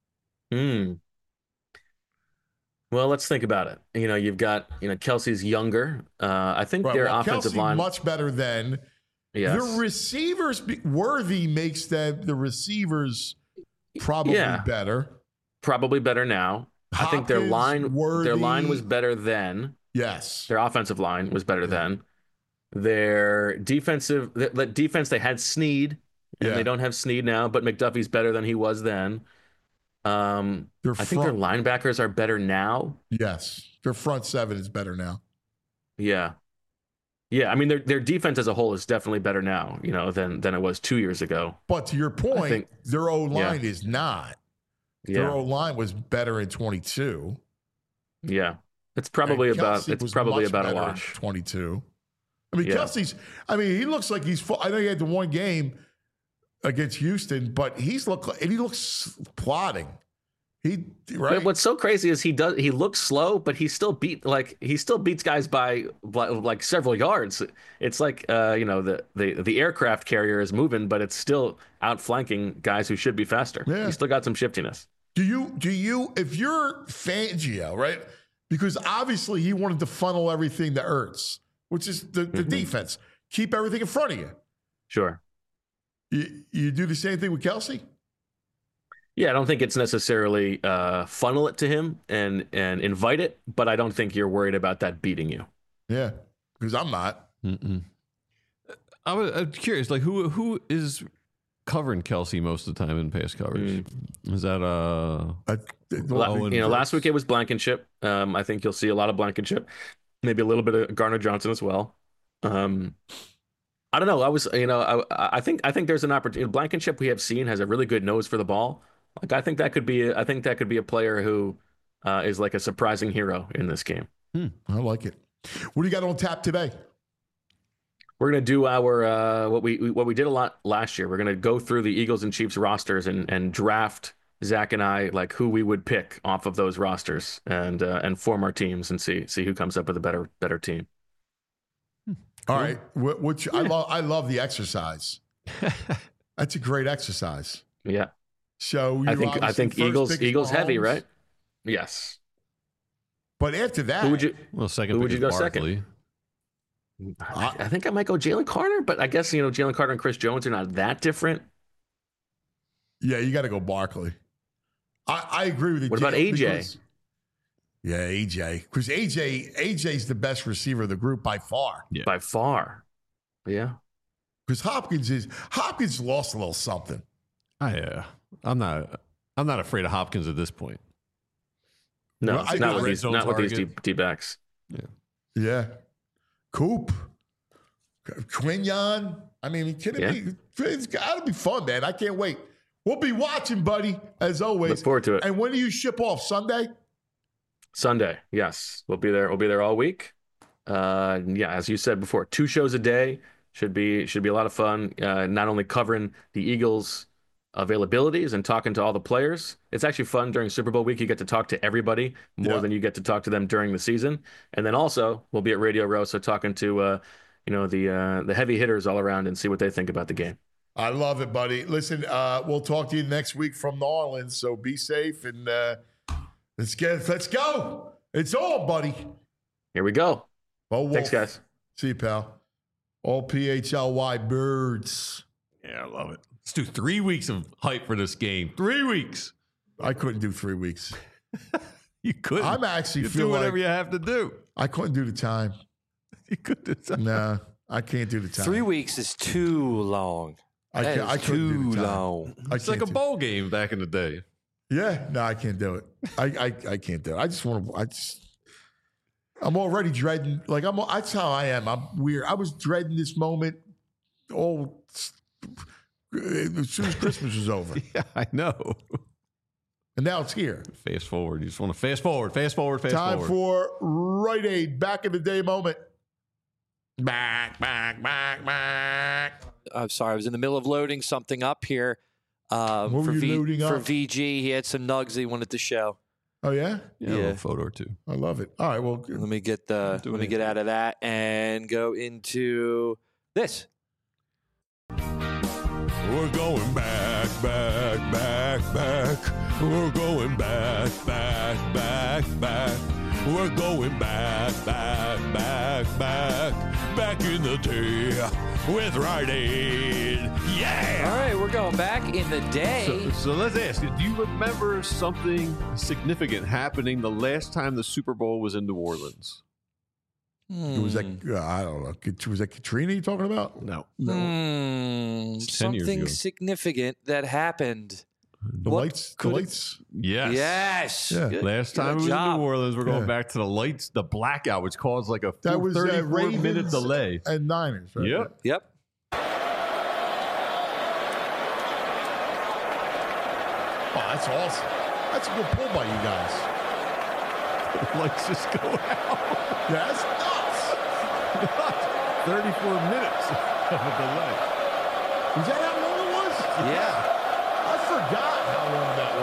S9: Well, let's think about it. You've got, Kelsey's younger. I think their offensive line
S2: much better than. Yes. The receivers, Worthy makes the receivers probably better.
S9: Probably better now.
S2: Hopkins,
S9: I think their line was better then.
S2: Yes.
S9: Their offensive line was better then. Their defense, they had Snead. And they don't have Snead now, but McDuffie's better than he was then. I think their linebackers are better now.
S2: Yes. Their front 7 is better now.
S9: Yeah. Yeah, I mean, their defense as a whole is definitely better now, than it was 2 years ago.
S2: But to your point, their O-line is not. Their O-line was better in 22.
S9: Yeah. It's probably about a wash.
S2: 22. I mean, Kelsey's, he looks like he's full. I know he had the one game against Houston, but he looks plodding.
S9: But what's so crazy is he looks slow, but he still beats guys by like several yards. It's like the aircraft carrier is moving, but it's still outflanking guys who should be faster.
S2: Yeah.
S9: He's still got some shiftiness.
S2: Do you if you're Fangio, right? Because obviously he wanted to funnel everything to Ertz, which is the defense. Keep everything in front of you.
S9: Sure.
S2: You do the same thing with Kelsey?
S9: Yeah, I don't think it's necessarily funnel it to him and invite it, but I don't think you're worried about that beating you.
S2: Yeah, because I'm not.
S3: I'm curious, like who is covering Kelsey most of the time in pass coverage? Is that
S9: last week it was Blankenship. I think you'll see a lot of Blankenship, maybe a little bit of Garner Johnson as well. I don't know. I think there's an opportunity. Blankenship we have seen has a really good nose for the ball. Like I think that could be a player who is like a surprising hero in this game.
S2: I like it. What do you got on tap today?
S9: We're gonna do our what we did a lot last year. We're gonna go through the Eagles and Chiefs rosters and draft Zach and I like who we would pick off of those rosters and form our teams and see who comes up with a better team.
S2: All right, which I love the exercise. That's a great exercise.
S9: Yeah.
S2: So
S9: I think Eagles heavy, right? Yes.
S2: But after that,
S9: who would you go
S3: Barkley.
S9: second? I think I might go Jalen Carter, but I guess Jalen Carter and Chris Jones are not that different.
S2: Yeah, you got to go Barkley. I agree with you.
S9: What about AJ?
S2: Yeah, AJ. Because AJ's the best receiver of the group by far.
S3: Yeah.
S9: By far. Yeah.
S2: Because Hopkins lost a little something.
S3: I'm not. I'm not afraid of Hopkins at this point.
S9: No,
S2: Well, I
S9: not
S2: know
S9: with
S3: red
S9: these,
S3: zone
S9: not with these
S3: target.
S9: D-backs.
S2: Yeah. Coop. Quinyon. I mean, are you kidding me? It's got to be fun, man. I can't wait. We'll be watching, buddy, as always.
S9: Look forward to it.
S2: And when do you ship off? Sunday?
S9: Sunday, yes. We'll be there. We'll be there all week. Yeah, as you said before, 2 shows a day. Should be a lot of fun. Not only covering the Eagles' availabilities and talking to all the players. It's actually fun during Super Bowl week. You get to talk to everybody more than you get to talk to them during the season. And then also we'll be at Radio Row, so talking to the heavy hitters all around and see what they think about the game.
S2: I love it, buddy. Listen, we'll talk to you next week from New Orleans. So be safe and let's go. It's all, buddy.
S9: Here we go.
S2: Bo Wolf.
S9: Thanks, guys.
S2: See you, pal. All PHLY birds.
S3: Yeah, I love it. Let's do 3 weeks of hype for this game. 3 weeks.
S2: I couldn't do 3 weeks.
S3: You couldn't.
S2: I'm actually
S3: you
S2: feel
S3: do whatever
S2: like
S3: you have to do.
S2: I couldn't do the time.
S3: You could do something.
S2: Nah, I can't do the time.
S4: 3 weeks is too long.
S2: I
S4: That
S2: can't. I
S4: is
S2: couldn't do
S4: too
S2: the time.
S4: long.
S2: I
S3: It's like a
S2: can't do-
S3: bowl game back in the day.
S2: Yeah, no, I can't do it. I can't do it. I just want to. I'm already dreading. Like that's how I am. I'm weird. I was dreading this moment all as soon as Christmas was over,
S3: Yeah, I know.
S2: and now it's here.
S3: Fast forward. You just want to fast forward, fast forward, fast
S2: Time
S3: forward.
S2: for Rite Aid back in the day moment. Back.
S4: I'm sorry, I was in the middle of loading something up here.
S2: What were you loading
S4: for
S2: up?
S4: VG, he had some nugs he wanted to show.
S2: Oh yeah,
S3: Yeah, a little photo or two.
S2: I love it. All right, well,
S4: Let me get out of that and go into this.
S6: We're going back. We're going back. We're going back in the day with Rite Aid. Yeah.
S4: All right, we're going back in the day.
S3: So let's ask you, do you remember something significant happening the last time the Super Bowl was in New Orleans?
S2: was that I don't know. Was that Katrina you talking about?
S3: No.
S4: It's
S3: 10 years
S4: something
S3: ago.
S4: significant that happened.
S2: The
S4: What
S2: lights. The
S4: could it-
S2: lights.
S3: Yes.
S4: Yes.
S2: Yeah.
S4: Good-
S3: Last time
S4: good
S3: it was
S4: job.
S3: in New Orleans, we're going
S2: Yeah.
S3: back to the lights, the blackout, which caused like a
S2: That was
S3: 34-minute
S2: Ravens
S3: delay.
S2: and Niners. Right?
S3: Yep.
S4: Yep.
S2: Oh, that's awesome. That's a good pull by you guys.
S3: Lights just go out.
S2: Yeah, that's nuts.
S3: 34 minutes of a delay.
S2: Was that how long it was?
S4: Yeah.
S2: I forgot how long that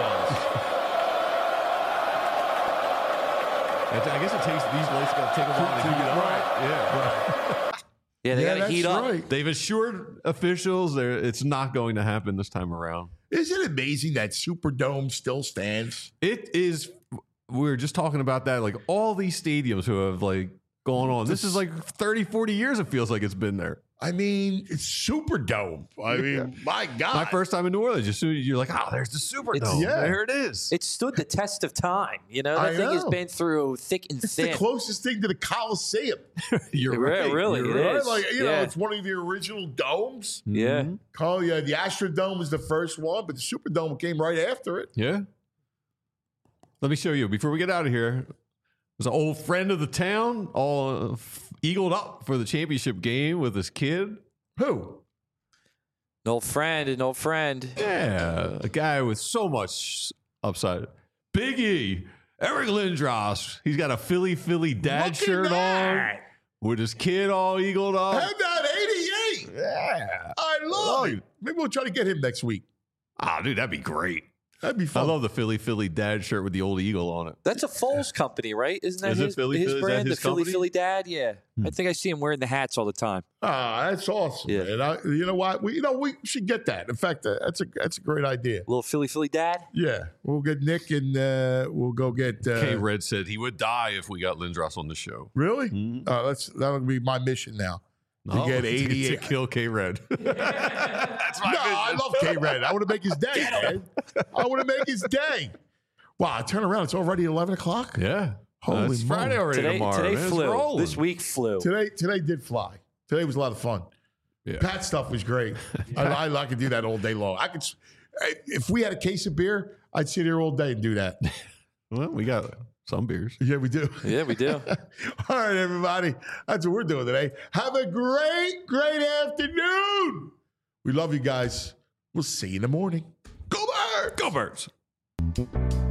S2: was.
S3: I guess it takes these lights got to take a while to heat up.
S2: Right.
S3: Yeah.
S4: Yeah, they got to
S2: that's
S4: heat up.
S2: right.
S3: They've assured officials it's not going to happen this time around.
S2: Isn't it amazing that Superdome still stands?
S3: It is. We were just talking about that. Like all these stadiums who have like gone on. This is like 30, 40 years. It feels like it's been there.
S2: I mean, it's Superdome. I mean, my God.
S3: My first time in New Orleans, as soon as you're like, oh, there's the Superdome.
S2: yeah.
S3: There it is.
S4: It stood the test of time. You know,
S2: I
S4: that thing has
S2: know.
S4: been through thick and
S2: It's
S4: thin.
S2: the closest thing to the Coliseum.
S3: You're
S4: Right,
S3: right.
S4: really,
S3: You're
S4: it
S3: right.
S4: is.
S2: Like, you know,
S4: Yeah.
S2: it's one of the original domes.
S4: Yeah.
S2: Oh, yeah, the Astrodome was the first one, but the Superdome came right after it.
S3: Yeah. Let me show you before we get out of here. There's an old friend of the town, all eagled up for the championship game with his kid.
S2: Who?
S4: An old friend.
S3: Yeah, a guy with so much upside. Big E, Eric Lindros. He's got a Philly dad
S2: Look at
S3: shirt on
S2: that.
S3: with his kid all eagled up.
S2: And that 88.
S3: Yeah.
S2: I love
S3: Oh,
S2: it. Maybe we'll try to get him next week.
S3: Oh, dude, that'd be great.
S2: That'd be
S3: I
S2: fun.
S3: love the Philly dad shirt with the old eagle on it.
S4: That's a Foles company, right? Isn't that
S3: Is it
S4: his,
S3: Philly?
S4: his
S3: Is that
S4: brand?
S3: his
S4: The Philly
S3: company?
S4: Philly Dad? Yeah. I think I see him wearing the hats all the time.
S2: Ah, that's awesome.
S4: Yeah.
S2: Man. You know what? We should get that. In fact, that's a great idea.
S4: Little Philly Dad?
S2: Yeah, we'll get Nick and we'll go get.
S3: K Red said he would die if we got Lindros on the show.
S2: Really? That'll be my mission now. To get 88.
S3: to kill K Red.
S2: That's my I love K Red. I want to make his day, man. I want to make his day. Wow, I turn around. It's already 11 o'clock.
S3: Yeah.
S2: Holy
S3: It's Friday
S2: moly.
S3: already tomorrow.
S4: Today
S3: man. It's
S4: flew.
S3: rolling.
S4: This week flew.
S2: Today did fly. Today was a lot of fun.
S3: Yeah.
S2: Pat stuff was great. I could do that all day long. If we had a case of beer, I'd sit here all day and do that.
S3: Well, we got some beers.
S2: Yeah, we do.
S4: Yeah, we do.
S2: All right, everybody. That's what we're doing today. Have a great, great afternoon. We love you guys. We'll see you in the morning. Go Birds!
S3: Go Birds!